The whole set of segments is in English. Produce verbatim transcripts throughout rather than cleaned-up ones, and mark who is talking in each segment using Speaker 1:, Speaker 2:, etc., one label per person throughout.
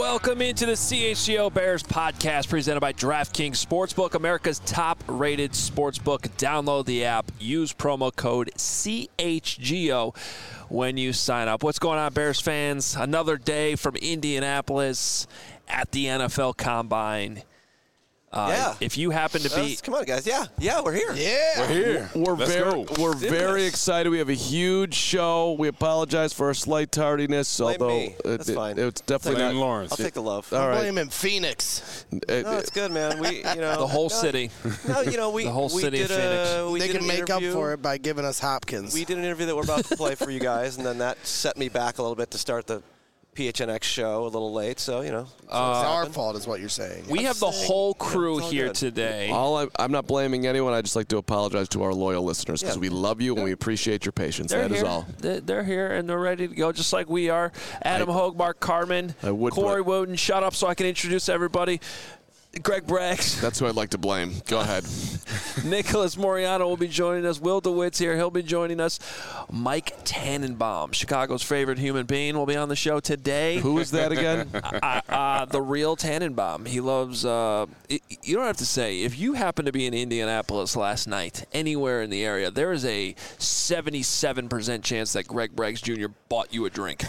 Speaker 1: Welcome into the C H G O Bears podcast presented by DraftKings Sportsbook, America's top-rated sportsbook. Download the app. Use promo code C H G O when you sign up. What's going on, Bears fans? Another day from Indianapolis at the N F L Combine. Uh,
Speaker 2: yeah.
Speaker 1: If you happen to be,
Speaker 2: uh, come on, guys. Yeah, yeah, we're here.
Speaker 3: Yeah,
Speaker 4: we're here.
Speaker 3: We're
Speaker 4: Let's
Speaker 3: very,
Speaker 4: go.
Speaker 3: we're
Speaker 2: Let's do
Speaker 3: very
Speaker 2: this.
Speaker 3: excited. We have a huge show. We apologize for our slight tardiness,
Speaker 2: Blame
Speaker 3: although
Speaker 2: me. That's
Speaker 3: it,
Speaker 2: fine.
Speaker 3: It, it's definitely
Speaker 4: Blame
Speaker 3: not.
Speaker 4: Lawrence.
Speaker 2: I'll take the love.
Speaker 3: All right.
Speaker 5: Blame him, Phoenix.
Speaker 3: It-
Speaker 2: No, it's good, man. We, you know,
Speaker 1: the whole
Speaker 2: no,
Speaker 1: city.
Speaker 2: No, you know, we
Speaker 1: The whole
Speaker 2: we
Speaker 1: city
Speaker 2: did
Speaker 1: of Phoenix.
Speaker 2: A, we
Speaker 5: they
Speaker 2: did
Speaker 5: can
Speaker 2: an
Speaker 5: make up
Speaker 2: interview.
Speaker 5: for it by giving us Hopkins.
Speaker 2: We did an interview that we're about to play for you guys, and then that set me back a little bit to start the P H N X show a little late. So you know, so
Speaker 5: it's our
Speaker 2: happened.
Speaker 5: fault, is what you're saying.
Speaker 1: we
Speaker 2: I'm
Speaker 1: have the
Speaker 2: saying,
Speaker 1: whole
Speaker 2: yeah,
Speaker 1: crew
Speaker 2: it's all
Speaker 1: here
Speaker 2: good.
Speaker 1: today.
Speaker 3: all I, I'm not blaming anyone. I just like to apologize to our loyal listeners because
Speaker 2: Yeah.
Speaker 3: we love you and we appreciate your patience.
Speaker 1: They're
Speaker 3: That is
Speaker 1: here.
Speaker 3: all.
Speaker 1: They're they're here and they're ready to go, just like we are. Adam
Speaker 3: I-
Speaker 1: Hogue, Mark Carmen,
Speaker 3: I would
Speaker 1: Corey
Speaker 3: put-
Speaker 1: Wooten. Shut up so I can introduce everybody. Greg Braggs,
Speaker 3: That's who I'd like to blame. Go ahead.
Speaker 1: Nicholas Moriano will be joining us. Will DeWitt's here. He'll be joining us. Mike Tannenbaum, Chicago's favorite human being, will be on the show today.
Speaker 3: Who is that again?
Speaker 1: uh, uh, the real Tannenbaum. He loves, uh, it, you don't have to say, if you happen to be in Indianapolis last night, anywhere in the area, there is a seventy-seven percent chance that Greg Braggs Junior bought you a drink.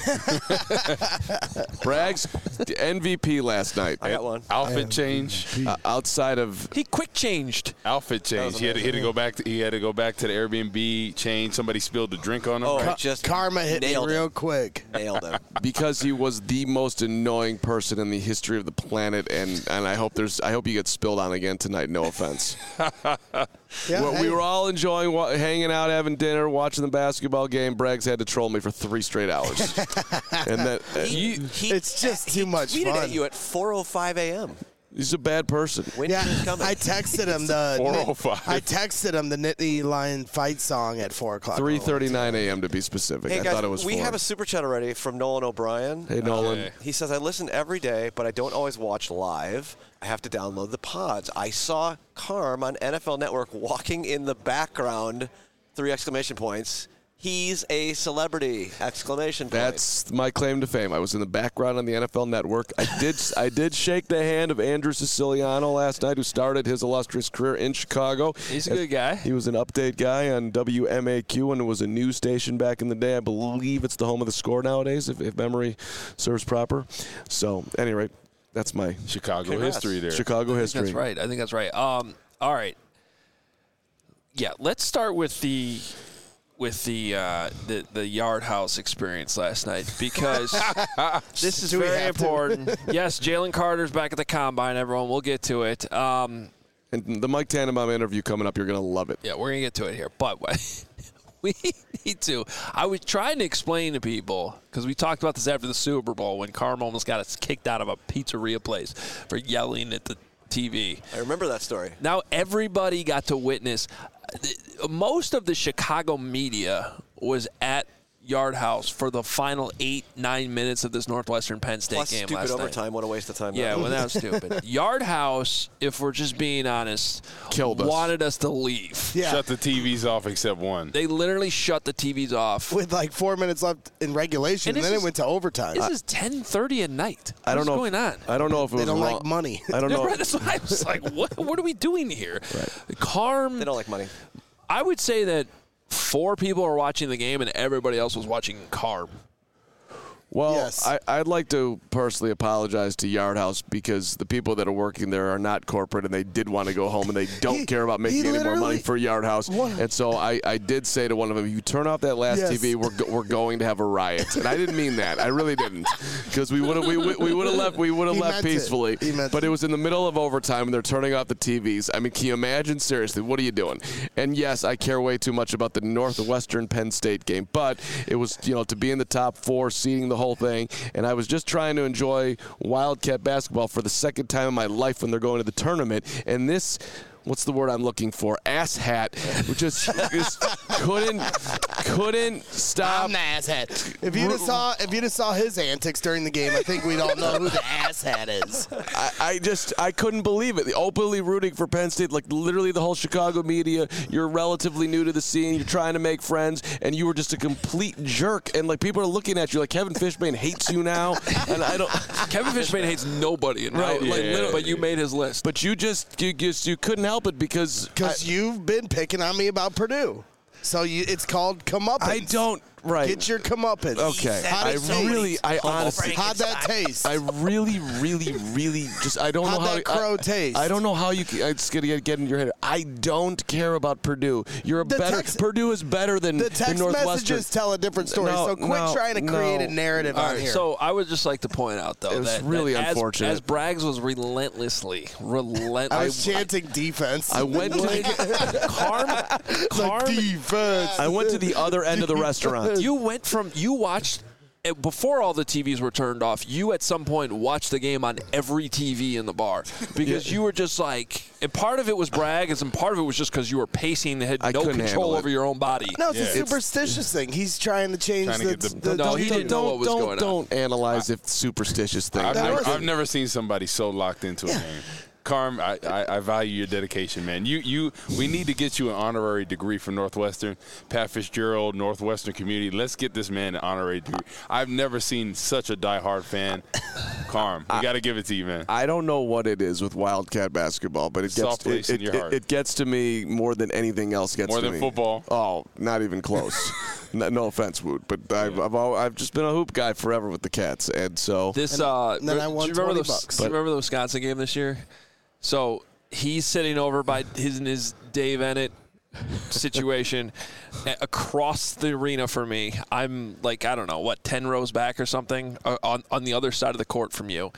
Speaker 3: Braggs, M V P last night.
Speaker 2: I got one.
Speaker 4: Outfit change.
Speaker 3: Uh, outside of
Speaker 1: He quick changed.
Speaker 4: Outfit change. He had, to, he had to go back. To, he had to go back to the Airbnb. Change. Somebody spilled the drink on him.
Speaker 2: Oh,
Speaker 4: right?
Speaker 2: just
Speaker 5: Karma hit me
Speaker 2: nailed
Speaker 5: real
Speaker 2: it.
Speaker 5: quick.
Speaker 2: Nailed it.
Speaker 3: because he was the most annoying person in the history of the planet, and, and I hope there's I hope you get spilled on again tonight. No offense.
Speaker 5: Yeah,
Speaker 3: Well,
Speaker 5: hey,
Speaker 3: we were all enjoying wa- hanging out, having dinner, watching the basketball game. Braggs had to troll me for three straight hours, and that uh,
Speaker 2: He,
Speaker 3: he-
Speaker 2: he,
Speaker 5: It's just
Speaker 2: he
Speaker 5: too much
Speaker 2: tweeted
Speaker 5: fun.
Speaker 2: at you at four oh five a.m.
Speaker 3: he's a bad person.
Speaker 2: Winter
Speaker 5: yeah,
Speaker 2: is coming.
Speaker 5: I texted him the
Speaker 4: four oh five.
Speaker 5: I texted him the Nittany Lion fight song at four o'clock.
Speaker 3: three thirty-nine a.m. to be specific.
Speaker 2: Hey
Speaker 3: I
Speaker 2: guys,
Speaker 3: thought it was
Speaker 2: we
Speaker 3: four.
Speaker 2: have a super chat already from Nolan O'Brien.
Speaker 3: Hey Nolan,
Speaker 4: Okay.
Speaker 2: He says, I listen every day, but I don't always watch live. I have to download the pods. I saw Carm on N F L Network walking in the background, three exclamation points. He's a celebrity, exclamation point.
Speaker 3: that's my claim to fame. I was in the background on the N F L Network. I did I did shake the hand of Andrew Siciliano last night, who started his illustrious career in Chicago.
Speaker 1: He's a good guy.
Speaker 3: He was an update guy on W M A Q, and it was a news station back in the day. I believe it's the home of the Score nowadays, if, if memory serves proper. So, at any rate, that's my
Speaker 4: Chicago
Speaker 2: Congrats.
Speaker 4: history there.
Speaker 3: Chicago history.
Speaker 1: That's right. I think that's right. Um, all right. Yeah, let's start with the with the uh, the the Yard House experience last night, because this is
Speaker 5: Do we
Speaker 1: very
Speaker 5: have to?
Speaker 1: important. Yes, Jalen Carter's back at the Combine, everyone. We'll get to it. Um,
Speaker 3: And the Mike Tannenbaum interview coming up, you're going to love it.
Speaker 1: yeah, we're going to get to it here. But we need to. I was trying to explain to people, because we talked about this after the Super Bowl when Carm almost got us kicked out of a pizzeria place for yelling at the T V.
Speaker 2: I remember that story.
Speaker 1: Now everybody got to witness. Most of the Chicago media was at Yard House for the final eight, nine minutes of this Northwestern Penn State
Speaker 2: Plus
Speaker 1: game
Speaker 2: stupid
Speaker 1: last
Speaker 2: overtime. What a waste of time.
Speaker 1: night. Yeah,
Speaker 2: that
Speaker 1: well,
Speaker 2: was.
Speaker 1: that was stupid. Yard House, if we're just being honest,
Speaker 3: Killed us.
Speaker 1: wanted us to leave.
Speaker 5: Yeah,
Speaker 4: Shut the T Vs off except one.
Speaker 1: They literally shut the T Vs off.
Speaker 5: with like four minutes left in regulation,
Speaker 1: And
Speaker 5: and,
Speaker 1: this
Speaker 5: then
Speaker 1: is-
Speaker 5: it went to overtime.
Speaker 1: This is ten thirty at night.
Speaker 3: I don't
Speaker 1: What's
Speaker 3: know.
Speaker 1: going on?
Speaker 3: I don't know if it
Speaker 5: they
Speaker 3: was
Speaker 5: don't
Speaker 3: wrong.
Speaker 5: like money.
Speaker 3: I don't know.
Speaker 1: Right, that's why I was like, what, what are we doing here? Carm,
Speaker 2: They don't like money.
Speaker 1: I would say that four people were watching the game and everybody else was watching Carm.
Speaker 3: Well,
Speaker 5: Yes.
Speaker 3: I, I'd like to personally apologize to Yard House because the people that are working there are not corporate and they did want to go home and they don't
Speaker 5: He-
Speaker 3: care about
Speaker 5: he
Speaker 3: making any more money
Speaker 5: literally-
Speaker 3: for Yard House.
Speaker 5: What?
Speaker 3: And so I, I did say to one of them, if you turn off that last
Speaker 5: Yes.
Speaker 3: T V, we're, go, we're going to have a riot. And I didn't mean that. I really didn't. Because we would have we, would- we would have left we would have
Speaker 5: He
Speaker 3: left
Speaker 5: meant it.
Speaker 3: peacefully.
Speaker 5: He meant
Speaker 3: But
Speaker 5: it.
Speaker 3: it was in the middle of overtime and they're turning off the T Vs. I mean, can you imagine? Seriously, what are you doing? And yes, I care way too much about the Northwestern Penn State game. But it was, you know, to be in the top four, seeding the whole thing. And I was just trying to enjoy Wildcat basketball for the second time in my life when they're going to the tournament. And this what's the word I'm looking for? Ass hat, which just, just couldn't couldn't stop.
Speaker 5: I'm the ass hat. If you just saw if you just saw his antics during the game, I think we'd all know who the ass hat is.
Speaker 3: I, I just I couldn't believe it. The openly rooting for Penn State, like literally the whole Chicago media. You're relatively new to the scene. You're trying to make friends, and you were just a complete jerk. And like people are looking at you like Kevin Fishbain hates you now. And I don't.
Speaker 1: Kevin Fishbain hates nobody, in
Speaker 3: Right,
Speaker 1: right? Like,
Speaker 3: yeah.
Speaker 1: literally, but you made his list.
Speaker 3: But you just you just you couldn't help it because
Speaker 5: Because you've been picking on me about Purdue. So you, it's called comeuppance.
Speaker 3: I don't. Right.
Speaker 5: Get your comeuppance.
Speaker 3: Okay.
Speaker 5: How'd
Speaker 3: I
Speaker 5: it taste?
Speaker 3: really, I honestly,
Speaker 5: How'd that taste?
Speaker 3: I really, really, really just, I don't
Speaker 5: How'd
Speaker 3: know how.
Speaker 5: that crow
Speaker 3: I,
Speaker 5: taste?
Speaker 3: I don't know how you. can- It's gonna get, get in your head. I don't care about Purdue. You're a
Speaker 5: The
Speaker 3: better.
Speaker 5: text-
Speaker 3: Purdue is better than,
Speaker 5: the
Speaker 3: than
Speaker 5: text
Speaker 3: Northwestern.
Speaker 5: messages tell a different story.
Speaker 3: No,
Speaker 5: so quit
Speaker 3: no,
Speaker 5: trying to create
Speaker 3: no.
Speaker 5: a narrative
Speaker 1: All
Speaker 5: on
Speaker 1: right,
Speaker 5: here.
Speaker 1: so I would just like to point out, though,
Speaker 3: It was
Speaker 1: that,
Speaker 3: really
Speaker 1: that as-
Speaker 3: unfortunate.
Speaker 1: As, Braggs was relentlessly, relentless.
Speaker 5: I was chanting defense.
Speaker 3: I went to the,
Speaker 1: Carm, Carm,
Speaker 5: defense.
Speaker 3: I went to the other end of the restaurant.
Speaker 1: you went from, you watched, eh, before all the T Vs were turned off, you at some point watched the game on every T V in the bar because you were just like, and part of it was Braggs, and part of it was just because you were pacing and had
Speaker 3: I
Speaker 1: no
Speaker 3: couldn't
Speaker 1: control
Speaker 3: handle it.
Speaker 1: over your own body.
Speaker 5: No, it's
Speaker 4: Yeah.
Speaker 5: a superstitious thing. He's trying to change
Speaker 4: Trying to
Speaker 5: the,
Speaker 4: get the-
Speaker 5: the,
Speaker 1: No,
Speaker 5: the-
Speaker 1: he didn't know what was
Speaker 3: don't,
Speaker 1: going on.
Speaker 3: Don't analyze if superstitious things.
Speaker 4: I've
Speaker 5: That
Speaker 4: never,
Speaker 5: wasn't-
Speaker 4: I've never seen somebody so locked into a game. Carm, I, I, I value your dedication, man. You, you, we need to get you an honorary degree from Northwestern. Pat Fitzgerald, Northwestern community. Let's get this man an honorary degree. I've never seen such a diehard fan. Carm, we got to give it to you, man.
Speaker 3: I don't know what it is with Wildcat basketball, but it gets
Speaker 4: Soft place
Speaker 3: it,
Speaker 4: in
Speaker 3: it,
Speaker 4: your
Speaker 3: it-
Speaker 4: heart.
Speaker 3: it gets to me more than anything else gets
Speaker 4: More
Speaker 3: to
Speaker 4: than
Speaker 3: me.
Speaker 4: football?
Speaker 3: Oh, not even close. no, no offense, Woot, but I've I've, al- I've just been a hoop guy forever with the Cats, and so
Speaker 1: This, uh,
Speaker 5: and then I won
Speaker 1: do you remember
Speaker 5: twenty
Speaker 1: the,
Speaker 5: bucks.
Speaker 1: Do you remember the Wisconsin game this year? So he's sitting over by his and his Dave Ennett situation a- across the arena for me. I'm like, I don't know, what, ten rows back or something uh, on, on the other side of the court from you.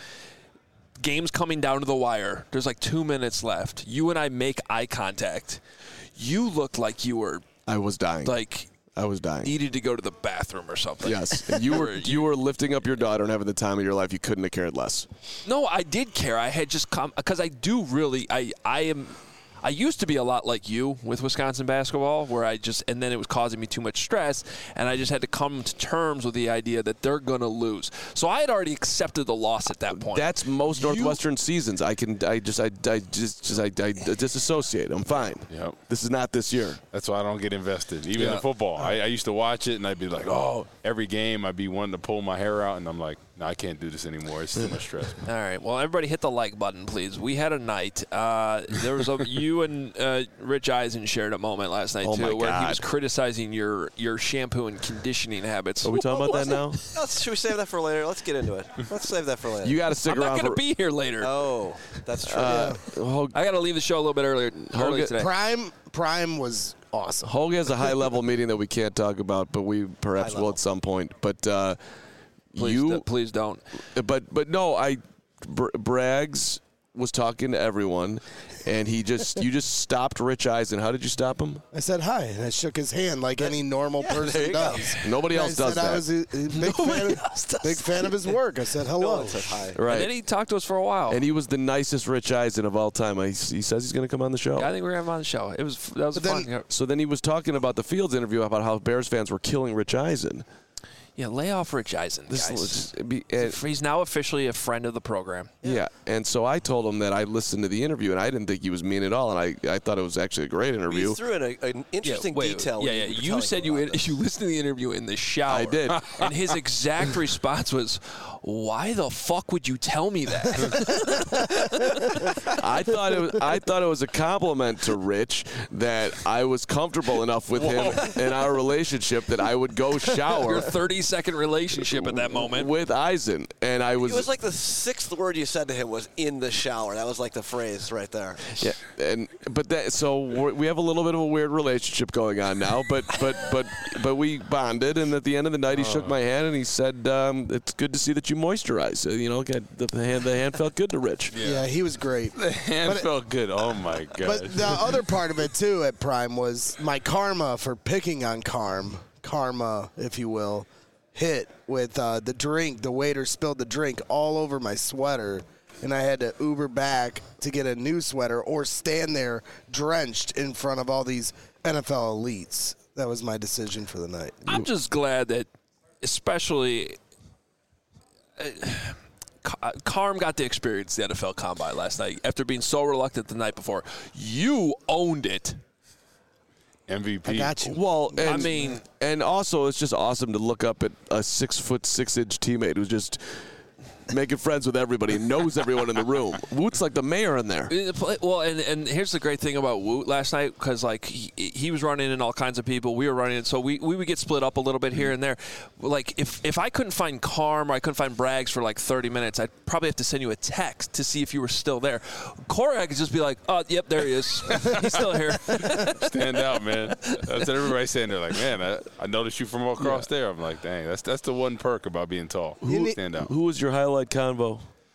Speaker 1: Game's coming down to the wire. There's like two minutes left. You and I make eye contact. You looked like you were
Speaker 3: I was dying.
Speaker 1: like
Speaker 3: I was dying.
Speaker 1: needed to go to the bathroom or something.
Speaker 3: Yes, and you were you were lifting up your daughter and having the time of your life. You couldn't have cared less.
Speaker 1: No, I did care. I had just come because I do really. I I am. I used to be a lot like you with Wisconsin basketball, where I just and then it was causing me too much stress, and I just had to come to terms with the idea that they're going to lose. So I had already accepted the loss at that point.
Speaker 3: That's most
Speaker 1: You-
Speaker 3: Northwestern seasons. I can I just I, I just just I, I disassociate. I'm fine.
Speaker 4: Yep.
Speaker 3: This is not this year.
Speaker 4: That's why I don't get invested. Even
Speaker 1: Yeah.
Speaker 4: in football, I, I used to watch it and I'd be like, oh, every game I'd be wanting to pull my hair out, and I'm like, no, I can't do this anymore. It's too much stress.
Speaker 1: All right. Well, everybody hit the like button, please. We had a night. Uh, there was a you and uh, Rich Eisen shared a moment last night
Speaker 3: Oh,
Speaker 1: too,
Speaker 3: my
Speaker 1: where he
Speaker 3: God.
Speaker 1: was criticizing your your shampoo and conditioning habits.
Speaker 3: Are we talking about that now?
Speaker 2: Let's, should we save that for later? Let's get into it. Let's save that for later.
Speaker 3: You got to stick
Speaker 1: I'm not
Speaker 3: around
Speaker 1: going to
Speaker 3: for.
Speaker 1: be here later.
Speaker 2: oh, that's true.
Speaker 3: Uh, Hogue,
Speaker 1: I got to leave the show a little bit earlier, early
Speaker 3: Hogan-
Speaker 1: today.
Speaker 5: Prime Prime was awesome.
Speaker 3: Hogue has a high level meeting that we can't talk about, but we perhaps
Speaker 2: High
Speaker 3: will
Speaker 2: level.
Speaker 3: at some point. But uh,
Speaker 1: Please,
Speaker 3: you,
Speaker 1: do- please don't.
Speaker 3: but but no, I Br- Braggs was talking to everyone, and he just you just stopped Rich Eisen. How did you stop him?
Speaker 5: I said hi, and I shook his hand like any normal
Speaker 2: there
Speaker 5: person
Speaker 2: you go.
Speaker 5: does.
Speaker 3: Nobody
Speaker 5: And
Speaker 3: else
Speaker 5: I
Speaker 3: does
Speaker 5: said
Speaker 3: that.
Speaker 5: I was a, a big, fan of, big fan of his work. I said
Speaker 2: No
Speaker 5: hello.
Speaker 2: one said hi.
Speaker 3: Right.
Speaker 1: And then he talked to us for a while.
Speaker 3: And he was the nicest Rich Eisen of all time. I, he says he's going to come on the show.
Speaker 1: I think we're going to have him on the show. It was that was
Speaker 5: But
Speaker 1: fun.
Speaker 5: then-
Speaker 3: So then he was talking about the Fields interview about how Bears fans were killing Rich Eisen.
Speaker 1: Yeah, lay off Rich Eisen,
Speaker 3: This
Speaker 1: guys.
Speaker 3: was just, be, and,
Speaker 1: He's now officially a friend of the program.
Speaker 3: yeah. And so I told him that I listened to the interview and I didn't think he was mean at all, and I, I thought it was actually a great interview.
Speaker 2: You threw in a, an interesting
Speaker 1: wait,
Speaker 2: detail.
Speaker 1: Yeah,
Speaker 2: when
Speaker 1: yeah.
Speaker 2: you, were
Speaker 1: You
Speaker 2: telling
Speaker 1: said
Speaker 2: him
Speaker 1: you
Speaker 2: about this.
Speaker 1: you listened to the interview in the shower.
Speaker 3: I did.
Speaker 1: And his exact response was, "Why the fuck would you tell me that?"
Speaker 3: I thought it was, I thought it was a compliment to Rich that I was comfortable enough with him in our relationship that I would go shower
Speaker 1: Your thirty second relationship at that moment.
Speaker 3: with Eisen, and I was,
Speaker 2: It was like the sixth word you said to him was "in the shower." That was like the phrase right there.
Speaker 3: yeah, and but that so we're, we have a little bit of a weird relationship going on now, but but but but we bonded, and at the end of the night he shook my hand and he said, um, "It's good to see that you moisturize." Uh, You know, the hand the hand felt good to Rich.
Speaker 5: Yeah, he was great.
Speaker 4: The hand
Speaker 5: But it-
Speaker 4: felt good. Oh, my God.
Speaker 5: But the other part of it too at Prime was my karma for picking on Carm, karma, if you will, hit with uh, the drink. The waiter spilled the drink all over my sweater. and I had to Uber back to get a new sweater or stand there drenched in front of all these N F L elites. That was my decision for the night.
Speaker 1: I'm just glad that, especially, uh, Carm got to experience the N F L Combine last night after being so reluctant the night before. You owned it.
Speaker 4: M V P.
Speaker 5: I got you.
Speaker 3: Well, and,
Speaker 1: I mean,
Speaker 3: and also it's just awesome to look up at a six foot six inch teammate who's just making friends with everybody and knows everyone in the room. Woot's like the mayor in there.
Speaker 1: Well, and, and here's the great thing about Woot last night, because like he, he was running in all kinds of people, we were running in, so we, we would get split up a little bit here and there. Like if, if I couldn't find Carm or I couldn't find Braggs for like thirty minutes, I'd probably have to send you a text to see if you were still there. Corey, I could just be like, oh, yep, there he is. He's still here.
Speaker 4: Stand out, man. That's what everybody's saying. They're like, man, I, I noticed you from across yeah. there. I'm like, dang, that's that's the one perk about being tall.
Speaker 3: Who,
Speaker 4: Stand out.
Speaker 3: Who was your highlight convo?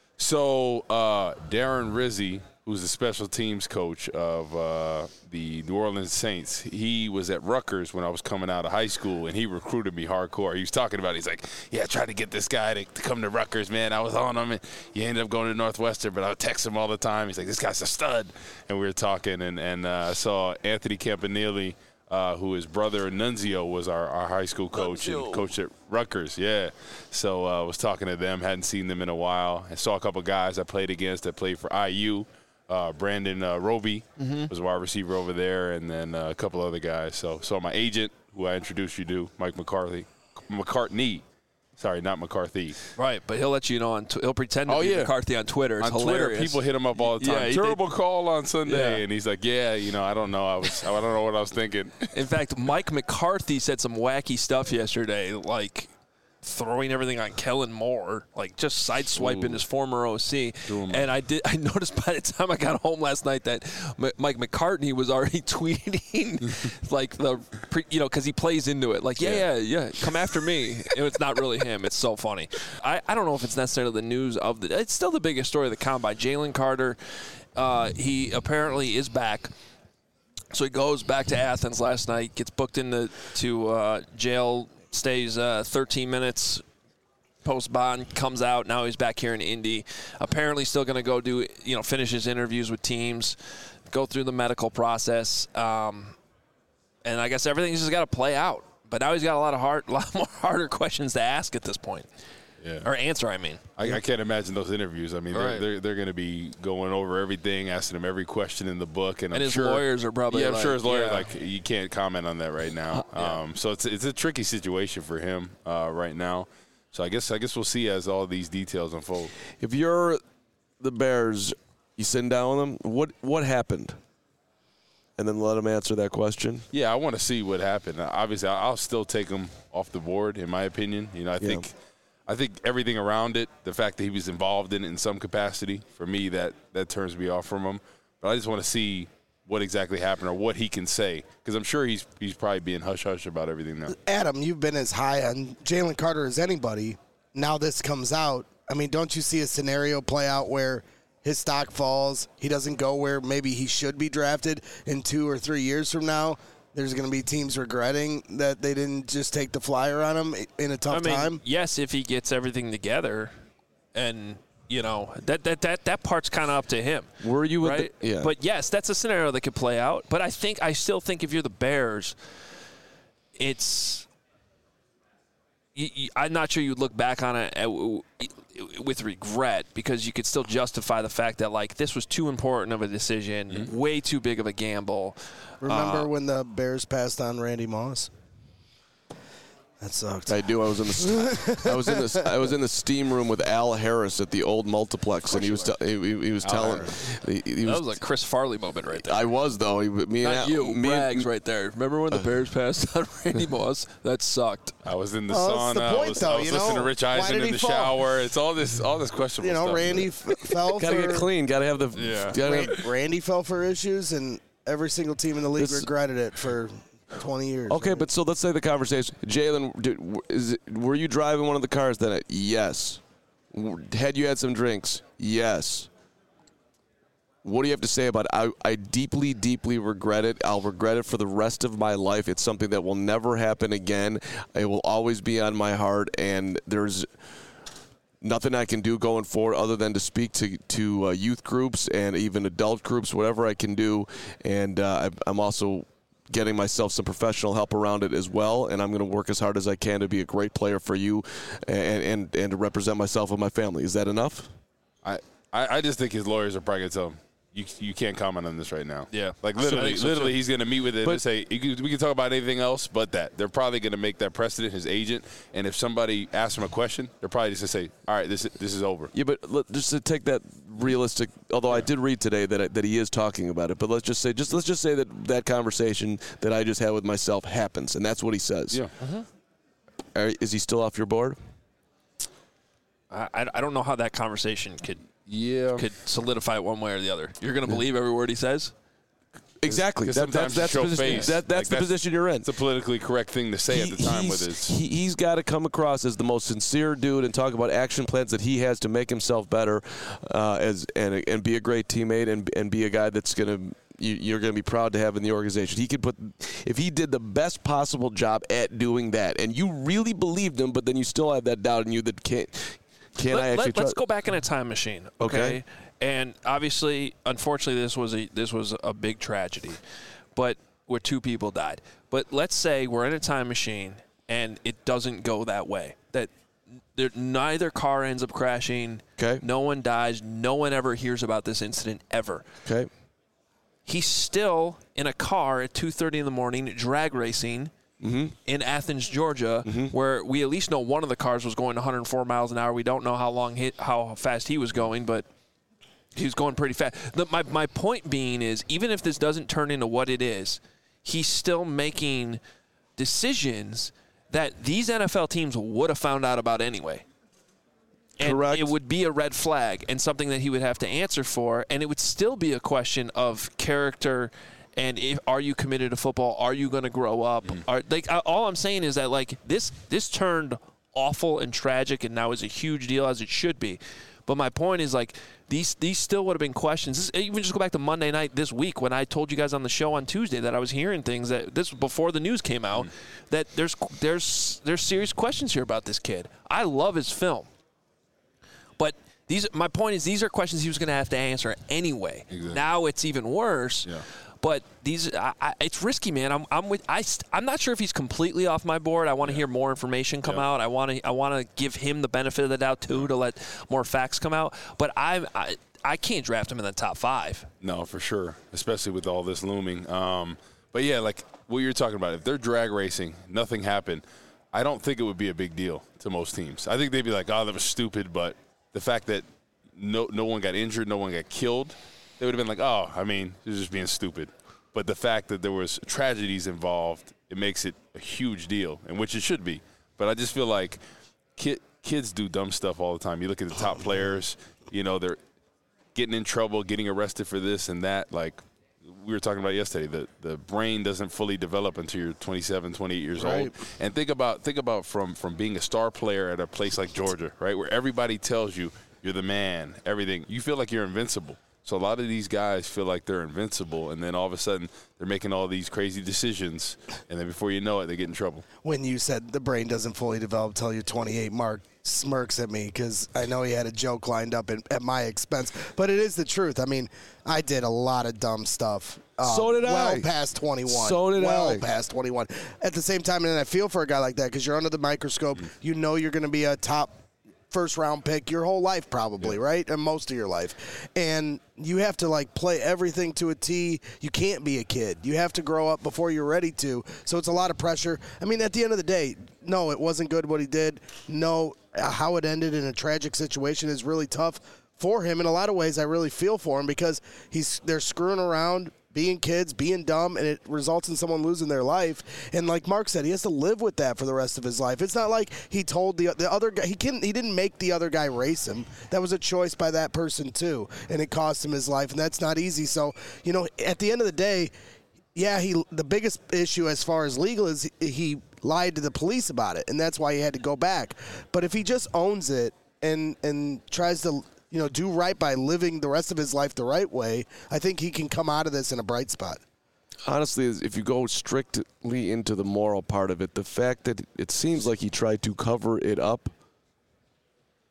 Speaker 4: So uh, Darren Rizzi, who's the special teams coach of uh, the New Orleans Saints, he was at Rutgers when I was coming out of high school, and he recruited me hardcore. He was talking about it. He's like, yeah, I tried to get this guy to, to come to Rutgers, man. I was on him, and he ended up going to Northwestern, but I would text him all the time. He's like, this guy's a stud. And we were talking, and, and uh, I saw Anthony Campanile, Uh, who his brother Nunzio was our, our high school coach Nunzio. and coached at Rutgers. Yeah. So I uh, was talking to them, hadn't seen them in a while. I saw a couple guys I played against that played for I U. Uh, Brandon uh, Roby mm-hmm. was a wide receiver over there, and then uh, a couple other guys. So saw my agent, who I introduced you to, Mike McCarthy. McCartney. Sorry, not McCarthy.
Speaker 1: Right, but he'll let you know on. Tw- he'll pretend to
Speaker 4: oh,
Speaker 1: be
Speaker 4: yeah.
Speaker 1: McCarthy on Twitter. It's
Speaker 4: on
Speaker 1: hilarious.
Speaker 4: Twitter, people hit him up all the time.
Speaker 1: Yeah,
Speaker 4: Terrible
Speaker 1: did.
Speaker 4: call on Sunday,
Speaker 1: Yeah.
Speaker 4: and he's like, "Yeah, you know, I don't know. I was, I don't know what I was thinking."
Speaker 1: In fact, Mike McCarthy said some wacky stuff yesterday, like throwing everything on Kellen Moore, like just sideswiping Ooh. his former O C. And I did. I noticed by the time I got home last night that M- Mike McCartney was already tweeting, like the, pre, you know, because he plays into it, like, yeah, yeah, yeah, yeah, come after me. And it's not really him. It's so funny. I, I don't know if it's necessarily the news of the. It's still the biggest story of the combine. Jalen Carter, uh, he apparently is back. So he goes back to Athens last night, gets booked into to uh, jail. Stays uh, thirteen minutes post bond, comes out. Now he's back here in Indy. Apparently, still going to go do you know finish his interviews with teams, go through the medical process, um, and I guess everything's just got to play out. But now he's got a lot of hard, a lot more harder questions to ask at this point. Yeah. Or answer, I mean.
Speaker 4: I, I can't imagine those interviews. I mean,
Speaker 1: right.
Speaker 4: they're they're, they're going to be going over everything, asking him every question in the book, and,
Speaker 1: and
Speaker 4: I'm
Speaker 1: his
Speaker 4: sure,
Speaker 1: lawyers are probably.
Speaker 4: Yeah, I'm
Speaker 1: like,
Speaker 4: sure his lawyers
Speaker 1: yeah.
Speaker 4: like you can't comment on that right now. Uh, yeah. um, so it's it's a tricky situation for him uh, right now. So I guess I guess we'll see as all these details unfold.
Speaker 3: If you're the Bears, you sitting down with them. What what happened? And then let them answer that question.
Speaker 4: Yeah, I want to see what happened. Obviously, I'll still take him off the board, in my opinion. You know, I
Speaker 3: yeah.
Speaker 4: think. I think everything around it, the fact that he was involved in it in some capacity, for me, that, that turns me off from him. But I just want to see what exactly happened or what he can say, because I'm sure he's he's probably being hush-hush about everything now.
Speaker 5: Adam, you've been as high on Jalen Carter as anybody. Now this comes out. I mean, don't you see a scenario play out where his stock falls, he doesn't go where maybe he should be drafted in two or three years from now? There's going to be teams regretting that they didn't just take the flyer on him in a tough
Speaker 1: I mean,
Speaker 5: time.
Speaker 1: Yes, if he gets everything together, and you know that that that, that part's kind of up to him.
Speaker 3: Were you with
Speaker 1: right?
Speaker 3: the, yeah.
Speaker 1: But yes, that's a scenario that could play out. But I think I still think if you're the Bears, it's. You, you, I'm not sure you'd look back on it at, with regret, because you could still justify the fact that like this was too important of a decision, mm-hmm. way too big of a gamble.
Speaker 5: Remember
Speaker 1: uh,
Speaker 5: when the Bears passed on Randy Moss? That sucked.
Speaker 3: I do. I was in the I was in the I was in the steam room with Al Harris at the old multiplex, and he was te- he, he was
Speaker 1: Al
Speaker 3: telling. He, he
Speaker 1: that
Speaker 3: was,
Speaker 1: was a Chris Farley moment right there.
Speaker 3: I was though. He, me
Speaker 1: Not
Speaker 3: and
Speaker 1: you,
Speaker 3: Al, me
Speaker 1: Braggs
Speaker 3: and,
Speaker 1: right there. Remember when the Bears passed on Randy Moss? That sucked.
Speaker 4: I was in the
Speaker 5: Oh,
Speaker 4: sauna.
Speaker 5: that's the point,
Speaker 4: I was,
Speaker 5: though,
Speaker 4: I was
Speaker 5: you
Speaker 4: listening
Speaker 5: know?
Speaker 4: to Rich
Speaker 5: Why
Speaker 4: Eisen
Speaker 5: did
Speaker 4: in
Speaker 5: he
Speaker 4: the
Speaker 5: fall?
Speaker 4: shower. It's all this all this questionable
Speaker 5: You know,
Speaker 4: stuff.
Speaker 5: Randy f- fell
Speaker 3: gotta
Speaker 5: for
Speaker 3: get clean. Gotta have the.
Speaker 4: Yeah.
Speaker 3: Gotta
Speaker 5: Ran- Randy fell for issues, and every single team in the league
Speaker 3: This-
Speaker 5: regretted it for twenty years.
Speaker 3: Okay,
Speaker 5: right?
Speaker 3: but so let's say the conversation. Jalen, did- is it, were you driving one of the cars then? Yes. Had you had some drinks? Yes. What do you have to say about it? I, I deeply, deeply regret it. I'll regret it for the rest of my life. It's something that will never happen again. It will always be on my heart, and there's nothing I can do going forward other than to speak to to uh, youth groups and even adult groups, whatever I can do. And uh, I'm also getting myself some professional help around it as well, and I'm going to work as hard as I can to be a great player for you and and, and to represent myself and my family. Is that enough?
Speaker 4: I, I just think his lawyers are probably going to tell him, You, you can't comment on this right now.
Speaker 1: Yeah.
Speaker 4: Like, literally,
Speaker 1: so
Speaker 4: literally,
Speaker 1: too.
Speaker 4: he's going to meet with it
Speaker 3: But-
Speaker 4: and say, you can, we can talk about anything else but that. They're probably going to make that precedent, his agent. And if somebody asks him a question, they're probably just going to say, all right, this, this is over.
Speaker 3: Yeah, but let, just to take that realistic, although I did read today that I, that he is talking about it, but let's just say just let's just say that that conversation that I just had with myself happens, and that's what he says.
Speaker 4: Yeah.
Speaker 3: Are, is he still off your board?
Speaker 1: I, I don't know how that conversation could
Speaker 4: Yeah.
Speaker 1: could solidify it one way or the other. You're going to believe every word he says?
Speaker 3: Exactly.
Speaker 4: 'Cause
Speaker 3: That,
Speaker 4: sometimes
Speaker 3: that's that's,
Speaker 4: you
Speaker 3: the
Speaker 4: show
Speaker 3: position,
Speaker 4: face.
Speaker 3: that, that's
Speaker 4: Like,
Speaker 3: the position you're in.
Speaker 4: It's a politically correct thing to say
Speaker 3: He-
Speaker 4: at the time with
Speaker 3: he's,
Speaker 4: his.
Speaker 3: he, he's got to come across as the most sincere dude and talk about action plans that he has to make himself better, uh, as and and be a great teammate and and be a guy that's gonna you, you're gonna be proud to have in the organization. He could put if he did the best possible job at doing that, and you really believed him, but then you still have that doubt in you that can't. Can
Speaker 1: Let,
Speaker 3: I actually
Speaker 1: let, let's
Speaker 3: trust?
Speaker 1: go back in a time machine, okay?
Speaker 3: Okay.
Speaker 1: And obviously, unfortunately, this was a this was a big tragedy, but where two people died. But let's say we're in a time machine and it doesn't go that way. That there, neither car ends up crashing.
Speaker 3: Okay.
Speaker 1: No one dies. No one ever hears about this incident ever.
Speaker 3: Okay.
Speaker 1: He's still in a car at two thirty in the morning, drag racing.
Speaker 3: Mm-hmm.
Speaker 1: In Athens, Georgia,
Speaker 3: Mm-hmm.
Speaker 1: where we at least know one of the cars was going one hundred four miles an hour. We don't know how long, he, how fast he was going, but he was going pretty fast. The, my my point being is, even if this doesn't turn into what it is, he's still making decisions that these N F L teams would have found out about anyway. And
Speaker 3: Correct.
Speaker 1: it would be a red flag and something that he would have to answer for, and it would still be a question of character. And if, are you committed to football? Are you going to grow up?
Speaker 4: Mm.
Speaker 1: Are, like I- all I'm saying is that like this this turned awful and tragic, and now is a huge deal as it should be. But my point is like these these still would have been questions. This, even just go back to Monday night this week when I told you guys on the show on Tuesday that I was hearing things that this was before the news came out,
Speaker 4: Mm.
Speaker 1: that there's there's there's serious questions here about this kid. I love his film, but these my point is these are questions he was going to have to answer anyway.
Speaker 4: Exactly.
Speaker 1: Now it's even worse.
Speaker 4: Yeah.
Speaker 1: But these, I, I, it's risky, man. I'm, I'm with. I, st- I'm not sure if he's completely off my board. I want to hear more information come
Speaker 4: Yeah.
Speaker 1: out. I want to, I want to give him the benefit of the doubt too, to let more facts come out. But I, I, I can't draft him in the top five.
Speaker 4: No, for sure, especially with all this looming. Um, but yeah, like what you're talking about, if they're drag racing, nothing happened, I don't think it would be a big deal to most teams. I think they'd be like, oh, that was stupid. But the fact that no no one got injured, no one got killed, they would have been like, oh, I mean, they're just being stupid. But the fact that there was tragedies involved, it makes it a huge deal, and which it should be. But I just feel like kid, kids do dumb stuff all the time. You look at the top players, you know, they're getting in trouble, getting arrested for this and that. Like we were talking about yesterday, the, the brain doesn't fully develop until you're twenty-seven, twenty-eight years
Speaker 5: Right.
Speaker 4: old. And think about think about from, from being a star player at a place like Georgia, right, where everybody tells you you're the man, everything. You feel like you're invincible. So a lot of these guys feel like they're invincible, and then all of a sudden they're making all these crazy decisions, and then before you know it, they get in trouble.
Speaker 5: When you said the brain doesn't fully develop till you're twenty-eight, Mark smirks at me because I know he had a joke lined up in, at my expense. But it is the truth. I mean, I did a lot of dumb stuff. Uh,
Speaker 3: So did
Speaker 5: well
Speaker 3: I.
Speaker 5: Well past twenty-one.
Speaker 3: So did
Speaker 5: well
Speaker 3: I.
Speaker 5: past twenty-one. At the same time, and I feel for a guy like that because you're under the microscope. You know you're going to be a top first round pick your whole life probably, right? And most of your life. And you have to like play everything to a T. You can't be a kid. You have to grow up before you're ready to. So it's a lot of pressure. I mean, at the end of the day, no, it wasn't good what he did. No, how it ended in a tragic situation is really tough for him. In a lot of ways, I really feel for him because he's they're screwing around, being kids, being dumb, and it results in someone losing their life. And like Mark said, he has to live with that for the rest of his life. It's not like he told the the other guy he can he didn't make the other guy race him. That was a choice by that person too, and it cost him his life, and that's not easy. So, you know, at the end of the day, yeah, he the biggest issue as far as legal is he, he lied to the police about it, and that's why he had to go back. But if he just owns it and and tries to you know, do right by living the rest of his life the right way, I think he can come out of this in a bright spot.
Speaker 3: Honestly, if you go strictly into the moral part of it, the fact that it seems like he tried to cover it up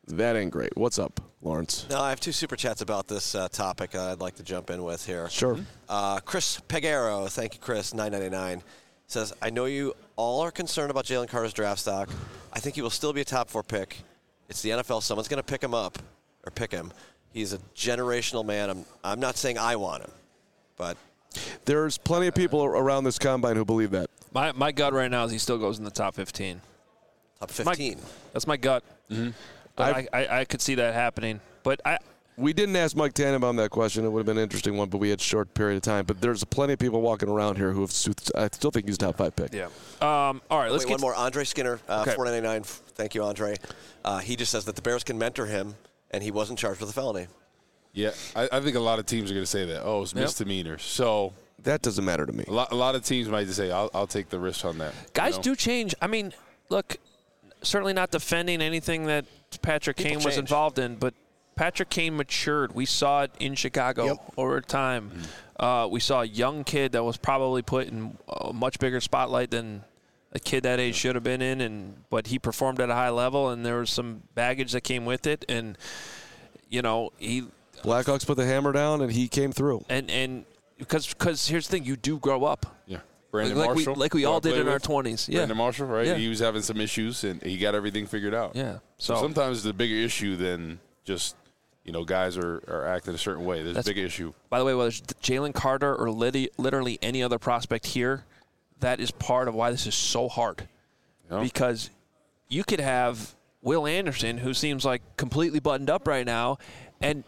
Speaker 3: That ain't great. What's up, Lawrence?
Speaker 2: No, I have two super chats about this uh, topic uh, I'd like to jump in with here.
Speaker 3: Sure.
Speaker 2: Uh, Chris Pegaro, thank you, Chris, nine ninety-nine, says, I know you all are concerned about Jalen Carter's draft stock. I think he will still be a top four pick. It's the N F L. Someone's going to pick him up or pick him. He's a generational man. I'm, I'm not saying I want him, but
Speaker 3: There's plenty of people around this combine who believe that.
Speaker 1: My my gut right now is he still goes in the top fifteen.
Speaker 2: top fifteen.
Speaker 1: My, that's my gut. Mm-hmm. But I, I, I could see that happening. But I
Speaker 3: We didn't ask Mike Tannenbaum that question. It would have been an interesting one, but we had a short period of time. But there's plenty of people walking around here who have. I still think he's a top five pick.
Speaker 1: yeah. Um, all right, let's
Speaker 2: Wait,
Speaker 1: get
Speaker 2: one more. Andre Skinner, uh,
Speaker 1: Okay.
Speaker 2: four ninety-nine. Thank you, Andre. Uh, he just says that the Bears can mentor him, and he wasn't charged with a felony.
Speaker 4: Yeah, I, I think a lot of teams are going to say that. Oh, it's
Speaker 1: Yep.
Speaker 4: misdemeanors. So
Speaker 3: That doesn't matter to me.
Speaker 4: a lot, a lot of teams might just say, I'll, I'll take the risk on that.
Speaker 1: Guys
Speaker 4: you know?
Speaker 1: do change. I mean, look, certainly not defending anything that Patrick
Speaker 2: People
Speaker 1: Kane was
Speaker 2: change.
Speaker 1: involved in, but Patrick Kane matured. We saw it in Chicago
Speaker 5: Yep.
Speaker 1: over time.
Speaker 4: Mm-hmm.
Speaker 1: Uh, we saw a young kid that was probably put in a much bigger spotlight than a kid that age should have been in, and but he performed at a high level, and there was some baggage that came with it, and you know he
Speaker 3: Blackhawks put the hammer down, and he came through.
Speaker 1: and and because because here's the thing, you do grow up.
Speaker 4: Yeah. Brandon
Speaker 1: like
Speaker 4: Marshall.
Speaker 1: we like we
Speaker 4: who I
Speaker 1: all did
Speaker 4: played
Speaker 1: in our
Speaker 4: with.
Speaker 1: twenties. Yeah.
Speaker 4: Brandon Marshall, right?
Speaker 1: Yeah.
Speaker 4: He was having some issues, and he got everything figured out.
Speaker 1: Yeah.
Speaker 4: So,
Speaker 1: So
Speaker 4: sometimes it's a bigger issue than just, you know, guys are, are acting a certain way. There's
Speaker 1: That's-
Speaker 4: a big issue.
Speaker 1: by the way, whether it's Jalen Carter or literally, literally any other prospect here, that is part of why this is so hard.
Speaker 4: You know?
Speaker 1: Because you could have Will Anderson, who seems like completely buttoned up right now, and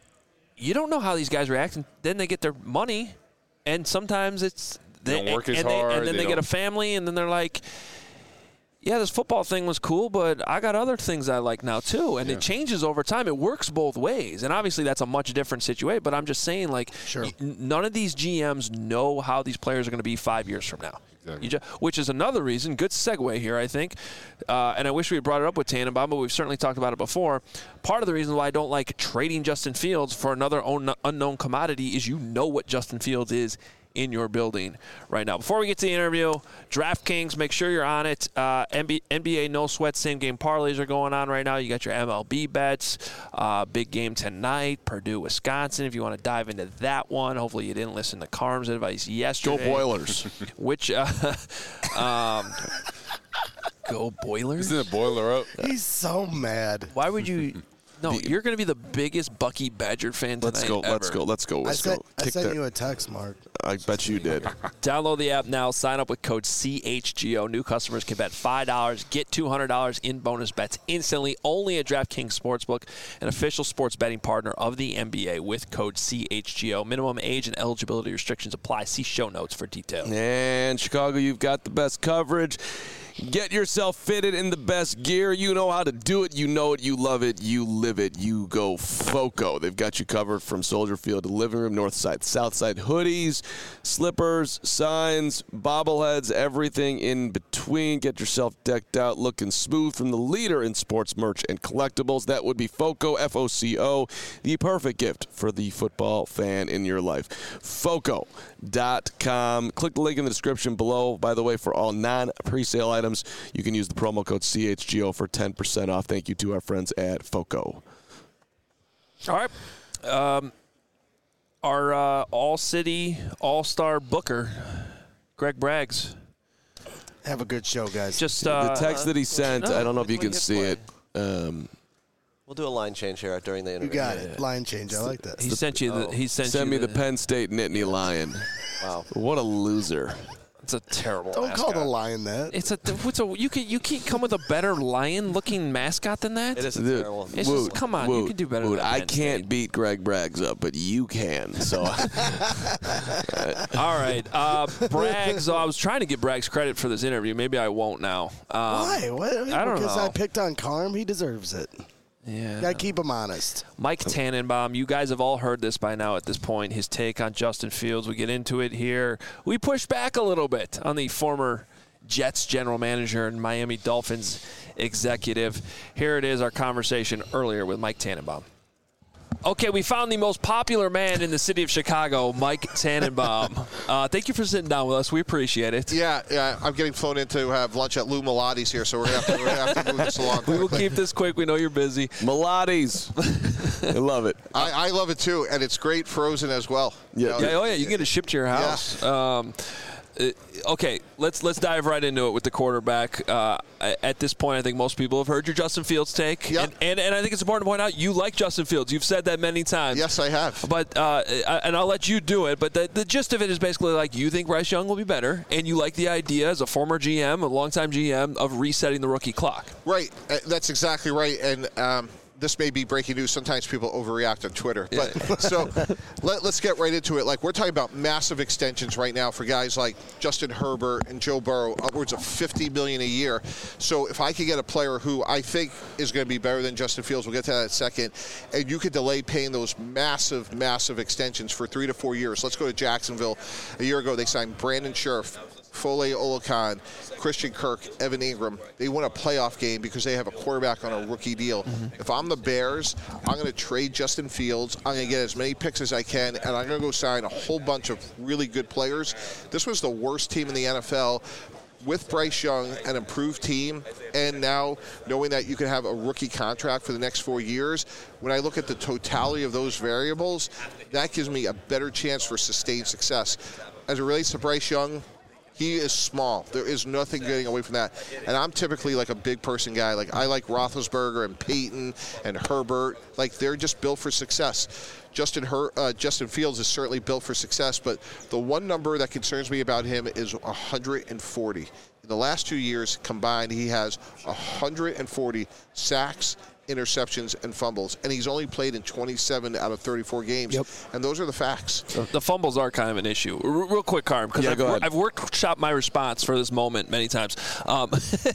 Speaker 1: you don't know how these guys react. And then they get their money, and sometimes it's
Speaker 4: They don't work as
Speaker 1: and
Speaker 4: hard,
Speaker 1: and then
Speaker 4: they
Speaker 1: they, get a
Speaker 4: don't-
Speaker 1: family, and then they're like, yeah, this football thing was cool, but I got other things I like now too. And
Speaker 4: Yeah.
Speaker 1: it changes over time. It works both ways. And obviously that's a much different situation. But I'm just saying, like,
Speaker 5: Sure.
Speaker 1: y- none of these G Ms know how these players are going to be five years from now.
Speaker 4: Exactly.
Speaker 1: You ju- which is another reason, good segue here, I think. Uh, and I wish we had brought it up with Tannenbaum, but we've certainly talked about it before. Part of the reason why I don't like trading Justin Fields for another un- unknown commodity is you know what Justin Fields is in your building right now. Before we get to the interview, DraftKings, make sure you're on it. Uh, N B A No Sweat Same Game Parlays are going on right now. You got your M L B bets. Uh, big game tonight, Purdue, Wisconsin. If you want to dive into that one, hopefully you didn't listen to Carm's advice
Speaker 3: Go
Speaker 1: yesterday.
Speaker 3: Boilers.
Speaker 1: Which, uh, um, go Boilers?
Speaker 4: Isn't it boiler up?
Speaker 5: He's so mad.
Speaker 1: Why would you? No, you're going to be the biggest Bucky Badger fan tonight.
Speaker 3: Let's go. Let's
Speaker 1: ever.
Speaker 3: go. Let's go.
Speaker 5: I
Speaker 3: Let's
Speaker 5: sent,
Speaker 3: go.
Speaker 5: I
Speaker 3: Kick
Speaker 5: sent
Speaker 3: that.
Speaker 5: you a text, Mark.
Speaker 3: I bet you did.
Speaker 1: Download the app now. Sign up with code C H G O. New customers can bet five dollars, get two hundred dollars in bonus bets instantly. Only at DraftKings Sportsbook, an official sports betting partner of the N B A with code C H G O. Minimum age and eligibility restrictions apply. See show notes for details.
Speaker 3: And Chicago, you've got the best coverage. Get yourself fitted in the best gear. You know how to do it. You know it. You love it. You live it. You go FOCO. They've got you covered from Soldier Field to living room, north side, south side, hoodies, slippers, signs, bobbleheads, everything in between. Get yourself decked out, looking smooth from the leader in sports merch and collectibles. That would be FOCO, F O C O, the perfect gift for the football fan in your life. FOCO dot com. Click the link in the description below. By the way, for all non-presale items, you can use the promo code C H G O for ten percent off. Thank you to our friends at FOCO.
Speaker 1: All right. Um, our uh, all-city, all-star booker, Greg Braggs.
Speaker 5: Have a good show, guys.
Speaker 1: Just
Speaker 3: The
Speaker 1: uh,
Speaker 3: text that he sent,
Speaker 1: no,
Speaker 3: I don't know if you
Speaker 2: when
Speaker 3: can
Speaker 2: you
Speaker 3: see
Speaker 2: play.
Speaker 3: it. Um,
Speaker 2: We'll do a line change here during the
Speaker 5: you
Speaker 2: interview.
Speaker 5: got it. Line change. I like that.
Speaker 1: he sent you the. He sent
Speaker 3: send
Speaker 1: you
Speaker 3: me the Penn State Nittany Lion.
Speaker 2: Wow.
Speaker 3: What a loser.
Speaker 1: It's a terrible.
Speaker 5: Don't call the
Speaker 1: mascot.
Speaker 5: lion that.
Speaker 1: It's a. What's a? You can. You can't come with a better lion-looking mascot than that.
Speaker 2: It is
Speaker 3: Dude,
Speaker 2: terrible.
Speaker 1: It's just- come on, you can do better
Speaker 3: Woot,
Speaker 1: than
Speaker 3: I
Speaker 1: Penn
Speaker 3: can't
Speaker 1: State.
Speaker 3: beat Greg Braggs up, but you can. So
Speaker 1: All right, uh, Braggs. I was trying to get Braggs credit for this interview. Maybe I won't now. Um,
Speaker 5: Why? What?
Speaker 1: I don't
Speaker 5: because
Speaker 1: know.
Speaker 5: I picked on Carm. He deserves it.
Speaker 1: Yeah.
Speaker 5: Got to keep him honest.
Speaker 1: Mike Tannenbaum, you guys have all heard this by now at this point, his take on Justin Fields. We get into it here. We push back a little bit on the former Jets general manager and Miami Dolphins executive. Here it is, our conversation earlier with Mike Tannenbaum. Okay, we found the most popular man in the city of Chicago, Mike Tannenbaum. Uh, thank you for sitting down with us. We appreciate it.
Speaker 6: Yeah, yeah. I'm getting flown in to have lunch at Lou Malotti's here, so we're going to have to move this along.
Speaker 1: We will keep this quick. We know you're busy.
Speaker 3: Malotti's. I love it.
Speaker 6: I, I love it, too, and it's great frozen as well.
Speaker 3: Yeah.
Speaker 6: You know,
Speaker 1: Yeah, oh, yeah, you can get it shipped to your house.
Speaker 6: Yeah.
Speaker 1: Um, uh, okay, let's let's dive right into it with the quarterback. Uh, at this point, I think most people have heard your Justin Fields take.
Speaker 6: Yep.
Speaker 1: And, and, and I think it's important to point out you like Justin Fields. You've said that many times.
Speaker 6: Yes, I have.
Speaker 1: But uh, and I'll let you do it. But the, the gist of it is basically like you think Bryce Young will be better, and you like the idea as a former G M, a longtime G M, of resetting the rookie clock.
Speaker 6: Right. Uh, That's exactly right. And um, this may be breaking news. Sometimes people overreact on Twitter. But yeah. so let, let's get right into it. Like, we're talking about massive extensions right now for guys like Justin Herbert and Joe Burrow, upwards of fifty million dollars a year. So if I could get a player who I think is going to be better than Justin Fields, we'll get to that in a second, and you could delay paying those massive, massive extensions for three to four years. Let's go to Jacksonville. A year ago, they signed Brandon Scherff, Foley Oluokun, Christian Kirk, Evan Ingram. They won a playoff game because they have a quarterback on a rookie deal. Mm-hmm. If I'm the Bears, I'm going to trade Justin Fields. I'm going to get as many picks as I can, and I'm going to go sign a whole bunch of really good players. This was the worst team in the N F L. With Bryce Young, an improved team, and now knowing that you can have a rookie contract for the next four years, when I look at the totality of those variables, that gives me a better chance for sustained success. As it relates to Bryce Young, he is small. There is nothing getting away from that. And I'm typically like a big person guy. Like, I like Roethlisberger and Peyton and Herbert. Like, they're just built for success. Justin Her- uh, Justin Fields is certainly built for success, but the one number that concerns me about him is one hundred forty. In the last two years combined, he has one hundred forty sacks, interceptions, and fumbles, and he's only played in twenty-seven out of thirty-four games.
Speaker 5: Yep.
Speaker 6: And those are the facts.
Speaker 1: The fumbles are kind of an issue. R- real quick, Carm, because
Speaker 3: Yeah,
Speaker 1: I've,
Speaker 3: go ahead.
Speaker 1: I've workshopped my response for this moment many times. Um,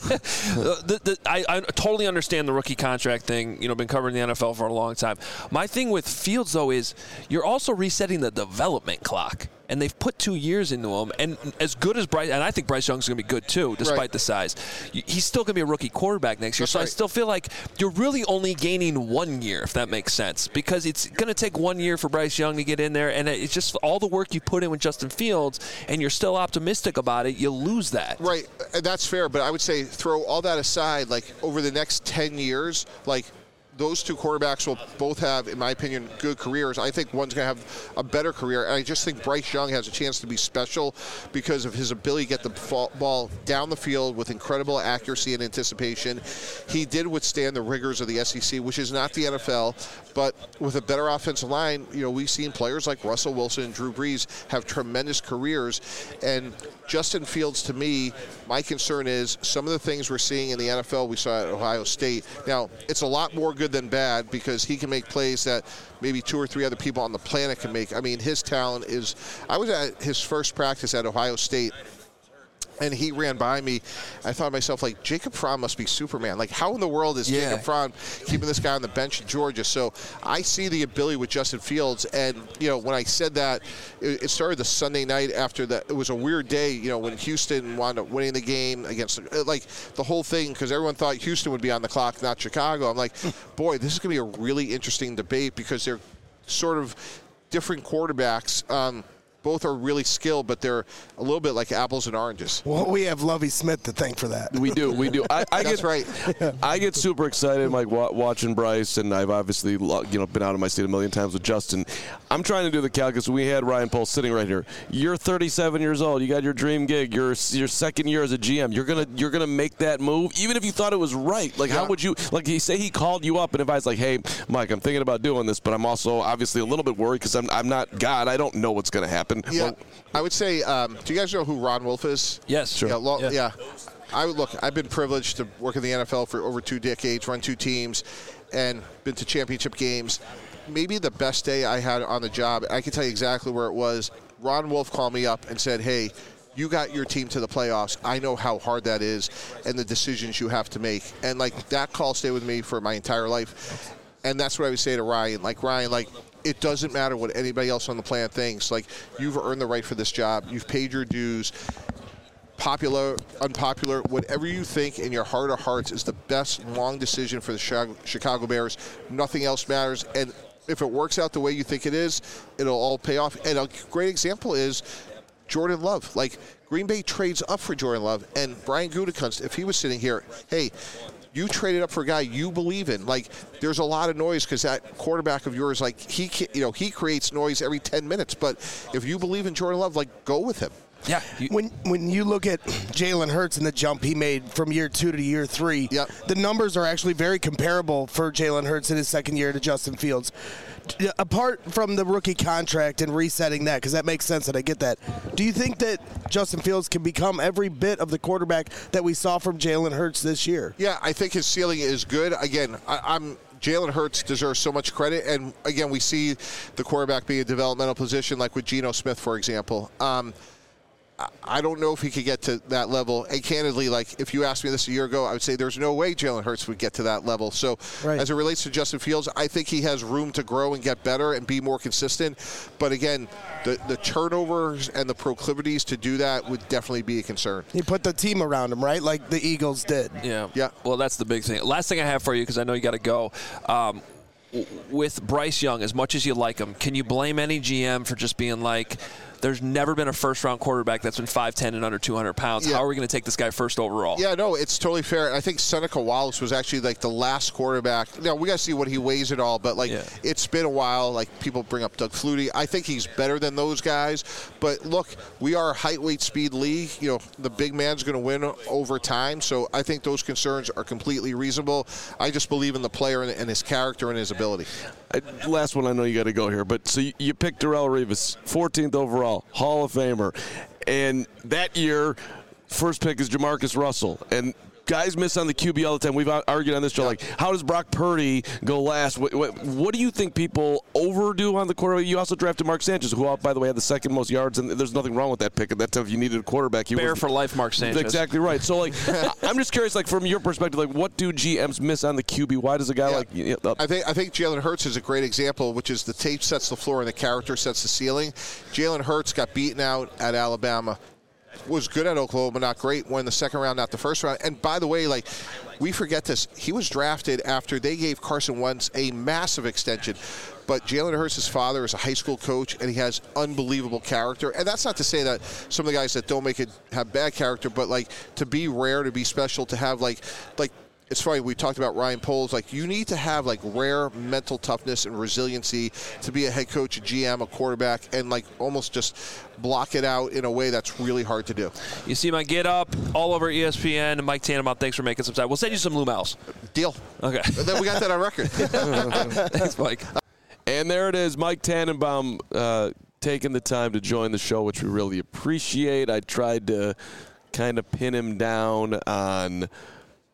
Speaker 1: the, the, I, I totally understand the rookie contract thing. You know, been covering the N F L for a long time. My thing with Fields, though, is you're also resetting the development clock. And they've put two years into him. And as good as Bryce, and I think Bryce Young's going to be good too, despite
Speaker 6: Right.
Speaker 1: the size. He's still going to be a rookie quarterback next year.
Speaker 6: That's
Speaker 1: so
Speaker 6: right.
Speaker 1: I still feel like you're really only gaining one year, if that makes sense. Because it's going to take one year for Bryce Young to get in there. And it's just all the work you put in with Justin Fields, and you're still optimistic about it, you lose that.
Speaker 6: Right, and that's fair, but I would say throw all that aside, like over the next ten years, like those two quarterbacks will both have, in my opinion, good careers. I think one's going to have a better career, and I just think Bryce Young has a chance to be special because of his ability to get the ball down the field with incredible accuracy and anticipation. He did withstand the rigors of the S E C, which is not the N F L, but with a better offensive line, you know, we've seen players like Russell Wilson and Drew Brees have tremendous careers, and Justin Fields, to me, my concern is some of the things we're seeing in the N F L we saw at Ohio State. Now, it's a lot more good than bad because he can make plays that maybe two or three other people on the planet can make. I mean, his talent is – I was at his first practice at Ohio State, and he ran by me. I thought to myself, like, Jacob Fromm must be Superman. Like, how in the world is
Speaker 1: Yeah.
Speaker 6: Jacob Fromm keeping this guy on the bench in Georgia? So I see the ability with Justin Fields. And, you know, when I said that, it, it started the Sunday night after that. It was a weird day, you know, when Houston wound up winning the game against, like, the whole thing, because everyone thought Houston would be on the clock, not Chicago. I'm like, boy, this is going to be a really interesting debate because they're sort of different quarterbacks. Um, Both are really skilled, but they're a little bit like apples and oranges.
Speaker 5: Well, we have Lovie Smith to thank for that.
Speaker 3: We do, we do. I, I
Speaker 6: That's
Speaker 3: get
Speaker 6: right.
Speaker 3: I get super excited, like wa- watching Bryce, and I've obviously, you know, been out of my seat a million times with Justin. I'm trying to do the calculus. We had Ryan Poles sitting right here. You're thirty-seven years old. You got your dream gig. You're your second year as a G M. You're gonna you're gonna make that move, even if you thought it was right. Like,
Speaker 6: Yeah.
Speaker 3: how would you? Like, he say he called you up and advised, like, hey, Mike, I'm thinking about doing this, but I'm also obviously a little bit worried because I'm I'm not God. I don't know what's gonna happen.
Speaker 6: Yeah.
Speaker 3: Well,
Speaker 6: I would say, um, do you guys know who Ron Wolf is?
Speaker 1: Yes. Sure.
Speaker 6: Yeah, lo-
Speaker 1: Yeah.
Speaker 6: yeah. I would look. I've been privileged to work in the N F L for over two decades, run two teams, and been to championship games. Maybe the best day I had on the job, I can tell you exactly where it was. Ron Wolf called me up and said, hey, you got your team to the playoffs. I know how hard that is and the decisions you have to make. And, like, that call stayed with me for my entire life. And that's what I would say to Ryan. Like, Ryan, like, it doesn't matter what anybody else on the planet thinks. Like, you've earned the right for this job. You've paid your dues. Popular, unpopular, whatever you think in your heart of hearts is the best long decision for the Chicago Bears. Nothing else matters. And if it works out the way you think it is, it'll all pay off. And a great example is Jordan Love. Like, Green Bay trades up for Jordan Love, and Brian Gutekunst, if he was sitting here, hey, you traded up for a guy you believe in. Like, there's a lot of noise because that quarterback of yours, like, he, you know, he creates noise every ten minutes. But if you believe in Jordan Love, like, go with him.
Speaker 1: Yeah. You,
Speaker 5: when when you look at Jalen Hurts and the jump he made from year two to year three,
Speaker 6: yep.
Speaker 5: the numbers are actually very comparable for Jalen Hurts in his second year to Justin Fields. Apart from the rookie contract and resetting that, because that makes sense and I get that, do you think that Justin Fields can become every bit of the quarterback that we saw from Jalen Hurts this year?
Speaker 6: Yeah, I think his ceiling is good. Again, I, I'm Jalen Hurts deserves so much credit. And, again, we see the quarterback be a developmental position, like with Geno Smith, for example. Um, I don't know if he could get to that level. And candidly, like, if you asked me this a year ago, I would say there's no way Jalen Hurts would get to that level. So
Speaker 5: right.
Speaker 6: as it relates to Justin Fields, I think he has room to grow and get better and be more consistent. But again, the, the turnovers and the proclivities to do that would definitely be a concern.
Speaker 5: He put the team around him, right? Like the Eagles did.
Speaker 1: Yeah.
Speaker 6: Yeah.
Speaker 1: Well, that's the big thing. Last thing I have for you, because I know you got to go. Um, with Bryce Young, as much as you like him, can you blame any G M for just being like, there's never been a first-round quarterback that's been five ten and under two hundred pounds.
Speaker 6: Yeah.
Speaker 1: How are we going to take this guy first overall?
Speaker 6: Yeah, no, it's totally fair. I think Seneca Wallace was actually like the last quarterback. Now, we got to see what he weighs and all, but like
Speaker 1: yeah.
Speaker 6: it's been a while. Like people bring up Doug Flutie. I think he's better than those guys. But look, we are a height, weight, speed league. You know, the big man's going to win over time. So I think those concerns are completely reasonable. I just believe in the player and, and his character and his ability.
Speaker 3: I, last one, I know you got to go here, but so you, you picked Darrelle Revis, fourteenth overall, Hall of Famer, and that year, first pick is Jamarcus Russell, and guys miss on the Q B all the time. We've argued on this show, like, how does Brock Purdy go last? What, what, what do you think people overdo on the quarterback? You also drafted Mark Sanchez, who, by the way, had the second most yards, and there's nothing wrong with that pick. At that time, if you needed a quarterback, he
Speaker 1: Bear
Speaker 3: was
Speaker 1: for life, Mark Sanchez.
Speaker 3: Exactly right. So, like, I'm just curious, like, from your perspective, like, what do G Ms miss on the Q B? Why does a guy
Speaker 6: Yeah.
Speaker 3: like you know,
Speaker 6: I think I think Jalen Hurts is a great example, which is the tape sets the floor and the character sets the ceiling. Jalen Hurts got beaten out at Alabama. Was good at Oklahoma, not great. Won the second round, not the first round. And by the way, like, we forget this. He was drafted after they gave Carson Wentz a massive extension. But Jalen Hurts' father is a high school coach, and he has unbelievable character. And that's not to say that some of the guys that don't make it have bad character, but, like, to be rare, to be special, to have, like, like, it's funny, we talked about Ryan Poles. Like, you need to have, like, rare mental toughness and resiliency to be a head coach, a G M, a quarterback, and, like, almost just block it out in a way that's really hard to do.
Speaker 1: You see my Get Up all over E S P N. Mike Tannenbaum, thanks for making some time. We'll send you some Lumels.
Speaker 6: Deal.
Speaker 1: Okay.
Speaker 6: And then we got that on record.
Speaker 1: Thanks, Mike.
Speaker 3: And there it is, Mike Tannenbaum uh, taking the time to join the show, which we really appreciate. I tried to kind of pin him down on –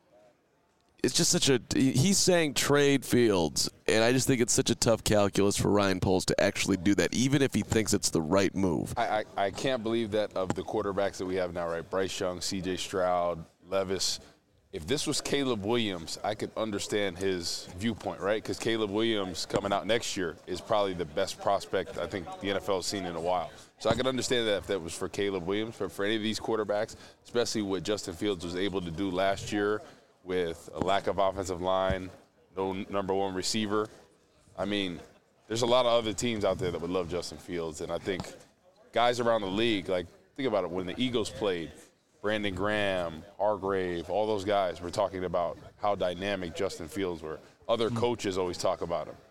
Speaker 3: it's just such a – he's saying trade Fields, and I just think it's such a tough calculus for Ryan Poles to actually do that, even if he thinks it's the right move.
Speaker 4: I, I, I can't believe that of the quarterbacks that we have now, right? Bryce Young, C J Stroud, Levis. If this was Caleb Williams, I could understand his viewpoint, right? Because Caleb Williams coming out next year is probably the best prospect I think the N F L has seen in a while. So I could understand that if that was for Caleb Williams. But for any of these quarterbacks, especially what Justin Fields was able to do last year with a lack of offensive line, no number one receiver, I mean, there's a lot of other teams out there that would love Justin Fields. And I think guys around the league, like, think about it, when the Eagles played, Brandon Graham, Hargrave, all those guys were talking about how dynamic Justin Fields were. Other coaches always talk about him.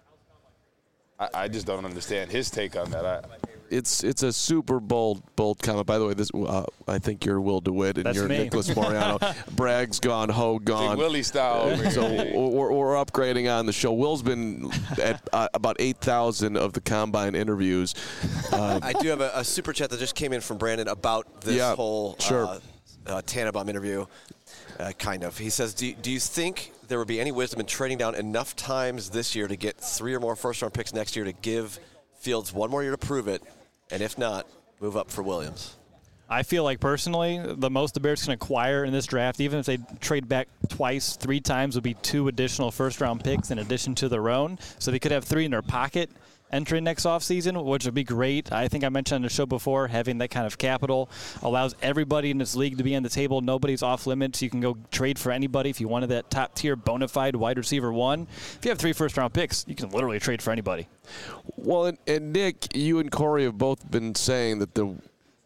Speaker 4: I, I just don't understand his take on that. I,
Speaker 3: It's it's a super bold bold comment. By the way, this uh, I think you're Will DeWitt and
Speaker 7: That's
Speaker 3: you're
Speaker 7: me.
Speaker 3: Nicholas Moriano. Bragg's gone, Ho gone.
Speaker 4: Big Willie style.
Speaker 3: So we're, we're upgrading on the show. Will's been at uh, about eight thousand of the Combine interviews. Uh,
Speaker 2: I do have a, a super chat that just came in from Brandon about this
Speaker 3: Yeah,
Speaker 2: whole
Speaker 3: sure.
Speaker 2: uh, uh, Tannenbaum interview, uh, kind of. He says, do, do you think there would be any wisdom in trading down enough times this year to get three or more first-round picks next year to give Fields one more year to prove it, and if not, move up for Williams?
Speaker 7: I feel like personally, the most the Bears can acquire in this draft, even if they trade back twice, three times, would be two additional first-round picks in addition to their own. So they could have three in their pocket entering next offseason, which would be great. I think I mentioned on the show before, having that kind of capital allows everybody in this league to be on the table. Nobody's off limits. You can go trade for anybody if you wanted that top-tier bona fide wide receiver one. If you have three first-round picks, you can literally trade for anybody.
Speaker 3: Well, and, and Nick, you and Corey have both been saying that the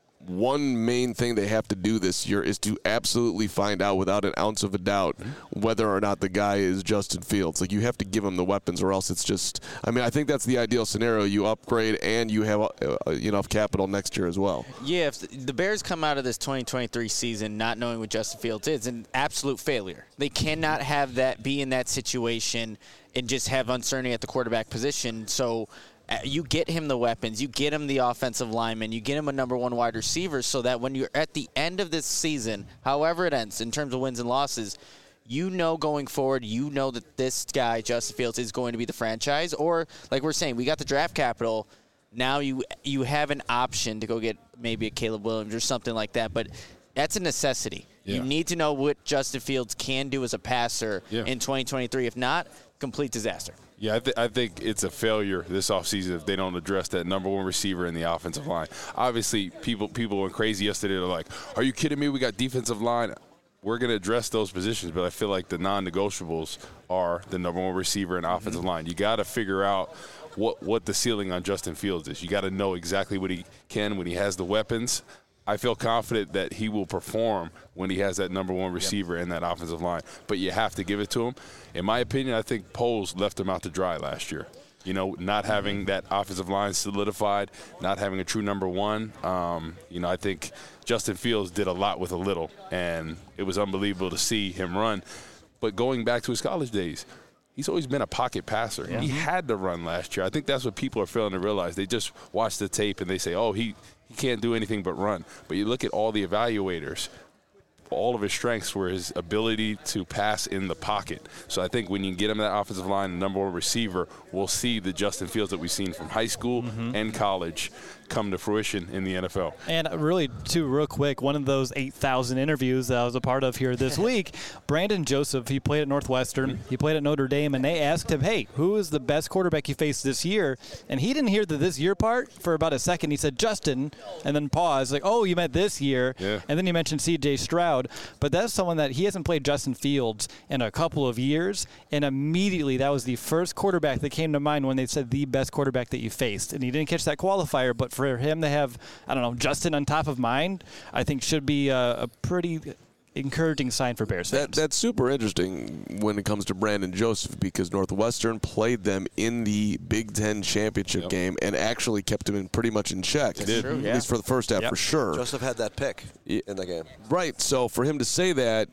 Speaker 3: one main thing they have to do this year is to absolutely find out without an ounce of a doubt whether or not the guy is Justin Fields. Like, you have to give him the weapons or else it's just – I mean, I think that's the ideal scenario. You upgrade and you have uh, enough capital next year as well.
Speaker 8: Yeah, if the Bears come out of this twenty twenty-three season not knowing what Justin Fields is, an absolute failure. They cannot have that be in that situation and just have uncertainty at the quarterback position. So – you get him the weapons, you get him the offensive lineman, you get him a number one wide receiver so that when you're at the end of this season, however it ends in terms of wins and losses, you know going forward, you know that this guy, Justin Fields, is going to be the franchise. Or, like we're saying, we got the draft capital. Now you you have an option to go get maybe a Caleb Williams or something like that. But that's a necessity. Yeah. You need to know what Justin Fields can do as a passer yeah. in twenty twenty-three. If not, complete disaster.
Speaker 4: Yeah, I, th- I think it's a failure this offseason if they don't address that number one receiver in the offensive line. Obviously, people people went crazy yesterday. They're like, are you kidding me? We got defensive line. We're going to address those positions, but I feel like the non-negotiables are the number one receiver and offensive mm-hmm. line. You got to figure out what, what the ceiling on Justin Fields is. You got to know exactly what he can when he has the weapons. I feel confident that he will perform when he has that number one receiver yep. in that offensive line. But you have to give it to him. In my opinion, I think Poles left him out to dry last year. You know, not having that offensive line solidified, not having a true number one. Um, you know, I think Justin Fields did a lot with a little, and it was unbelievable to see him run. But going back to his college days, he's always been a pocket passer. Yeah. He had to run last year. I think that's what people are failing to realize. They just watch the tape and they say, oh, he – he can't do anything but run. But you look at all the evaluators, all of his strengths were his ability to pass in the pocket. So I think when you get him that offensive line, the number one receiver, we'll see the Justin Fields that we've seen from high school mm-hmm. and college come to fruition in the N F L.
Speaker 7: And really, too, real quick, one of those eight thousand interviews that I was a part of here this week, Brandon Joseph, he played at Northwestern, he played at Notre Dame, and they asked him, hey, who is the best quarterback you faced this year? And he didn't hear the this year part for about a second. He said, Justin, and then paused, like, oh, you meant this year. Yeah. And then you mentioned C J Stroud. But that's someone that he hasn't played Justin Fields in a couple of years, and immediately that was the first quarterback that came to mind when they said the best quarterback that you faced. And he didn't catch that qualifier, but for him to have, I don't know, Justin on top of mind, I think should be a, a pretty encouraging sign for Bears fans.
Speaker 3: That, that's super interesting when it comes to Brandon Joseph because Northwestern played them in the Big Ten championship yep. game and actually kept him in pretty much in check.
Speaker 8: They did. True, yeah.
Speaker 3: At least for the first half,
Speaker 2: yep.
Speaker 3: for sure.
Speaker 2: Joseph had that pick in the game.
Speaker 3: Right. So for him to say that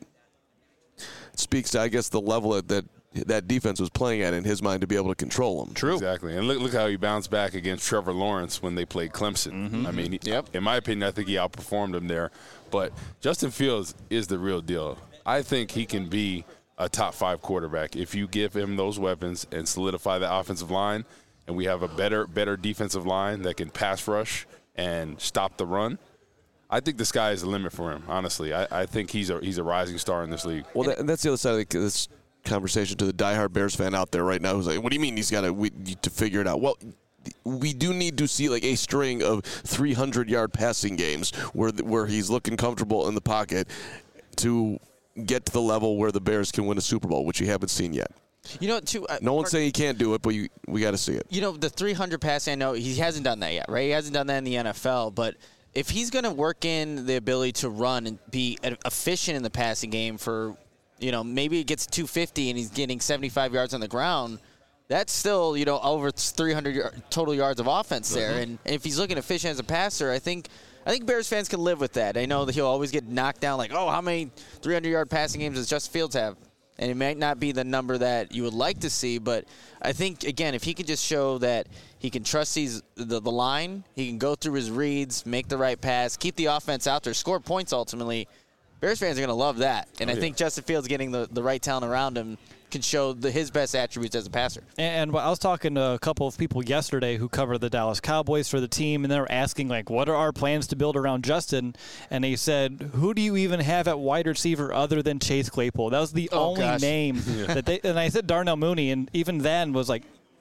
Speaker 3: speaks to, I guess, the level that, that that defense was playing at in his mind to be able to control them.
Speaker 4: True. Exactly. And look look how he bounced back against Trevor Lawrence when they played Clemson. Mm-hmm. I mean, he, yep. in my opinion, I think he outperformed him there. But Justin Fields is the real deal. I think he can be a top five quarterback if you give him those weapons and solidify the offensive line, and we have a better better defensive line that can pass rush and stop the run. I think the sky is the limit for him, honestly. I, I think he's a he's a rising star in this league.
Speaker 3: Well, that, that's the other side of this conversation to the diehard Bears fan out there right now who's like, what do you mean he's got to to figure it out? Well, we do need to see like a string of three hundred yard passing games where where he's looking comfortable in the pocket to get to the level where the Bears can win a Super Bowl, which you haven't seen yet.
Speaker 8: You know, too, uh,
Speaker 3: no one's saying he can't do it, but you, we got to see it.
Speaker 8: You know, the three hundred passing, I know he hasn't done that yet, right? He hasn't done that in the N F L, but if he's going to work in the ability to run and be efficient in the passing game for, you know, maybe it gets two fifty and he's getting seventy-five yards on the ground, that's still, you know, over three hundred total yards of offense there. Mm-hmm. And if he's looking efficient as a passer, I think I think Bears fans can live with that. I know that he'll always get knocked down like, oh, how many three hundred yard passing games does Justin Fields have? And it might not be the number that you would like to see, but I think, again, if he can just show that he can trust these, the, the line, he can go through his reads, make the right pass, keep the offense out there, score points ultimately, Bears fans are going to love that. And oh, I yeah. think Justin Fields getting the, the right talent around him can show the, his best attributes as a passer.
Speaker 7: And, and I was talking to a couple of people yesterday who cover the Dallas Cowboys for the team, and they were asking, like, what are our plans to build around Justin? And they said, who do you even have at wide receiver other than Chase Claypool? That was the
Speaker 8: oh,
Speaker 7: only
Speaker 8: gosh.
Speaker 7: name yeah. that they – and I said Darnell Mooney, and even then was like,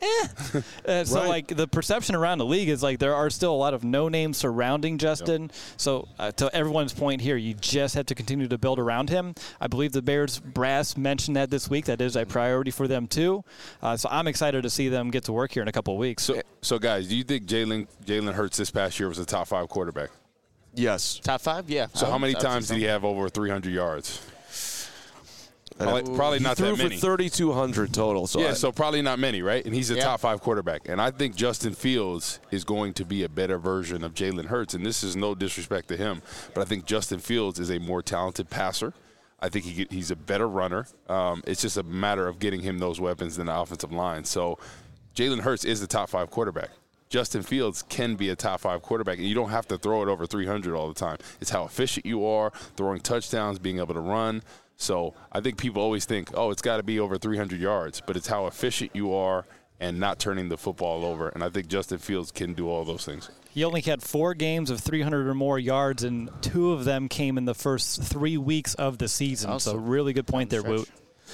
Speaker 7: eh. Uh, so,
Speaker 3: Right.
Speaker 7: like, the perception around the league is, like, there are still a lot of no names surrounding Justin. Yep. So, uh, to everyone's point here, you just have to continue to build around him. I believe the Bears brass mentioned that this week. That is a priority for them, too. Uh, so, I'm excited to see them get to work here in a couple of weeks.
Speaker 4: So, so guys, do you think Jalen Jalen Hurts this past year was a top five quarterback?
Speaker 3: Yes.
Speaker 8: Top five? Yeah.
Speaker 4: So,
Speaker 8: I
Speaker 4: how
Speaker 8: would-
Speaker 4: many
Speaker 8: I would say
Speaker 4: times
Speaker 8: so.
Speaker 4: did he have over three hundred yards? Probably, probably
Speaker 3: He
Speaker 4: not
Speaker 3: threw
Speaker 4: that many.
Speaker 3: for thirty-two hundred total. So
Speaker 4: yeah,
Speaker 3: I,
Speaker 4: so probably not many, right? And he's a
Speaker 8: Yeah.
Speaker 4: top five quarterback. And I think Justin Fields is going to be a better version of Jalen Hurts. And this is no disrespect to him, but I think Justin Fields is a more talented passer. I think he, he's a better runner. Um, it's just a matter of getting him those weapons in the offensive line. So Jalen Hurts is the top five quarterback. Justin Fields can be a top five quarterback, and you don't have to throw it over three hundred all the time. It's how efficient you are, throwing touchdowns, being able to run. So I think people always think, oh, it's got to be over three hundred yards, but it's how efficient you are and not turning the football over. And I think Justin Fields can do all those things.
Speaker 7: He only had four games of three hundred or more yards, and two of them came in the first three weeks of the season.
Speaker 8: Awesome.
Speaker 7: So really good point there, Woot.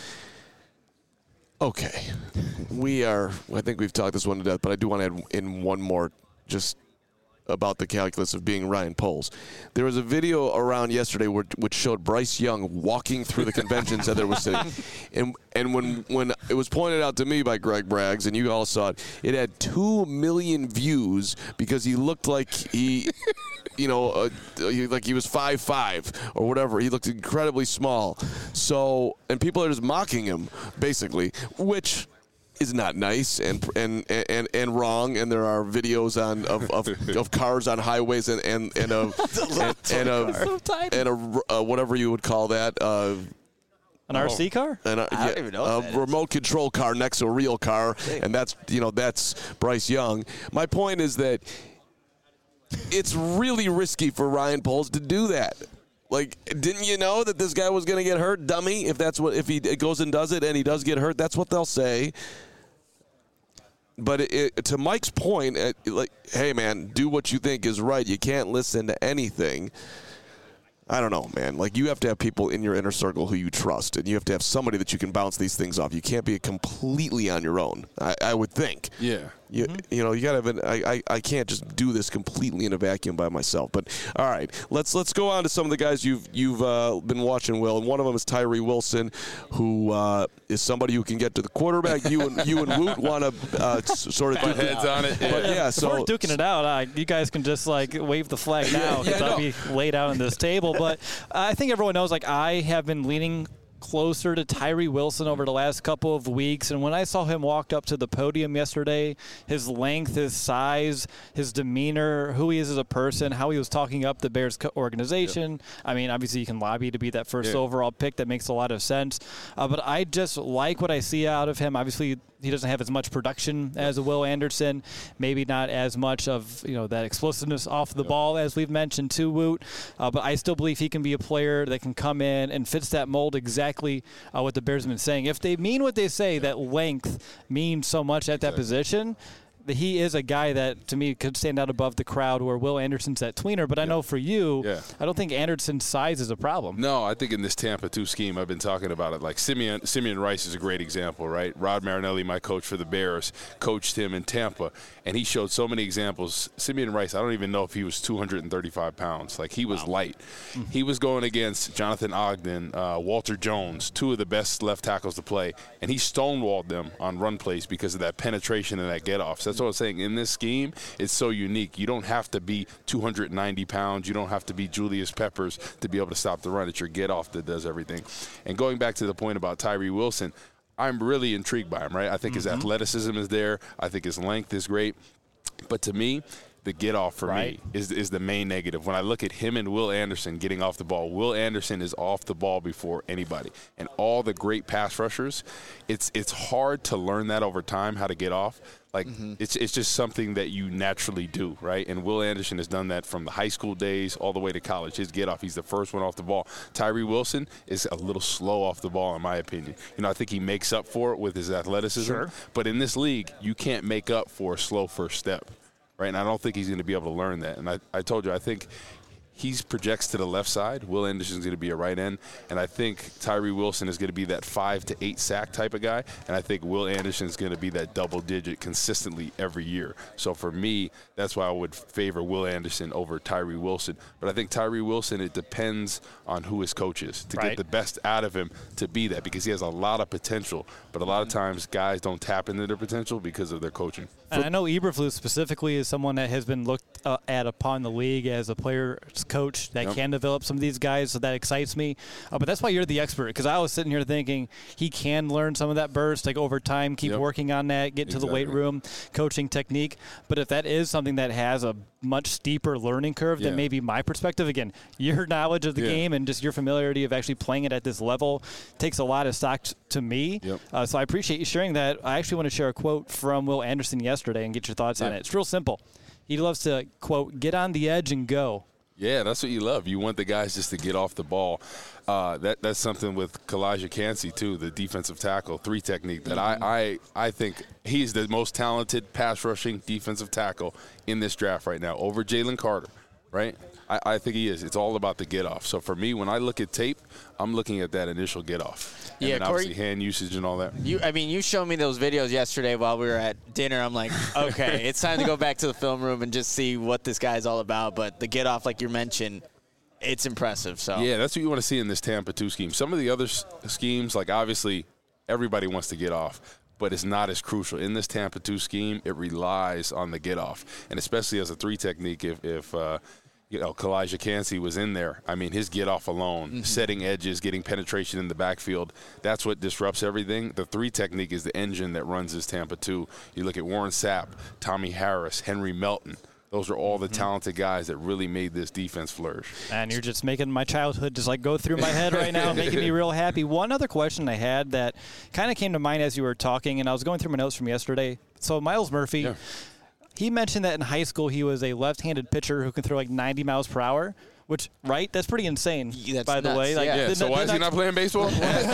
Speaker 3: okay. We are, I think we've talked this one to death, but I do want to add in one more just about the calculus of being Ryan Poles. There was a video around yesterday where, which showed Bryce Young walking through the convention center was sitting. And and when, when it was pointed out to me by Greg Braggs, and you all saw it, it had two million views because he looked like he, you know, uh, he, like he was five five or whatever. He looked incredibly small. So, and people are just mocking him, basically, which is not nice and and and and wrong. And there are videos on of, of, of cars on highways and and and a and, and a and a uh, whatever you would call that. Uh,
Speaker 7: An R C car?
Speaker 3: and a,
Speaker 8: I don't even know what
Speaker 3: a
Speaker 8: that is.
Speaker 3: remote control car next to a real car, and that's you know that's Bryce Young. My point is that it's really risky for Ryan Poles to do that. Like, didn't you know that this guy was going to get hurt, dummy? If that's what if he goes and does it and he does get hurt, that's what they'll say. But it, it, to Mike's point, it, like, hey man, do what you think is right. You can't listen to anything. I don't know, man. Like, you have to have people in your inner circle who you trust, and you have to have somebody that you can bounce these things off. You can't be completely on your own, I, I would think.
Speaker 4: Yeah.
Speaker 3: You, mm-hmm. you know, you got to have an, I, I, I can't just do this completely in a vacuum by myself. But, all right, let's let's go on to some of the guys you've you've uh, been watching, Will. And one of them is Tyree Wilson, who uh, is somebody who can get to the quarterback. You and you and Woot want to uh, s- sort of
Speaker 4: Put heads on it.
Speaker 3: But, yeah,
Speaker 7: If
Speaker 3: so.
Speaker 7: we're duking it out, uh, you guys can just, like, wave the flag now because
Speaker 3: yeah,
Speaker 7: I'll
Speaker 3: no.
Speaker 7: be laid out on this table. But I think everyone knows, like, I have been leaning closer to Tyree Wilson over the last couple of weeks. And when I saw him walk up to the podium yesterday, his length, his size, his demeanor, who he is as a person, how he was talking up the Bears co- organization. Yeah. I mean, obviously you can lobby to be that first
Speaker 4: Yeah.
Speaker 7: overall pick. That makes a lot of sense. Uh, but I just like what I see out of him. Obviously, he doesn't have as much production as a Will Anderson, maybe not as much of, you know, that explosiveness off the ball as we've mentioned too, Woot. Uh, but I still believe he can be a player that can come in and fits that mold exactly uh, what the Bears have been saying. If they mean what they say, that length means so much at that position, he is a guy that, to me, could stand out above the crowd where Will Anderson's that tweener. But I know for you,
Speaker 4: Yeah.
Speaker 7: I don't think Anderson's size is a problem.
Speaker 4: No, I think in this Tampa two scheme, I've been talking about it. Like Simeon, Simeon Rice is a great example, right? Rod Marinelli, my coach for the Bears, coached him in Tampa, and he showed so many examples. Simeon Rice, I don't even know if he was two hundred thirty-five pounds. Like, he was light. He was going against Jonathan Ogden, uh, Walter Jones, two of the best left tackles to play, and he stonewalled them on run plays because of that penetration and that get-off. So that's what I'm saying. In this scheme, it's so unique. You don't have to be two hundred ninety pounds. You don't have to be Julius Peppers to be able to stop the run. It's your get-off that does everything. And going back to the point about Tyree Wilson, I'm really intrigued by him, right? I think mm-hmm. his athleticism is there. I think his length is great. But to me, the get-off for
Speaker 7: right.
Speaker 4: me is is the main negative. When I look at him and Will Anderson getting off the ball, Will Anderson is off the ball before anybody. And all the great pass rushers, it's it's hard to learn that over time, how to get off. Like, mm-hmm. it's it's just something that you naturally do, right? And Will Anderson has done that from the high school days all the way to college. His get-off, he's the first one off the ball. Tyree Wilson is a little slow off the ball, in my opinion. You know, I think he makes up for it with his athleticism.
Speaker 7: Sure.
Speaker 4: But in this league, you can't make up for a slow first step, right? And I don't think he's going to be able to learn that. And I, I told you, I think he projects to the left side. Will Anderson's going to be a right end. And I think Tyree Wilson is going to be that five to eight sack type of guy. And I think Will Anderson is going to be that double digit consistently every year. So for me, that's why I would favor Will Anderson over Tyree Wilson. But I think Tyree Wilson, it depends on who his coach is to
Speaker 7: right.
Speaker 4: get the best out of him to be that, because he has a lot of potential. But a lot of times guys don't tap into their potential because of their coaching.
Speaker 7: And I know Eberflus specifically is someone that has been looked uh, at upon the league as a player's coach that
Speaker 4: yep.
Speaker 7: can develop some of these guys, so that excites me. Uh, but that's why you're the expert, because I was sitting here thinking he can learn some of that burst, like over time, keep
Speaker 4: yep.
Speaker 7: working on that, get
Speaker 4: exactly.
Speaker 7: to the weight room, coaching technique. But if that is something that has a much steeper learning curve
Speaker 4: yeah.
Speaker 7: than maybe my perspective, again, your knowledge of the
Speaker 4: yeah.
Speaker 7: game and just your familiarity of actually playing it at this level takes a lot of stock t- to me.
Speaker 4: Yep.
Speaker 7: Uh, so I appreciate you sharing that. I actually want to share a quote from Will Anderson yesterday and get your thoughts
Speaker 4: yeah.
Speaker 7: on it. It's real simple. He loves to, quote, get on the edge and go.
Speaker 4: Yeah, that's what you love. You want the guys just to get off the ball. Uh, that that's something with Kalijah Cansey too, the defensive tackle three technique. That I, I I think he's the most talented pass rushing defensive tackle in this draft right now, over Jalen Carter. Right? I, I think he is. It's all about the get off. So for me, when I look at tape, I'm looking at that initial get off. And
Speaker 8: Yeah,
Speaker 4: then
Speaker 8: Corey,
Speaker 4: obviously hand usage and all that.
Speaker 8: You, I mean, you showed me those videos yesterday while we were at dinner. I'm like, okay, it's time to go back to the film room and just see what this guy's all about. But the get off, like you mentioned, it's impressive. So
Speaker 4: Yeah, that's what you want to see in this Tampa two scheme. Some of the other s- schemes, like obviously everybody wants to get off, but it's not as crucial. In this Tampa two scheme, it relies on the get off. And especially as a three technique, if, if uh, you know, Kalijah Cansey was in there, I mean, his get off alone, mm-hmm. setting edges, getting penetration in the backfield, that's what disrupts everything. The three technique is the engine that runs this Tampa two. You look at Warren Sapp, Tommy Harris, Henry Melton. Those are all the mm-hmm. talented guys that really made this defense flourish.
Speaker 7: And you're just making my childhood just like go through my head right now, making me real happy. One other question I had that kind of came to mind as you were talking, and I was going through my notes from yesterday. So Myles Murphy,
Speaker 4: yeah.
Speaker 7: he mentioned that in high school he was a left-handed pitcher who can throw like ninety miles per hour. Which, right? That's pretty insane,
Speaker 8: That's
Speaker 7: by the
Speaker 8: nuts,
Speaker 7: way. Like,
Speaker 8: yeah.
Speaker 4: Yeah,
Speaker 7: the-
Speaker 4: so
Speaker 7: the
Speaker 4: why is he
Speaker 7: next-
Speaker 4: not playing baseball?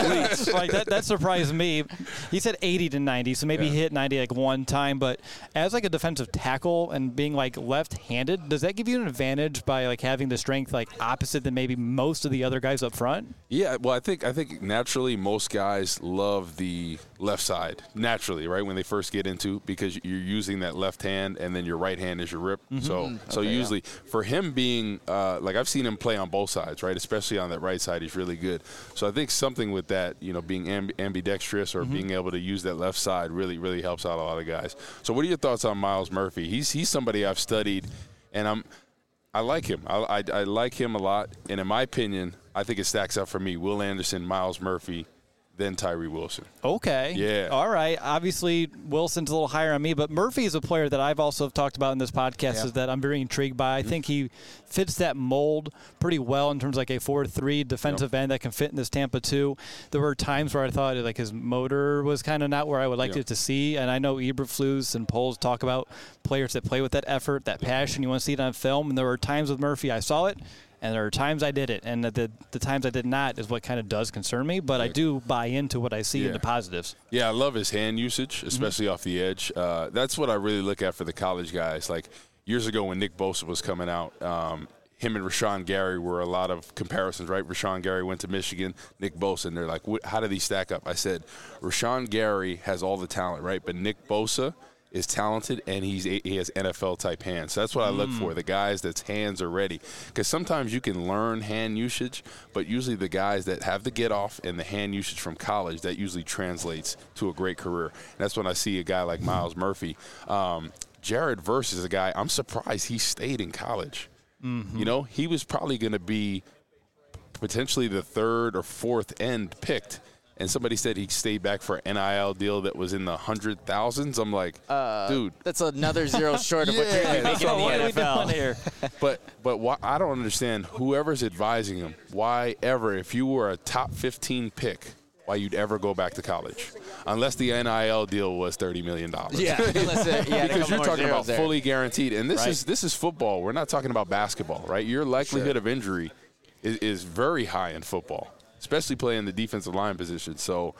Speaker 7: like that, that surprised me. He said eighty to ninety, so maybe
Speaker 4: Yeah.
Speaker 7: he hit ninety like one time. But as like a defensive tackle and being like left-handed, does that give you an advantage by like having the strength like opposite than maybe most of the other guys up front?
Speaker 4: Yeah, well, I think I think naturally most guys love the left side naturally, right? When they first get into, because you're using that left hand and then your right hand is your rip.
Speaker 7: Mm-hmm.
Speaker 4: So so
Speaker 8: Okay,
Speaker 4: usually for him being uh, like I've seen him play on both sides, right? Especially on that right side, he's really good. So I think something with that, you know, being amb- ambidextrous or mm-hmm. being able to use that left side really really helps out a lot of guys. So what are your thoughts on Myles Murphy? He's he's somebody I've studied, and I'm. I like him. I, I, I like him a lot. And in my opinion, I think it stacks up for me. Will Anderson, Myles Murphy, then Tyree Wilson.
Speaker 7: Okay.
Speaker 4: Yeah.
Speaker 7: All right. Obviously, Wilson's a little higher on me, but Murphy is a player that I've also talked about in this podcast
Speaker 8: Yeah.
Speaker 7: is that I'm very intrigued by. I think he fits that mold pretty well in terms of like a four three defensive end that can fit in this Tampa two. There were times where I thought like his motor was kind of not where I would like
Speaker 4: Yeah.
Speaker 7: it to see, and I know Eberflus and Poles talk about players that play with that effort, that passion. You want to see it on film, and there were times with Murphy I saw it, and there are times I did it, and the the times I did not is what kind of does concern me. But I do buy into what I see
Speaker 4: Yeah.
Speaker 7: in the positives.
Speaker 4: Yeah, I love his hand usage, especially mm-hmm. off the edge. Uh, that's what I really look at for the college guys. Like years ago when Nick Bosa was coming out, um, him and Rashawn Gary were a lot of comparisons, right? Rashawn Gary went to Michigan, Nick Bosa, and they're like, how do these stack up? I said, Rashawn Gary has all the talent, right? But Nick Bosa is talented, and he's he has N F L-type hands. So that's what I look for, the guys that's hands are ready. Because sometimes you can learn hand usage, but usually the guys that have the get-off and the hand usage from college, that usually translates to a great career. And that's when I see a guy like Myles Murphy. Um, Jared Verse is a guy, I'm surprised he stayed in college. Mm-hmm. You know, he was probably going to be potentially the third or fourth end picked. And somebody said he stayed back for an N I L deal that was in the hundred thousands. I'm like,
Speaker 8: uh,
Speaker 4: dude,
Speaker 8: that's another zero short of what you're
Speaker 4: Yeah,
Speaker 8: making
Speaker 4: so
Speaker 8: in the
Speaker 4: what
Speaker 8: N
Speaker 4: are we
Speaker 8: F L.
Speaker 7: doing here?
Speaker 4: but but why, I don't understand whoever's advising him. Why ever, if you were a top fifteen pick, why you'd ever go back to college, unless the N I L deal was thirty million dollars.
Speaker 8: Yeah, unless it, yeah,
Speaker 4: because you're talking about
Speaker 8: there.
Speaker 4: fully guaranteed, and this
Speaker 8: Right.
Speaker 4: is this is football. We're not talking about basketball, right? Your likelihood of injury is, is very high in football, especially playing the defensive line position. So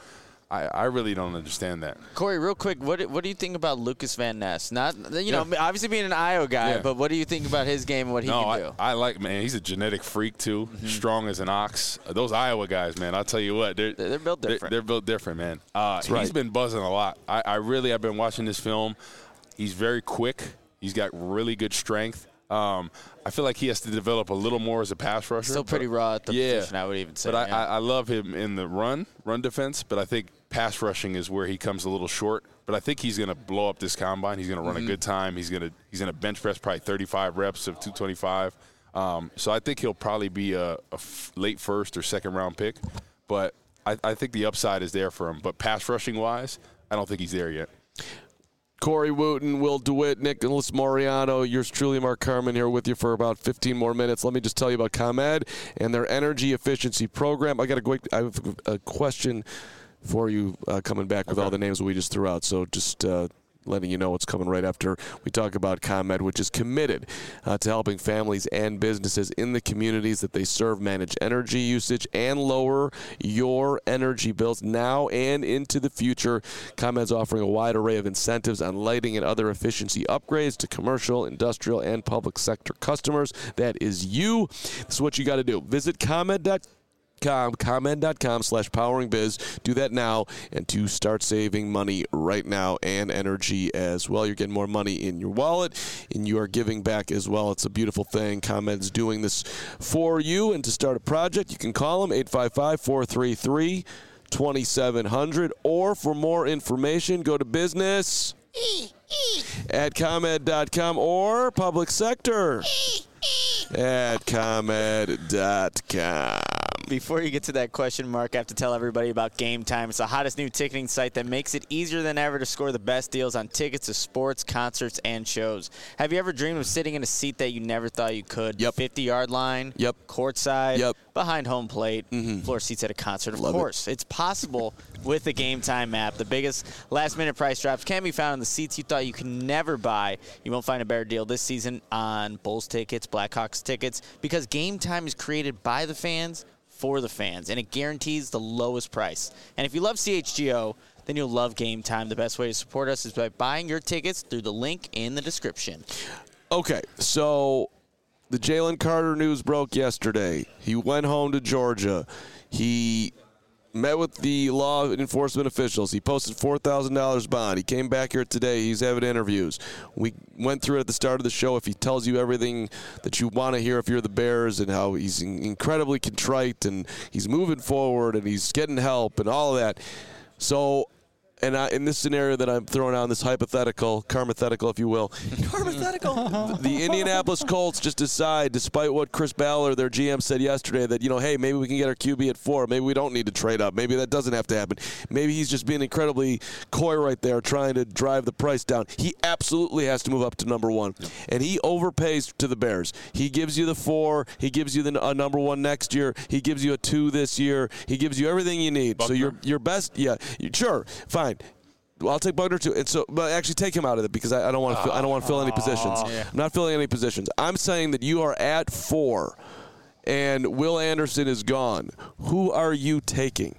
Speaker 4: I, I really don't understand that.
Speaker 8: Corey, real quick, what what do you think about Lucas Van Ness? Not you know, obviously being an Iowa guy,
Speaker 4: Yeah.
Speaker 8: but what do you think about his game and what he
Speaker 4: no,
Speaker 8: can
Speaker 4: I,
Speaker 8: do?
Speaker 4: I like man. He's a genetic freak too.
Speaker 8: Mm-hmm.
Speaker 4: Strong as an ox. Uh, Those Iowa guys, man. I'll tell you what, they're
Speaker 8: They're built
Speaker 4: they're,
Speaker 8: different.
Speaker 4: they're built different, man. Uh, he's
Speaker 3: right.
Speaker 4: been buzzing a lot. I, I really, I've been watching this film. He's very quick. He's got really good strength. Um, I feel like he has to develop a little more as a pass rusher.
Speaker 8: Still pretty
Speaker 4: but-
Speaker 8: raw at the
Speaker 4: yeah,
Speaker 8: position, I would even say.
Speaker 4: But
Speaker 8: yeah.
Speaker 4: I, I, I love him in the run, run defense. But I think pass rushing is where he comes a little short. But I think he's going to blow up this combine. He's going to run
Speaker 8: Mm-hmm.
Speaker 4: a good time. He's going to he's going to bench press probably thirty-five reps of two twenty-five. Um, so I think he'll probably be a, a f- late first or second round pick. But I, I think the upside is there for him. But pass rushing wise, I don't think he's there yet.
Speaker 3: Corey Wooten, Will DeWitt, Nicholas Moriano, yours truly, Mark Carman, here with you for about fifteen more minutes. Let me just tell you about ComEd and their energy efficiency program. I got a quick, I have a question for you uh, coming back with
Speaker 4: Okay.
Speaker 3: all the names we just threw out. So just uh, letting you know what's coming right after we talk about ComEd, which is committed uh, to helping families and businesses in the communities that they serve manage energy usage and lower your energy bills now and into the future. ComEd's offering a wide array of incentives on lighting and other efficiency upgrades to commercial, industrial, and public sector customers. That is you. This is what you got to do. Visit ComEd dot com. Com, ComEd.com slash powering biz. Do that now and to start saving money right now and energy as well. You're getting more money in your wallet and you are giving back as well. It's a beautiful thing. ComEd's doing this for you. And to start a project, you can call them eight five five, four three three, two seven zero zero. Or for more information, go to business at ComEd dot com or public sector at ComEd dot com.
Speaker 8: Before you get to that question, Mark, I have to tell everybody about Game Time. It's the hottest new ticketing site that makes it easier than ever to score the best deals on tickets to sports, concerts, and shows. Have you ever dreamed of sitting in a seat that you never thought you could?
Speaker 3: Yep.
Speaker 8: fifty-yard line?
Speaker 3: Yep.
Speaker 8: Courtside?
Speaker 3: Yep.
Speaker 8: Behind home plate? Mm-hmm. Floor seats at a concert? Of
Speaker 3: Love it.
Speaker 8: course. It's possible with the Game Time app. The biggest last-minute price drops can be found in the seats you thought you could never buy. You won't find a better deal this season on Bulls tickets, Blackhawks tickets, because Game Time is created by the fans for the fans, and it guarantees the lowest price. And if you love C H G O, then you'll love Game Time. The best way to support us is by buying your tickets through the link in the description.
Speaker 3: Okay, so the Jalen Carter news broke yesterday. He went home to Georgia. He met with the law enforcement officials. He posted four thousand dollars bond. He came back here today. He's having interviews. We went through it at the start of the show. If he tells you everything that you want to hear if you're the Bears and how he's incredibly contrite and he's moving forward and he's getting help and all of that. So, and I, in this scenario that I'm throwing out, this hypothetical, karmathetical, if you will, the, the Indianapolis Colts just decide, despite what Chris Ballard, their G M, said yesterday, that, you know, hey, maybe we can get our Q B at four. Maybe we don't need to trade up. Maybe that doesn't have to happen. Maybe he's just being incredibly coy right there, trying to drive the price down. He absolutely has to move up to number one. Yep. And he overpays to the Bears. He gives you the four. He gives you the uh, number one next year. He gives you a two this year. He gives you everything you need.
Speaker 4: Buckner.
Speaker 3: So your your best, yeah, you, sure, fine. Well, I'll take Buckner too, and so, but actually take him out of it because I, I don't want to. Fill, I don't want to fill any positions.
Speaker 8: Yeah.
Speaker 3: I'm not filling any positions. I'm saying that you are at four, and Will Anderson is gone. Who are you taking?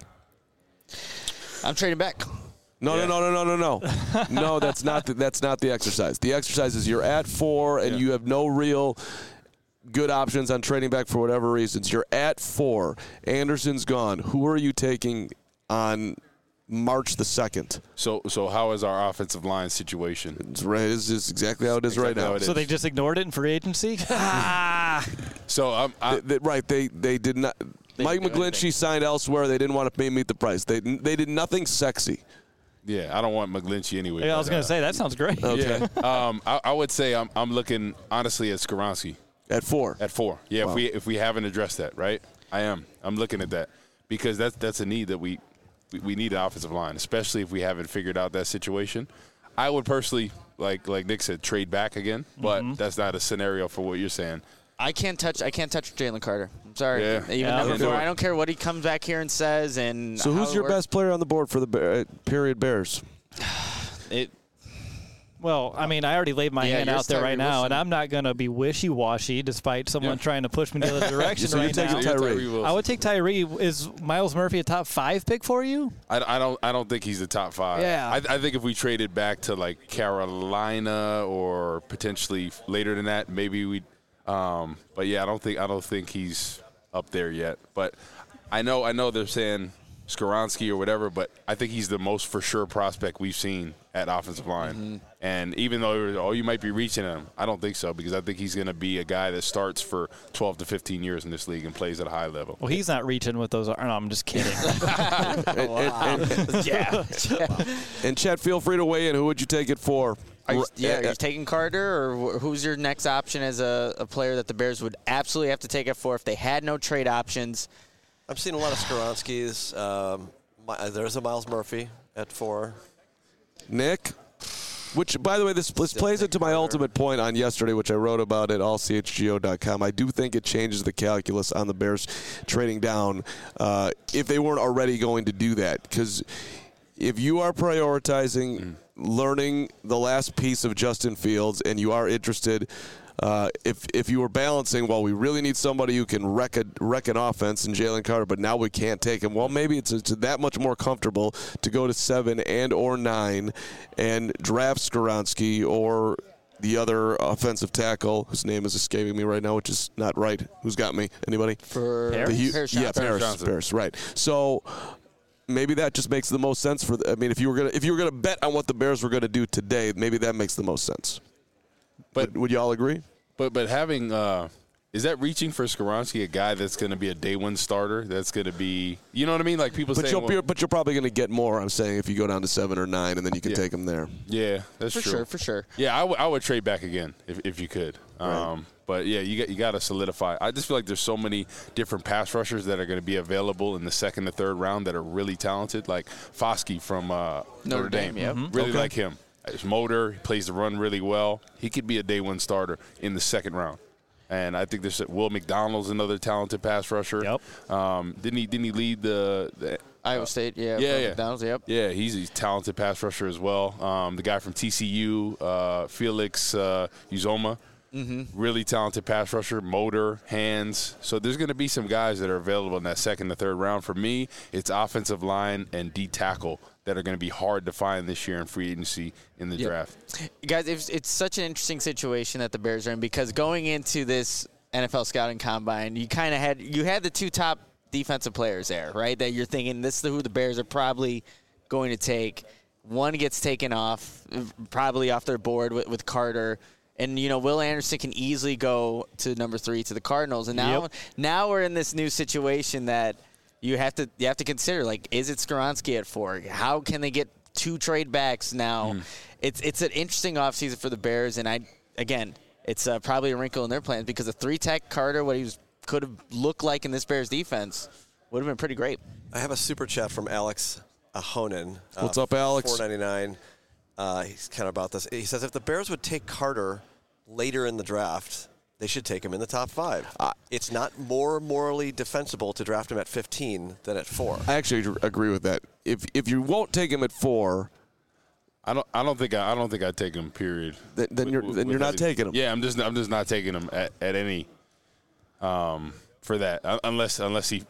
Speaker 8: I'm trading back.
Speaker 3: No,
Speaker 4: Yeah.
Speaker 3: no, no, no, no, no, no. No, that's not the, that's not the exercise. The exercise is you're at four, and
Speaker 4: Yeah.
Speaker 3: you have no real good options on trading back for whatever reasons. You're at four. Anderson's gone. Who are you taking on March the second?
Speaker 4: So, so how is our offensive line situation?
Speaker 3: It's right. This is exactly how it is
Speaker 4: Exactly
Speaker 3: right
Speaker 4: how
Speaker 3: now.
Speaker 4: it
Speaker 7: So
Speaker 4: is.
Speaker 7: they just ignored it in free agency? ah.
Speaker 4: So I'm, I,
Speaker 3: They- they- right. They they did not.
Speaker 8: They
Speaker 3: Mike
Speaker 8: didn't do
Speaker 3: McGlinchey
Speaker 8: anything.
Speaker 3: signed elsewhere. They didn't want to pay meet the price. They they did nothing sexy.
Speaker 4: yeah, I don't want McGlinchey anyway.
Speaker 7: Yeah, I was
Speaker 4: but,
Speaker 7: going
Speaker 4: uh,
Speaker 7: to say, that sounds great.
Speaker 3: Okay.
Speaker 4: Yeah, um, I, I would say I'm, I'm looking honestly at Skoronski
Speaker 3: At four.
Speaker 4: at four. Yeah,
Speaker 3: Wow.
Speaker 4: if we if we haven't addressed that, right? I am. I'm looking at that because that's that's a need that we we, we need an offensive line, especially if we haven't figured out that situation. I would personally, like like Nick said, trade back again, but
Speaker 7: Mm-hmm.
Speaker 4: that's not a scenario for what you're saying.
Speaker 8: I can't touch. I can't touch Jalen Carter. I'm sorry.
Speaker 4: Yeah.
Speaker 8: Even
Speaker 7: Yeah,
Speaker 8: number
Speaker 4: I'll do
Speaker 8: four.
Speaker 4: it.
Speaker 8: I don't care what he comes back here and says. And
Speaker 3: So
Speaker 8: how
Speaker 3: who's
Speaker 8: it
Speaker 3: your
Speaker 8: works.
Speaker 3: best player on the board for the Bear, uh, period Bears?
Speaker 8: It.
Speaker 7: Well, I mean, I already laid my
Speaker 8: Yeah,
Speaker 7: hand
Speaker 8: you're
Speaker 7: out there right
Speaker 8: Tyree
Speaker 7: now,
Speaker 8: Wilson.
Speaker 7: and I'm not going to be wishy-washy despite someone
Speaker 4: Yeah.
Speaker 7: trying to push me the other direction
Speaker 3: So
Speaker 7: right
Speaker 3: you're taking
Speaker 7: now.
Speaker 3: Tyree.
Speaker 4: Tyree Wilson.
Speaker 7: I would take Tyree. Is Miles Murphy a top five pick for you?
Speaker 4: I, I don't. I don't think he's the top five.
Speaker 7: Yeah.
Speaker 4: I, I think if we traded back to like Carolina or potentially later than that, maybe we. Um, but yeah, I don't think. I don't think he's up there yet. But I know. I know they're saying Skoronski or whatever, but I think he's the most for sure prospect we've seen at offensive line.
Speaker 8: Mm-hmm.
Speaker 4: And even though oh you might be reaching him, I don't think so because I think he's going to be a guy that starts for twelve to fifteen years in this league and plays at a high level.
Speaker 7: Well, he's not reaching with those. No, I'm just kidding.
Speaker 3: And, and, and,
Speaker 8: Yeah.
Speaker 3: and Chet, feel free to weigh in. Who would you take it for?
Speaker 8: Are you,
Speaker 3: R-
Speaker 8: yeah, are
Speaker 3: uh,
Speaker 8: you taking Carter, or wh- who's your next option as a, a player that the Bears would absolutely have to take it for if they had no trade options?
Speaker 2: I'm seeing a lot of Skoronskis. Um, my, there's a Miles Murphy at four.
Speaker 3: Nick? Which, by the way, this, this
Speaker 2: Still
Speaker 3: plays
Speaker 2: think
Speaker 3: into my
Speaker 2: Carter.
Speaker 3: ultimate point on yesterday, which I wrote about at all c h g o dot com. I do think it changes the calculus on the Bears trading down uh, if they weren't already going to do that. Because if you are prioritizing
Speaker 4: Mm.
Speaker 3: learning the last piece of Justin Fields and you are interested Uh, if if you were balancing, well, we really need somebody who can wreck, a, wreck an offense in Jalen Carter, but now we can't take him. Well, maybe it's, it's that much more comfortable to go to seven and or nine and draft Skoronski or the other offensive tackle, whose name is escaping me right now, which is not right. Who's got me? Anybody?
Speaker 8: For
Speaker 3: The Hu-
Speaker 8: Paris
Speaker 3: yeah,
Speaker 8: Johnson.
Speaker 3: Paris,
Speaker 4: Johnson.
Speaker 3: Paris, right. So maybe that just makes the most sense for. The, I mean, if you were gonna if you were gonna bet on what the Bears were gonna do today, maybe that makes the most sense.
Speaker 4: But
Speaker 3: would, would you all agree?
Speaker 4: But but having uh, is that reaching for Skoronski, a guy that's going to be a day one starter? That's going to be, you know what I mean? Like people
Speaker 3: But
Speaker 4: saying,
Speaker 3: you'll
Speaker 4: well,
Speaker 3: be, but you're probably going to get more. I'm saying if you go down to seven or nine, and then you can
Speaker 4: Yeah.
Speaker 3: take them there.
Speaker 4: yeah, that's
Speaker 8: For
Speaker 4: true.
Speaker 8: sure, for sure.
Speaker 4: Yeah, I, w- I would trade back again if, if you could. Um, but yeah, you got you got to solidify. I just feel like there's so many different pass rushers that are going to be available in the second or third round that are really talented, like Foskey from uh, Notre,
Speaker 8: Notre
Speaker 4: Dame.
Speaker 8: Dame, yep.
Speaker 3: Mm-hmm.
Speaker 4: Really
Speaker 3: Okay.
Speaker 4: like him. His motor, he plays the run really well. He could be a day one starter in the second round. And I think there's Will McDonald's another talented pass rusher.
Speaker 7: Yep.
Speaker 4: Um, didn't he? Didn't he lead the? the
Speaker 8: Iowa State, yeah.
Speaker 4: yeah,
Speaker 8: from
Speaker 4: yeah.
Speaker 8: McDonald's, yep.
Speaker 4: Yeah, he's a talented pass rusher as well. Um, the guy from T C U, uh, Felix uh, Uzoma, mm-hmm. really talented pass rusher, motor, hands. So there's going to be some guys that are available in that second and third round. For me, it's offensive line and D tackle that are going to be hard to find this year in free agency in the
Speaker 8: Yep.
Speaker 4: draft.
Speaker 8: Guys, it's, it's such an interesting situation that the Bears are in because going into this N F L scouting combine, you kind of had you had the two top defensive players there, right? That you're thinking this is who the Bears are probably going to take. One gets taken off, probably off their board with, with Carter. And, you know, Will Anderson can easily go to number three to the Cardinals. And now
Speaker 7: Yep.
Speaker 8: now we're in this new situation that you have to you have to consider, like, is it Skoronski at four? How can they get two trade backs now?
Speaker 4: Mm.
Speaker 8: It's it's an interesting offseason for the Bears. And, I again, it's uh, probably a wrinkle in their plans because a three-tech Carter, what he was, could have looked like in this Bears defense, would have been pretty great.
Speaker 2: I have a super chat from Alex Ahonen. Uh,
Speaker 3: What's up, Alex?
Speaker 2: four ninety-nine. Uh, he's kind of about this. He says if the Bears would take Carter later in the draft, they should take him in the top five. Uh, it's not more morally defensible to draft him at fifteen than at four.
Speaker 3: I actually agree with that. If if you won't take him at four,
Speaker 4: I don't. I don't think. I, I don't think I'd take him. Period.
Speaker 3: Th- then you're-
Speaker 4: With-
Speaker 3: then
Speaker 4: with
Speaker 3: you're not
Speaker 4: any-
Speaker 3: taking him.
Speaker 4: Yeah, I'm just. I'm just not taking him at, at any. Um, for that, Un- unless unless he.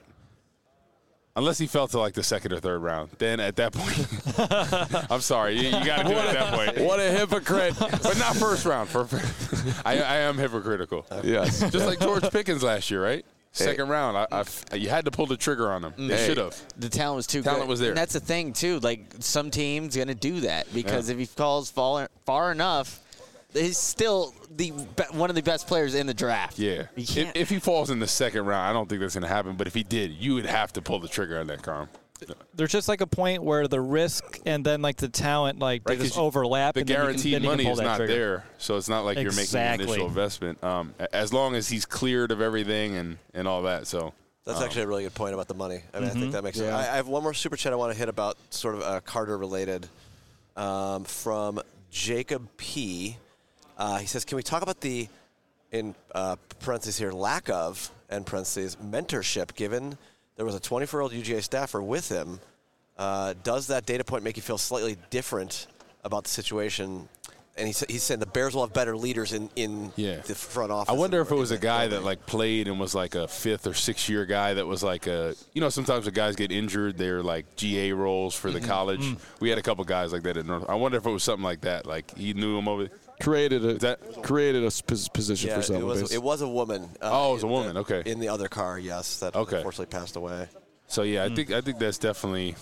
Speaker 4: Unless he fell to like the second or third round, then at that point, I'm sorry, you, you got to do it at that point.
Speaker 3: what a hypocrite!
Speaker 4: But not first round. For, I, I am hypocritical.
Speaker 3: Yes.
Speaker 4: Just like George Pickens last year, right? Second round, I, I, you had to pull the trigger on him. They
Speaker 3: Hey.
Speaker 4: should have.
Speaker 8: The talent was too
Speaker 4: Talent
Speaker 8: good.
Speaker 4: was there.
Speaker 8: And that's the thing, too. Like, some teams going to do that because if he falls far, far enough, he's still the be- one of the best players in the draft.
Speaker 4: Yeah.
Speaker 8: You
Speaker 4: If,
Speaker 8: can't.
Speaker 4: if he falls in the second round, I don't think that's going to happen. But if he did, you would have to pull the trigger on that, Carm.
Speaker 7: There's just like a point where the risk and then like the talent like they
Speaker 4: Right, 'cause
Speaker 7: just overlap.
Speaker 4: The
Speaker 7: and then you can-
Speaker 4: guaranteed
Speaker 7: then you can
Speaker 4: money
Speaker 7: pull
Speaker 4: is
Speaker 7: that
Speaker 4: not
Speaker 7: trigger.
Speaker 4: there, so it's not like you're making an
Speaker 7: Exactly.
Speaker 4: initial investment. Um, a- as long as he's cleared of everything and, and all that. So
Speaker 2: That's
Speaker 4: um,
Speaker 2: actually a really good point about the money. I mean, I think that makes sense.
Speaker 8: Yeah.
Speaker 2: I, I have one more super chat I want to hit about sort of uh, Carter related um, from Jacob P. Uh, he says, can we talk about the, in uh, parentheses here, lack of, and parentheses, mentorship given there was a twenty-four-year-old U G A staffer with him? Uh, does that data point make you feel slightly different about the situation and he's, he's saying the Bears will have better leaders in, in
Speaker 4: Yeah.
Speaker 2: the front office.
Speaker 4: I wonder if it was a
Speaker 2: in the
Speaker 4: guy
Speaker 2: building.
Speaker 4: that like played and was like a fifth or sixth year guy that was like a, you know, sometimes the guys get injured, they're like G A roles for the college. We had a couple guys like that at North. I wonder if it was something like that. Like he knew him over.
Speaker 3: Created a
Speaker 4: that-
Speaker 3: created a sp- position
Speaker 2: Yeah,
Speaker 3: for
Speaker 2: it
Speaker 3: someone.
Speaker 2: was, it was a woman. Uh,
Speaker 4: Oh, it was a
Speaker 2: in
Speaker 4: woman,
Speaker 2: the-
Speaker 4: okay.
Speaker 2: In the other car, yes, that
Speaker 4: Okay.
Speaker 2: unfortunately passed away.
Speaker 4: So yeah, I think I think that's definitely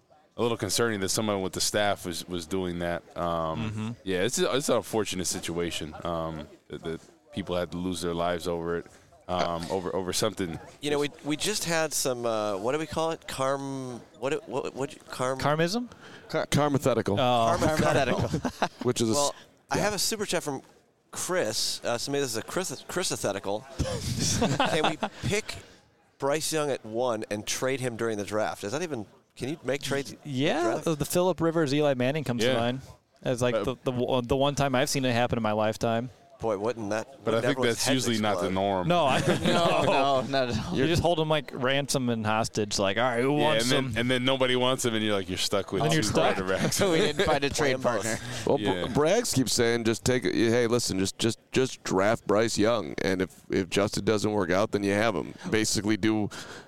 Speaker 4: a little concerning that someone with the staff was, was doing that. Um, Yeah, it's a, it's an unfortunate situation um, that, that people had to lose their lives over it, um, over over something.
Speaker 2: You know, we we just had some. Uh, what do we call it? Carm. What? it- What? What? Carm.
Speaker 7: Carmism?
Speaker 3: Carmathetical,
Speaker 7: Oh,
Speaker 2: Carmathetical.
Speaker 3: which is a,
Speaker 2: Well, I have a super chat from Chris. Uh, so maybe this is a Chris Chrisathetical. Can we pick Bryce Young at one and trade him during the draft? Is that even? Can you make trades?
Speaker 7: yeah.
Speaker 2: draft?
Speaker 7: The, the Phillip Rivers, Eli Manning comes
Speaker 4: Yeah.
Speaker 7: to mind as like
Speaker 4: Uh,
Speaker 7: the, the the one time I've seen it happen in my lifetime.
Speaker 2: Boy, wouldn't that?
Speaker 4: But I
Speaker 2: wouldn't
Speaker 4: think
Speaker 2: everyone's
Speaker 4: that's
Speaker 2: heads
Speaker 4: usually not the
Speaker 2: explode?
Speaker 4: norm.
Speaker 7: No, I
Speaker 8: No, no, not at all.
Speaker 7: You just hold them like ransom and hostage. Like, all right, who
Speaker 4: Yeah,
Speaker 7: wants
Speaker 4: and then
Speaker 7: them?
Speaker 4: and then nobody wants him, and you're like you're stuck with
Speaker 7: Then
Speaker 4: two
Speaker 7: you're stuck.
Speaker 4: quarterbacks.
Speaker 8: So we didn't find a trade
Speaker 2: them both.
Speaker 8: partner.
Speaker 3: well,
Speaker 4: Yeah.
Speaker 3: Br- Braggs keeps saying just take it. Hey, listen, just just just draft Bryce Young, and if if Justin doesn't work out, then you have him. Basically, do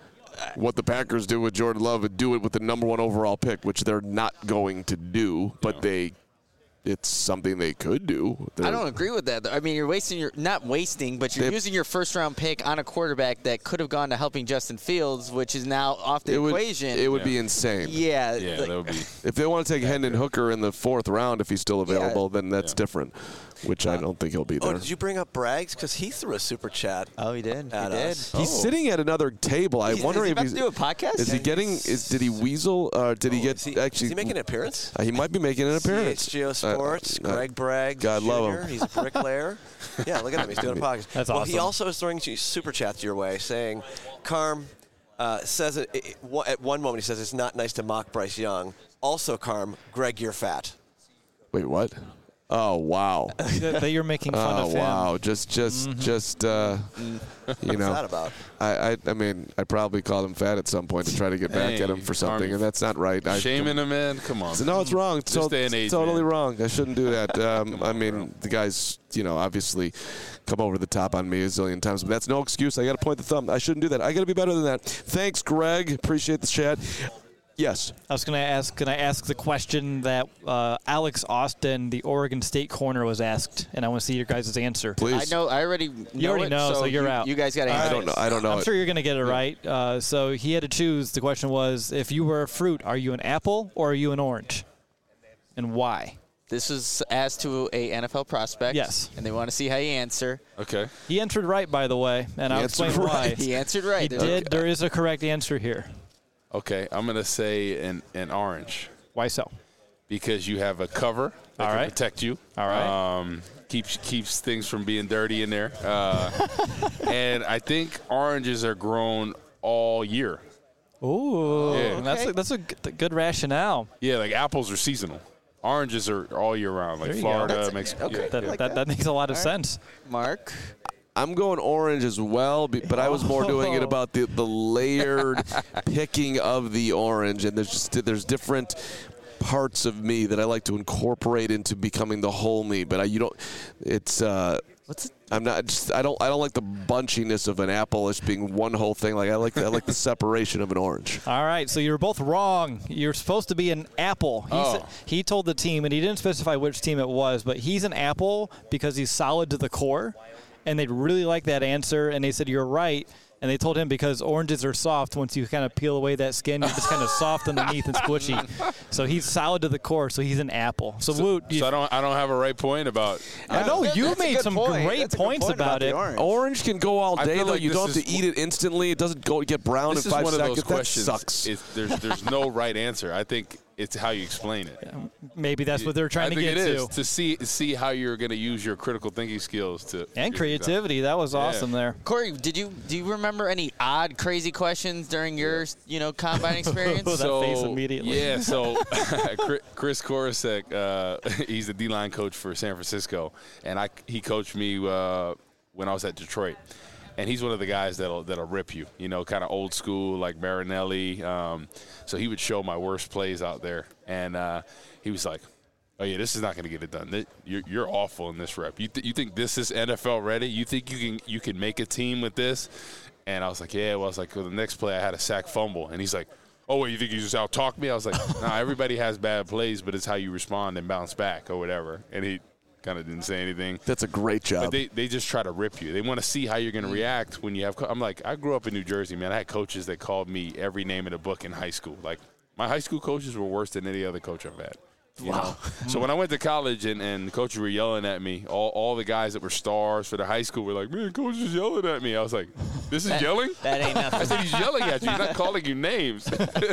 Speaker 3: what the Packers do with Jordan Love and do it with the number one overall pick, which they're not going to do, but
Speaker 4: Yeah.
Speaker 3: they. It's something they could do. They're-
Speaker 8: I don't agree with that. though. I mean, you're wasting your not wasting, but you're
Speaker 3: They-
Speaker 8: using your first round pick on a quarterback that could have gone to helping Justin Fields, which is now off the
Speaker 3: It would,
Speaker 8: equation.
Speaker 3: it would
Speaker 4: Yeah.
Speaker 3: be insane.
Speaker 8: yeah,
Speaker 4: Yeah,
Speaker 8: like-
Speaker 4: that would be.
Speaker 3: If they want to take Hendon Hooker in the fourth round, if he's still available, then that's
Speaker 4: Yeah.
Speaker 3: different, which I don't think he'll be
Speaker 2: Oh,
Speaker 3: there.
Speaker 2: did you bring up Braggs? Because he threw a super chat.
Speaker 8: Oh, he did. He
Speaker 2: At
Speaker 8: did.
Speaker 2: us.
Speaker 3: He's
Speaker 2: Oh.
Speaker 3: sitting at another table. I
Speaker 8: He's-
Speaker 3: wonder
Speaker 8: is he
Speaker 3: if
Speaker 8: about
Speaker 3: he's
Speaker 8: to do a podcast?
Speaker 3: Is he getting? Is did he weasel? Uh, did he
Speaker 2: Oh,
Speaker 3: get
Speaker 2: is he,
Speaker 3: actually?
Speaker 2: Is he making an appearance?
Speaker 3: uh, he might be making an appearance.
Speaker 2: C H G O Sports,
Speaker 3: Uh, uh,
Speaker 2: Greg Bragg
Speaker 3: God
Speaker 2: Junior
Speaker 3: love him.
Speaker 2: He's a bricklayer. Yeah, look at him. He's doing a podcast.
Speaker 7: That's
Speaker 2: well, he
Speaker 7: awesome.
Speaker 2: also is throwing you super chats your way, saying, Carm uh, says it, it, it- at one moment he says it's not nice to mock Bryce Young. Also, Carm, Greg, you're fat.
Speaker 3: Wait, what? Oh wow!
Speaker 7: that, that you're making fun
Speaker 3: Oh
Speaker 7: of him.
Speaker 3: wow! Just, just, just. Uh, you know,
Speaker 2: What's that about?
Speaker 3: I, I, I mean, I probably called him fat at some point to try to get back
Speaker 4: Hey,
Speaker 3: at him for something,
Speaker 4: Army.
Speaker 3: and that's not right. I,
Speaker 4: Shaming him, man. Come on.
Speaker 3: So, no, it's wrong. It's
Speaker 4: This
Speaker 3: to-
Speaker 4: day and age,
Speaker 3: totally
Speaker 4: man.
Speaker 3: wrong. I shouldn't do that. Um, I mean, the guy's, you know, obviously come over the top on me a zillion times, but that's no excuse. I got to point the thumb. I shouldn't do that. I got to be better than that. Thanks, Greg. Appreciate the chat. Yes.
Speaker 7: I was going to ask, can I ask the question that uh, Alex Austin, the Oregon State corner, was asked, and I want to see your guys' answer.
Speaker 3: Please.
Speaker 8: I know. I already know
Speaker 7: You already
Speaker 8: it,
Speaker 7: know, so you're
Speaker 8: you,
Speaker 7: out.
Speaker 8: You guys got to
Speaker 7: All
Speaker 8: answer.
Speaker 3: I don't know. I don't know.
Speaker 7: I'm
Speaker 3: it.
Speaker 7: sure you're going to get it right. Uh, so he had to choose. The question was, if you were a fruit, are you an apple or are you an orange? And why?
Speaker 8: This is asked to a N F L prospect.
Speaker 7: Yes.
Speaker 8: And they want to see how you answer.
Speaker 4: Okay.
Speaker 7: He answered right, by the way, and I'll
Speaker 3: answered
Speaker 7: explain why.
Speaker 3: right.
Speaker 8: He answered right.
Speaker 7: He
Speaker 8: There's-
Speaker 7: did. There is a correct answer here.
Speaker 4: Okay. I'm gonna say an an orange
Speaker 7: Why so?
Speaker 4: because you have a cover that
Speaker 7: All
Speaker 4: can
Speaker 7: right.
Speaker 4: protect you.
Speaker 7: All right.
Speaker 4: Um, keeps keeps things from being dirty in there. Uh, and I think oranges are grown all year.
Speaker 7: Ooh,
Speaker 4: Yeah.
Speaker 7: that's
Speaker 8: Okay.
Speaker 7: a, that's a good, good rationale.
Speaker 4: Yeah, like apples are seasonal. Oranges are all year round, like
Speaker 7: There you go.
Speaker 4: Florida,
Speaker 7: That's-
Speaker 4: Mexico.
Speaker 8: okay.
Speaker 4: Yeah.
Speaker 7: That,
Speaker 8: like
Speaker 7: that,
Speaker 8: that.
Speaker 7: that makes a lot of
Speaker 8: All right.
Speaker 7: sense.
Speaker 8: Mark.
Speaker 3: I'm going orange as well, be- but I was more doing it about the, the layered picking of the orange, and there's just there's different parts of me that I like to incorporate into becoming the whole me. But I, you don't. It's. Uh,
Speaker 8: What's it?
Speaker 3: I'm not. Just, I don't. I don't like the bunchiness of an apple as being one whole thing. Like I like. The, I like the separation of an orange.
Speaker 7: All right, so you're both wrong. You're supposed to be an apple. He,
Speaker 4: Oh.
Speaker 7: said, he told the team, and he didn't specify which team it was, but he's an apple because he's solid to the core, and they really like that answer, and they said, you're right, and they told him because oranges are soft. Once you kind of peel away that skin, you're just kind of soft underneath and squishy. So he's solid to the core, so he's an apple. So, Woot, you,
Speaker 4: So I don't I don't have a right point about.
Speaker 7: I know
Speaker 8: That-
Speaker 7: you
Speaker 8: that's a
Speaker 7: made
Speaker 8: good
Speaker 7: some
Speaker 8: point.
Speaker 7: great
Speaker 8: That's a good
Speaker 7: points
Speaker 8: point
Speaker 7: about,
Speaker 8: the
Speaker 7: it.
Speaker 8: orange.
Speaker 3: Orange can go all
Speaker 4: I
Speaker 3: day
Speaker 4: feel
Speaker 3: though.
Speaker 4: like
Speaker 3: You
Speaker 4: this
Speaker 3: don't have
Speaker 4: is-
Speaker 3: to eat it instantly. It doesn't go get brown
Speaker 4: This
Speaker 3: in
Speaker 4: is
Speaker 3: five
Speaker 4: one of
Speaker 3: seconds.
Speaker 4: those
Speaker 3: That
Speaker 4: questions.
Speaker 3: sucks.
Speaker 4: It's, there's there's no right answer. I think it's how you explain it.
Speaker 7: Maybe that's what they're trying
Speaker 4: I
Speaker 7: to
Speaker 4: think
Speaker 7: get
Speaker 4: it
Speaker 7: to.
Speaker 4: is to see see how you're going to use your critical thinking skills to
Speaker 7: And creativity. That was awesome there.
Speaker 8: Corey, did you do you remember any odd, crazy questions during your you know combine experience?
Speaker 7: That
Speaker 4: so,
Speaker 7: face immediately.
Speaker 4: Yeah, so Chris Korosek, uh, he's the D-line coach for San Francisco, and I he coached me uh, when I was at Detroit. And he's one of the guys that'll that'll rip you, you know, kind of old school like Marinelli. Um, so he would show my worst plays out there, and uh, he was like, oh, yeah, this is not going to get it done. You're, you're awful in this rep. You, th- you think this is N F L ready? You think you can you can make a team with this? And I was like, yeah. Well, I was like, well, the next play I had a sack fumble. And he's like, oh, wait, you think you just out-talk me? I was like, nah, everybody has bad plays, but it's how you respond and bounce back or whatever. And he kind of didn't say anything.
Speaker 3: That's a great job.
Speaker 4: But they, they just try to rip you. They want to see how you're going to react when you have – I'm like, I grew up in New Jersey, man. I had coaches that called me every name in the book in high school. Like, my high school coaches were worse than any other coach I've had. You wow. know? So when I went to college and, and coaches were yelling at me, all, all the guys that were stars for the high school were like, man, coach is yelling at me. I was like, this is
Speaker 8: that,
Speaker 4: yelling?
Speaker 8: That ain't nothing.
Speaker 4: I said, he's yelling at you. He's not calling you names.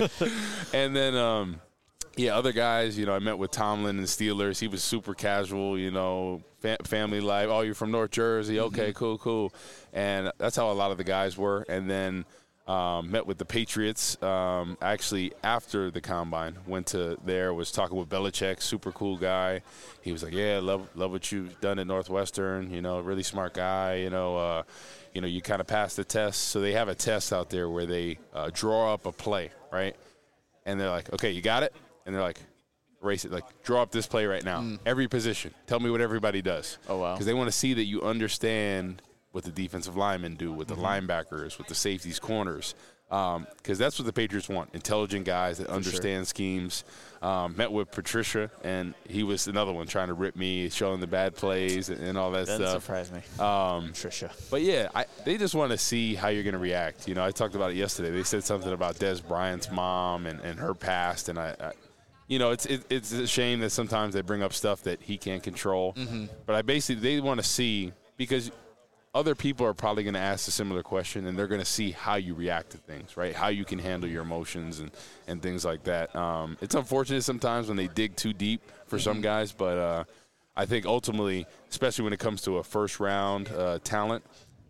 Speaker 4: And then, um, yeah, other guys, you know, I met with Tomlin and Steelers. He was super casual, you know, fa- family life. Oh, you're from North Jersey. Okay, mm-hmm. cool, cool. And that's how a lot of the guys were. And then – Um, met with the Patriots um, actually after the Combine. Went to there, was talking with Belichick, super cool guy. He was like, yeah, love love what you've done at Northwestern, you know, really smart guy, you know, uh, you know, you kind of passed the test. So they have a test out there where they uh, draw up a play, right? And they're like, okay, you got it? And they're like, erase it, like draw up this play right now. Mm. Every position. Tell me what everybody does.
Speaker 8: Oh, wow.
Speaker 4: Because they want to see that you understand what the defensive linemen do, with the mm-hmm. linebackers, with the safeties, corners, because um, that's what the Patriots want, intelligent guys that For understand sure. schemes. Um, met with Patricia, and he was another one trying to rip me, showing the bad plays and, and all that
Speaker 8: Doesn't
Speaker 4: stuff.
Speaker 8: surprise me.
Speaker 4: Um,
Speaker 8: Patricia.
Speaker 4: But, yeah, I, they just want to see how you're going to react. You know, I talked about it yesterday. They said something about Des Bryant's mom and, and her past, and I, I you know, it's it, it's a shame that sometimes they bring up stuff that he can't control. Mm-hmm. But I basically, they want to see, because – other people are probably going to ask a similar question, and they're going to see how you react to things, right? How you can handle your emotions and, and things like that. Um, it's unfortunate sometimes when they dig too deep for mm-hmm. some guys, but uh, I think ultimately, especially when it comes to a first-round uh, talent,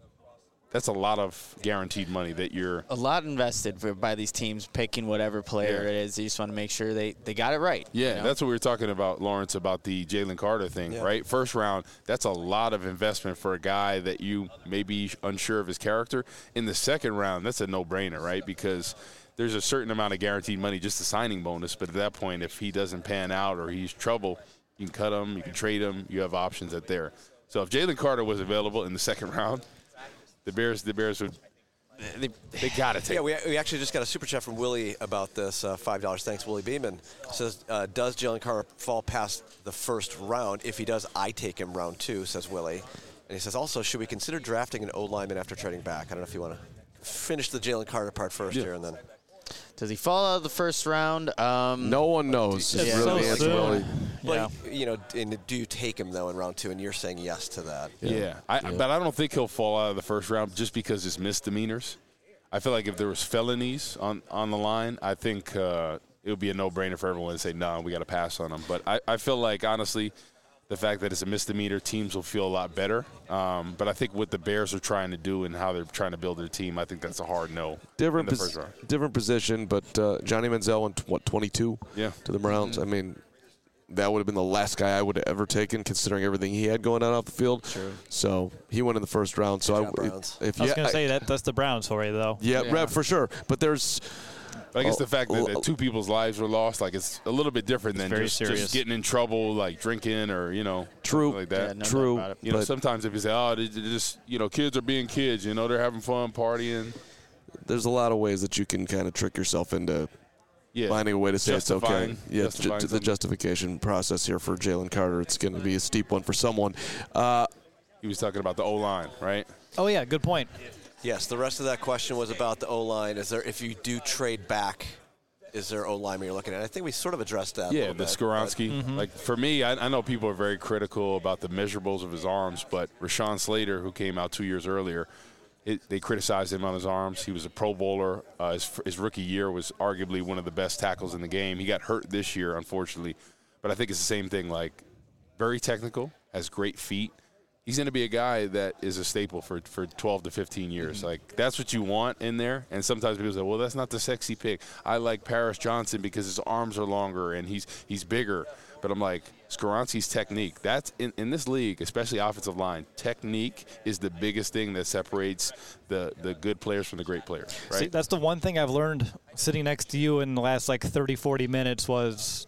Speaker 4: that's a lot of guaranteed money that you're –
Speaker 8: A lot invested for, by these teams picking whatever player
Speaker 4: yeah.
Speaker 8: it is. They just want to make sure they, they got it right.
Speaker 4: Yeah,
Speaker 8: you know?
Speaker 4: That's what we were talking about, Lawrence, about the Jalen Carter thing, yeah. right? First round, that's a lot of investment for a guy that you may be unsure of his character. In the second round, that's a no-brainer, right? Because there's a certain amount of guaranteed money, just a signing bonus. But at that point, if he doesn't pan out or he's trouble, you can cut him, you can trade him. You have options at there. So if Jalen Carter was available in the second round – The Bears, the Bears would. They, they got to take.
Speaker 2: Yeah, we, we actually just got a super chat from Willie about this. Uh, Five dollars. Thanks, Willie Beeman. Says, uh, does Jalen Carter fall past the first round? If he does, I take him round two. Says Willie, and he says also, should we consider drafting an O lineman after trading back? I don't know if you want to finish the Jalen Carter part first yeah. here, and then.
Speaker 8: Does he fall out of the first round? Um,
Speaker 3: no one knows.
Speaker 8: Yeah.
Speaker 3: Really
Speaker 8: So
Speaker 3: answer, Willie.
Speaker 2: But, yeah. you know, and do you take him, though, in round two? And you're saying yes to that.
Speaker 4: Yeah. yeah. I,
Speaker 3: yeah.
Speaker 4: But I don't think he'll fall out of the first round just because it's misdemeanors. I feel like if there was felonies on, on the line, I think uh, it would be a no-brainer for everyone to say, no, nah, we got to pass on him. But I, I feel like, honestly, the fact that it's a misdemeanor, teams will feel a lot better. Um, but I think what the Bears are trying to do and how they're trying to build their team, I think that's a hard no.
Speaker 3: Different,
Speaker 4: in the
Speaker 3: pos-
Speaker 4: first round.
Speaker 3: different position, but uh, Johnny Manziel went, what, twenty-two
Speaker 4: yeah.
Speaker 3: to the Browns? Mm-hmm. I mean, that would have been the last guy I would have ever taken, considering everything he had going on off the field.
Speaker 8: Sure.
Speaker 3: So he went in the first round. So
Speaker 2: Good
Speaker 3: I,
Speaker 2: job,
Speaker 3: if, if
Speaker 7: I was
Speaker 3: yeah,
Speaker 7: going to
Speaker 3: I,
Speaker 7: say that that's the Browns for you, though.
Speaker 3: Yeah,
Speaker 8: yeah.
Speaker 3: Right, for sure. But there's.
Speaker 4: But I guess
Speaker 3: Oh,
Speaker 4: the fact that,
Speaker 3: oh,
Speaker 4: that two people's lives were lost, like it's a little bit different than
Speaker 7: very
Speaker 4: just,
Speaker 7: serious.
Speaker 4: just getting in trouble, like drinking or you know,
Speaker 3: True.
Speaker 4: something like that.
Speaker 8: Yeah, no
Speaker 3: True.
Speaker 8: doubt about it.
Speaker 4: You know,
Speaker 3: but
Speaker 4: sometimes if you say, oh, they they just you know, kids are being kids. You know, they're having fun partying.
Speaker 3: there's a lot of ways that you can kind of trick yourself into
Speaker 4: Yeah,
Speaker 3: finding a way to say it's okay.
Speaker 4: Justifying-
Speaker 3: Yeah,
Speaker 4: justifying
Speaker 3: ju- the
Speaker 4: something.
Speaker 3: justification process here for Jalen Carter, it's going to be a steep one for someone. Uh,
Speaker 4: He was talking about the O line, right?
Speaker 7: Oh, yeah, good point.
Speaker 2: Yes, the rest of that question was about the O-line. Is there, if you do trade back, is there O-lineman you're looking at? I think we sort of addressed that a
Speaker 4: Yeah,
Speaker 2: little
Speaker 4: the
Speaker 2: bit,
Speaker 4: Skoronski.
Speaker 7: Mm-hmm.
Speaker 4: Like for me, I, I know people are very critical about the measurables of his arms, but Rashawn Slater, who came out two years earlier, it, they criticized him on his arms. He was a Pro Bowler. Uh, his, his rookie year was arguably one of the best tackles in the game. He got hurt this year, unfortunately, but I think it's the same thing. Like very technical, has great feet. He's going to be a guy that is a staple for, for twelve to fifteen years. Mm-hmm. Like, that's what you want in there. And sometimes people say, well, that's not the sexy pick. I like Paris Johnson because his arms are longer and he's he's bigger. But I'm like, Skoronski's technique, that's in, in this league, especially offensive line, technique is the biggest thing that separates the, the good players from the great players, right?
Speaker 7: See, that's the one thing I've learned sitting next to you in the last, like, thirty, forty minutes was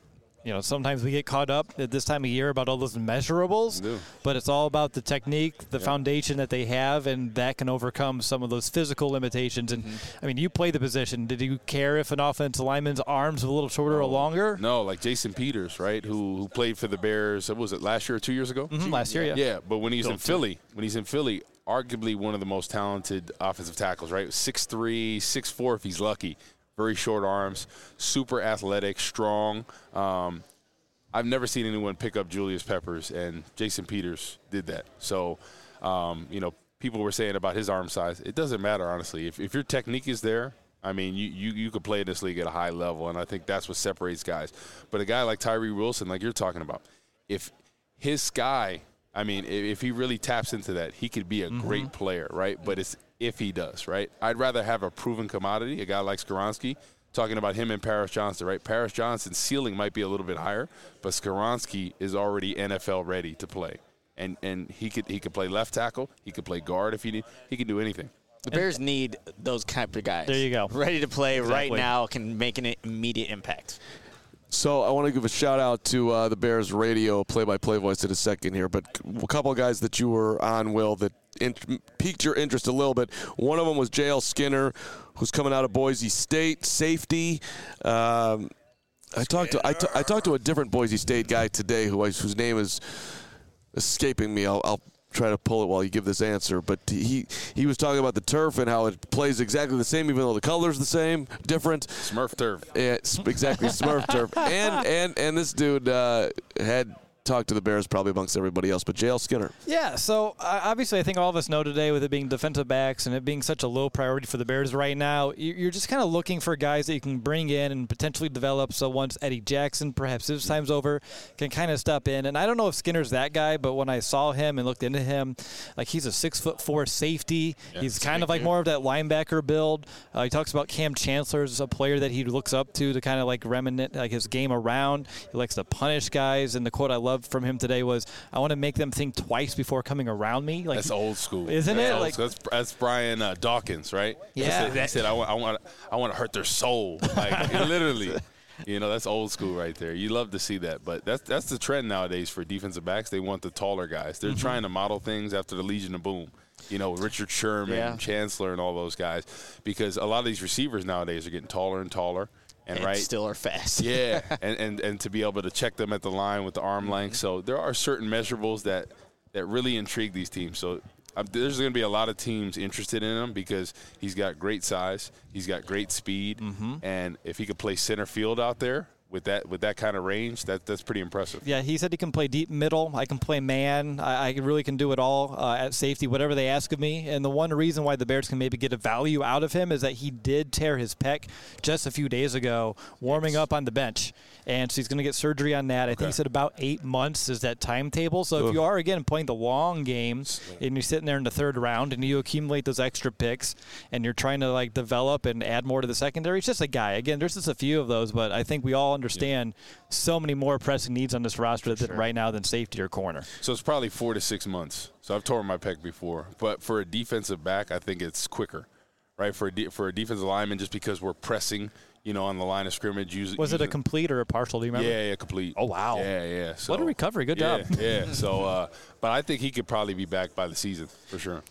Speaker 7: you know, sometimes we get caught up at this time of year about all those measurables, but it's all about the technique, the yeah. foundation that they have, and that can overcome some of those physical limitations. And, mm-hmm. I mean, you play the position. Did you care if an offensive lineman's arms were a little shorter
Speaker 4: no,
Speaker 7: or longer?
Speaker 4: No, like Jason Peters, right, who who played for the Bears, what was it, last year or two years ago?
Speaker 7: Mm-hmm, last year, yeah.
Speaker 4: Yeah, but when he's Don't in Philly, when he's in Philly, arguably one of the most talented offensive tackles, right? six three, six four if he's lucky. Very short arms, super athletic, strong. Um, I've never seen anyone pick up Julius Peppers, and Jason Peters did that. So, um, you know, people were saying about his arm size. It doesn't matter, honestly. If, if your technique is there, I mean, you, you, you could play in this league at a high level, and I think that's what separates guys. But a guy like Tyree Wilson, like you're talking about, if his sky, I mean, if he really taps into that, he could be a mm-hmm. great player, right? But it's if he does, right? I'd rather have a proven commodity, a guy like Skoronski, talking about him and Paris Johnson, right? Paris Johnson's ceiling might be a little bit higher, but Skoronski is already N F L ready to play. And and he could he could play left tackle, he could play guard if he need, he can do anything.
Speaker 8: The Bears need those type of guys.
Speaker 7: There you go.
Speaker 8: Ready to play
Speaker 7: exactly.
Speaker 8: right now, can make an immediate impact.
Speaker 3: So I want to give a shout-out to uh, the Bears radio play-by-play voice in a second here, but a couple of guys that you were on, Will, that in- piqued your interest a little bit. One of them was J L Skinner, who's coming out of Boise State, safety. Um, I talked to I, t- I talked to a different Boise State guy today who I, whose name is escaping me. I'll, I'll try to pull it while you give this answer, but he he was talking about the turf and how it plays exactly the same, even though the color's the same, different.
Speaker 4: Smurf turf.
Speaker 3: Yeah, exactly, Smurf turf. And and and this dude uh, had talked to the Bears probably amongst everybody else, but J L Skinner.
Speaker 7: Yeah, so uh, obviously I think all of us know today with it being defensive backs and it being such a low priority for the Bears right now, you're just kind of looking for guys that you can bring in and potentially develop so once Eddie Jackson, perhaps his time's over, can kind of step in. And I don't know if Skinner's that guy, but when I saw him and looked into him, like he's a six foot four safety. Yeah, he's kind of like more of that linebacker build. Uh, he talks about Cam Chancellor as a player that he looks up to to kind of like remnant like his game around. He likes to punish guys, and the quote I love from him today was, I want to make them think twice before coming around me. Like,
Speaker 4: that's old school.
Speaker 7: Isn't
Speaker 4: that's
Speaker 7: it?
Speaker 4: Old
Speaker 7: Like,
Speaker 4: that's, that's Brian uh, Dawkins, right?
Speaker 7: Yeah.
Speaker 4: He said, he said I, want, I, want, I want to hurt their soul. Like, literally. You know, that's old school right there. You love to see that. But that's that's the trend nowadays for defensive backs. They want the taller guys. They're mm-hmm. trying to model things after the Legion of Boom. You know, Richard Sherman, yeah. Chancellor, and all those guys. Because a lot of these receivers nowadays are getting taller and taller. And,
Speaker 8: and
Speaker 4: right,
Speaker 8: still are fast.
Speaker 4: Yeah, and, and and to be able to check them at the line with the arm length. So there are certain measurables that, that really intrigue these teams. So um, there's going to be a lot of teams interested in him because he's got great size, he's got great speed, mm-hmm. and if he could play center field out there with that with that kind of range, that that's pretty impressive.
Speaker 7: Yeah, he said he can play deep middle. I can play man. I, I really can do it all uh, at safety, whatever they ask of me. And the one reason why the Bears can maybe get a value out of him is that he did tear his pec just a few days ago, warming yes. up on the bench. And so he's going to get surgery on that. I okay. think he said about eight months is that timetable. So Ugh. if you are, again, playing the long game and you're sitting there in the third round and you accumulate those extra picks and you're trying to, like, develop and add more to the secondary, it's just a guy. Again, there's just a few of those, but I think we all understand yeah. so many more pressing needs on this roster sure. right now than safety or corner.
Speaker 4: So it's probably four to six months. So I've torn my pec before. But for a defensive back, I think it's quicker, right? For a, de- for a defensive lineman, just because we're pressing – you know, on the line of scrimmage. Usually,
Speaker 7: was it a complete or a partial? Do you remember?
Speaker 4: Yeah, yeah, complete.
Speaker 7: Oh, wow.
Speaker 4: Yeah, yeah. So,
Speaker 7: what a recovery. Good
Speaker 4: yeah,
Speaker 7: job.
Speaker 4: Yeah, so, uh, but I think he could probably be back by the season for sure.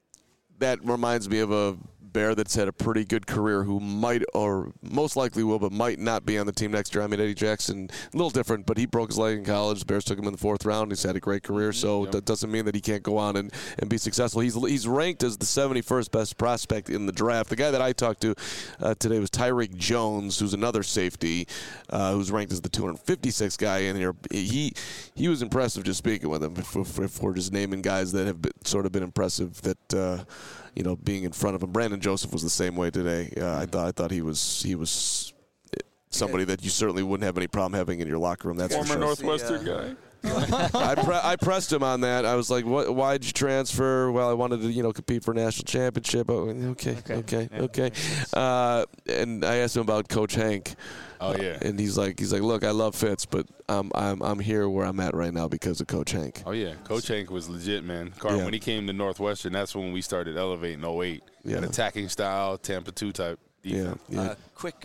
Speaker 3: That reminds me of a Bear that's had a pretty good career who might or most likely will but might not be on the team next year. I mean, Eddie Jackson, a little different, but he broke his leg in college. The Bears took him in the fourth round. He's had a great career, so yep. that doesn't mean that he can't go on and, and be successful. He's he's ranked as the seventy-first best prospect in the draft. The guy that I talked to uh, today was Tyreek Jones, who's another safety, uh, who's ranked as the two hundred fifty-sixth guy in here. He he was impressive just speaking with him. If, if, if we're just naming guys that have been, sort of been impressive that uh, – you know, being in front of him. Brandon Joseph was the same way today. Uh, I thought I thought he was he was somebody that you certainly wouldn't have any problem having in your locker room. That's
Speaker 4: former
Speaker 3: for sure.
Speaker 4: Northwestern
Speaker 2: yeah.
Speaker 4: guy.
Speaker 3: I, pre- I pressed him on that. I was like, "What? Why'd you transfer?" Well, I wanted to, you know, compete for a national championship. Oh, okay, okay, okay. okay. Uh, and I asked him about Coach Hank.
Speaker 4: Oh yeah.
Speaker 3: Uh, and he's like, he's like, "Look, I love Fitz, but I'm I'm I'm here where I'm at right now because of Coach Hank."
Speaker 4: Oh yeah, Coach Hank was legit, man. Carl, yeah. when he came to Northwestern, that's when we started elevating oh eight.
Speaker 3: Yeah.
Speaker 4: An attacking style, Tampa two type defense.
Speaker 3: Yeah. yeah.
Speaker 2: Uh, quick, uh,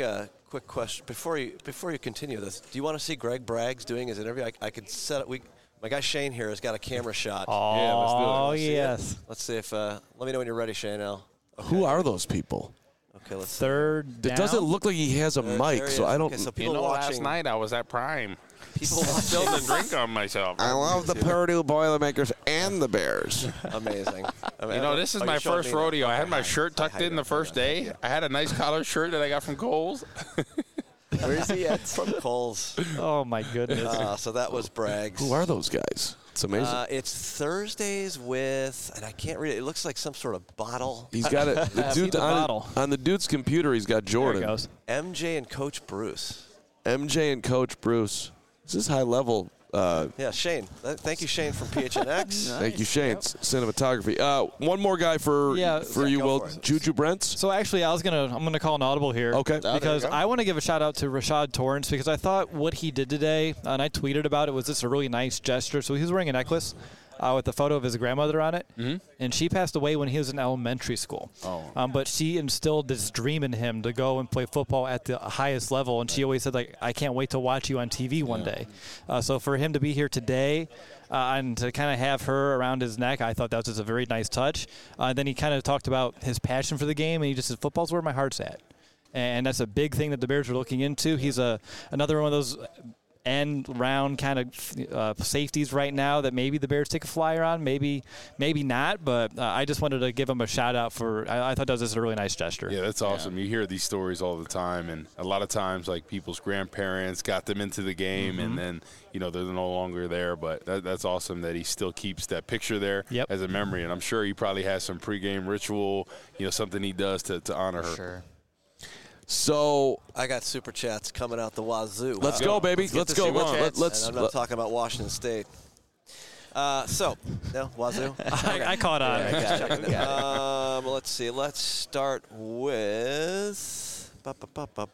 Speaker 2: quick question before you before you continue this. Do you want to see Greg Braggs doing his interview? I, I could set it. We my guy Shane here has got a camera shot.
Speaker 7: Oh,
Speaker 4: Yeah, let's do it.
Speaker 7: oh
Speaker 2: Let's see it.
Speaker 7: yes.
Speaker 2: Let's see if. Uh, let me know when you're ready, Shane. L. Okay.
Speaker 3: Who are those people?
Speaker 2: Okay, let's. see.
Speaker 7: Third down.
Speaker 3: It doesn't look like he has a
Speaker 2: There-
Speaker 3: mic,
Speaker 2: there he
Speaker 3: so
Speaker 2: is.
Speaker 3: I don't.
Speaker 2: Okay, so
Speaker 4: You
Speaker 2: people
Speaker 4: know, last
Speaker 2: watching.
Speaker 4: night I was at Prime.
Speaker 2: People
Speaker 4: Spilled
Speaker 2: watching.
Speaker 4: a drink on myself.
Speaker 3: I love the Purdue Boilermakers and the Bears.
Speaker 2: Amazing. I mean,
Speaker 4: You know, this is
Speaker 2: oh,
Speaker 4: my
Speaker 2: you're showing
Speaker 4: first
Speaker 2: me now.
Speaker 4: rodeo. I had
Speaker 2: Okay,
Speaker 4: my
Speaker 2: hi.
Speaker 4: shirt tucked
Speaker 2: Hi,
Speaker 4: in the
Speaker 2: hi,
Speaker 4: first
Speaker 2: hi,
Speaker 4: day.
Speaker 2: yeah.
Speaker 4: I had a nice collar shirt that I got from Kohl's.
Speaker 8: Where is he at?
Speaker 2: From Coles.
Speaker 7: Oh my goodness.
Speaker 2: Uh, so that was Braggs.
Speaker 3: Who are those guys? It's amazing.
Speaker 2: Uh, it's Thursdays with, and I can't read it. It looks like some sort of bottle.
Speaker 3: He's got it. The
Speaker 7: See
Speaker 3: dude
Speaker 7: the
Speaker 3: on,
Speaker 7: bottle.
Speaker 3: on the dude's computer. He's got
Speaker 7: there
Speaker 3: Jordan,
Speaker 7: it goes.
Speaker 2: M J and Coach Bruce.
Speaker 3: M J, and Coach Bruce. This is high level. Uh,
Speaker 2: Yeah, Shane. Th- Thank you, Shane from P H N X.
Speaker 3: Thank you, Shane. Cinematography. Uh, one more guy for
Speaker 7: Yeah.
Speaker 3: for
Speaker 2: Yeah,
Speaker 3: you,
Speaker 2: go
Speaker 3: Will.
Speaker 2: for it.
Speaker 3: Juju Brents.
Speaker 7: So actually, I was gonna I'm gonna call an audible here.
Speaker 3: Okay.
Speaker 2: there you
Speaker 7: Because
Speaker 2: go.
Speaker 7: I want to give a shout out to Rashad Torrance because I thought what he did today, and I tweeted about it, was just a really nice gesture. So he was wearing a necklace uh, with a photo of his grandmother on it, mm-hmm. and she passed away when he was in elementary school.
Speaker 4: Oh.
Speaker 7: Um, but she instilled this dream in him to go and play football at the highest level, and she always said, like, I can't wait to watch you on T V one day. Uh, so for him to be here today uh, and to kind of have her around his neck, I thought that was just a very nice touch. Uh, then he kind of talked about his passion for the game, and he just said, football's where my heart's at. And that's a big thing that the Bears are looking into. He's a another one of those end round kind of uh, safeties right now that maybe the Bears take a flyer on, maybe maybe not. But uh, I just wanted to give him a shout out for. I, I thought that was just a really nice gesture.
Speaker 4: Yeah, that's awesome. You hear these stories all the time, and a lot of times, like people's grandparents got them into the game,
Speaker 7: Mm-hmm.
Speaker 4: and then you know they're no longer there. But that, that's awesome that he still keeps that picture there
Speaker 7: Yep.
Speaker 4: as a memory, and I'm sure he probably has some pregame ritual, you know, something he does to, to honor her.
Speaker 8: Sure.
Speaker 3: So
Speaker 2: I got super chats coming out the wazoo.
Speaker 3: let's
Speaker 2: Wow.
Speaker 3: go, baby.
Speaker 2: Let's get
Speaker 3: Let's
Speaker 2: the
Speaker 3: go.
Speaker 2: super
Speaker 3: Let-
Speaker 2: chats,
Speaker 3: let's-
Speaker 2: and I'm not
Speaker 3: let-
Speaker 2: talking about Washington State. Uh, so, no, wazoo.
Speaker 7: I, I caught on.
Speaker 8: I got it. We got it.
Speaker 2: Um, let's see. Let's start with. Ba, ba, ba, ba,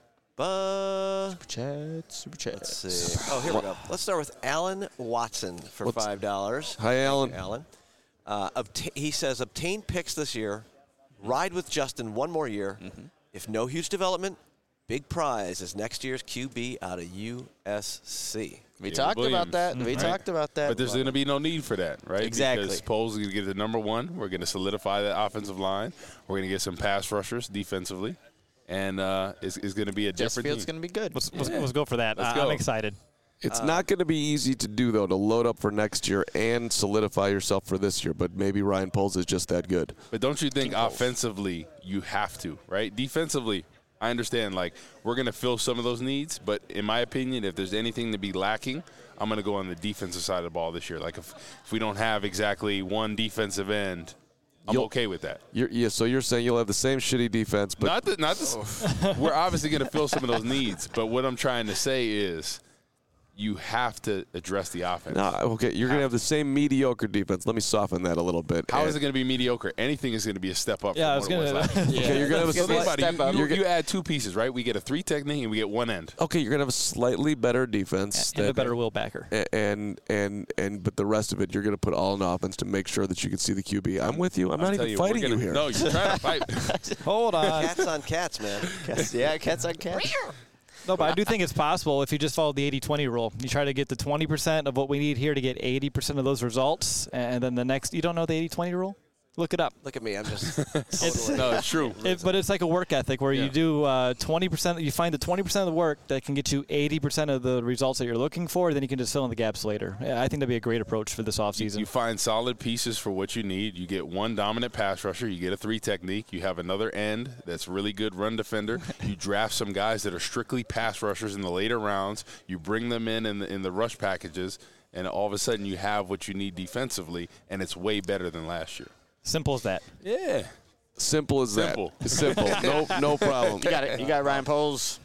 Speaker 2: ba.
Speaker 8: Chat, super chat.
Speaker 2: Let's see. Oh, here we go. Let's start with Alan Watson for
Speaker 3: What's-
Speaker 2: five dollars.
Speaker 3: Hi, Alan.
Speaker 2: Alan. Uh, obta- he says, obtain picks this year. Ride with Justin one more year. If no huge development, big prize is next year's Q B out of U S C.
Speaker 8: We
Speaker 4: Yeah,
Speaker 8: talked
Speaker 4: Williams.
Speaker 8: about that. We
Speaker 4: Right.
Speaker 8: talked about that.
Speaker 4: But there's going to be no need for that, right?
Speaker 8: Exactly.
Speaker 4: Because Poles is going to get the number one. We're going to solidify that offensive line. We're going to get some pass rushers defensively. And uh, it's, it's going to be a
Speaker 8: Jess
Speaker 4: different
Speaker 8: Fields
Speaker 4: team.
Speaker 8: going to be good.
Speaker 7: Let's, let's, let's go for that.
Speaker 4: Let's
Speaker 7: I,
Speaker 4: go.
Speaker 7: I'm excited.
Speaker 3: It's not going to be easy to do, though, to load up for next year and solidify yourself for this year. But maybe Ryan Poles is just that good.
Speaker 4: But don't you think offensively you have to, right? Defensively, I understand, like, we're going to fill some of those needs. But in my opinion, if there's anything to be lacking, I'm going to go on the defensive side of the ball this year. Like, if, if we don't have exactly one defensive end, I'm
Speaker 3: You'll-
Speaker 4: okay with that.
Speaker 3: You're, yeah, so you're saying you'll have the same shitty defense, but
Speaker 4: Not that, not this. We're obviously going to fill some of those needs. But what I'm trying to say is you have to address the offense.
Speaker 3: no, okay, you're going to have the same mediocre defense. Let me soften that a little bit.
Speaker 4: How
Speaker 3: And-
Speaker 4: is it going to be mediocre? Anything is going to be a step up.
Speaker 7: Yeah, I
Speaker 4: from
Speaker 7: was
Speaker 4: what it
Speaker 7: gonna.
Speaker 4: was last year.
Speaker 3: Okay, you're going to have a
Speaker 4: So think
Speaker 3: slight,
Speaker 4: about it. You, you,
Speaker 3: You're
Speaker 4: you
Speaker 3: gonna-
Speaker 4: add two pieces, right? We get a three technique and we get one end.
Speaker 3: okay, you're going to have a slightly better defense.
Speaker 7: And a
Speaker 3: that-
Speaker 7: better Will Backer.
Speaker 3: a- and and and but the rest of it, you're going to put all in offense to make sure that you can see the Q B. I'm with you. I'm not
Speaker 4: I'll tell
Speaker 3: even
Speaker 4: you, we're
Speaker 3: fighting you
Speaker 4: gonna-
Speaker 3: here.
Speaker 4: No, you're trying to fight.
Speaker 7: Hold on.
Speaker 2: Cats on cats, man.
Speaker 8: yeah, cats on cats.
Speaker 7: No, but I do think it's possible if you just follow the eighty twenty rule. You try to get the twenty percent of what we need here to get eighty percent of those results, and then the next – you don't know the eighty twenty rule? Look it up.
Speaker 2: Look at me. I'm just
Speaker 7: It's,
Speaker 2: totally.
Speaker 4: No, it's true.
Speaker 7: it, but it's like a work ethic where
Speaker 4: Yeah.
Speaker 7: you do uh, twenty percent – you find the twenty percent of the work that can get you eighty percent of the results that you're looking for, then you can just fill in the gaps later. Yeah, I think that'd be a great approach for this offseason.
Speaker 4: You find solid pieces for what you need. You get one dominant pass rusher. You get a three technique. You have another end that's really good run defender. You draft some guys that are strictly pass rushers in the later rounds. You bring them in in the, in the rush packages, and all of a sudden you have what you need defensively, and it's way better than last year.
Speaker 7: Simple as that.
Speaker 4: Yeah.
Speaker 3: Simple as
Speaker 4: Simple.
Speaker 3: that. Simple. No, no problem.
Speaker 8: You got it. You got Ryan Poles.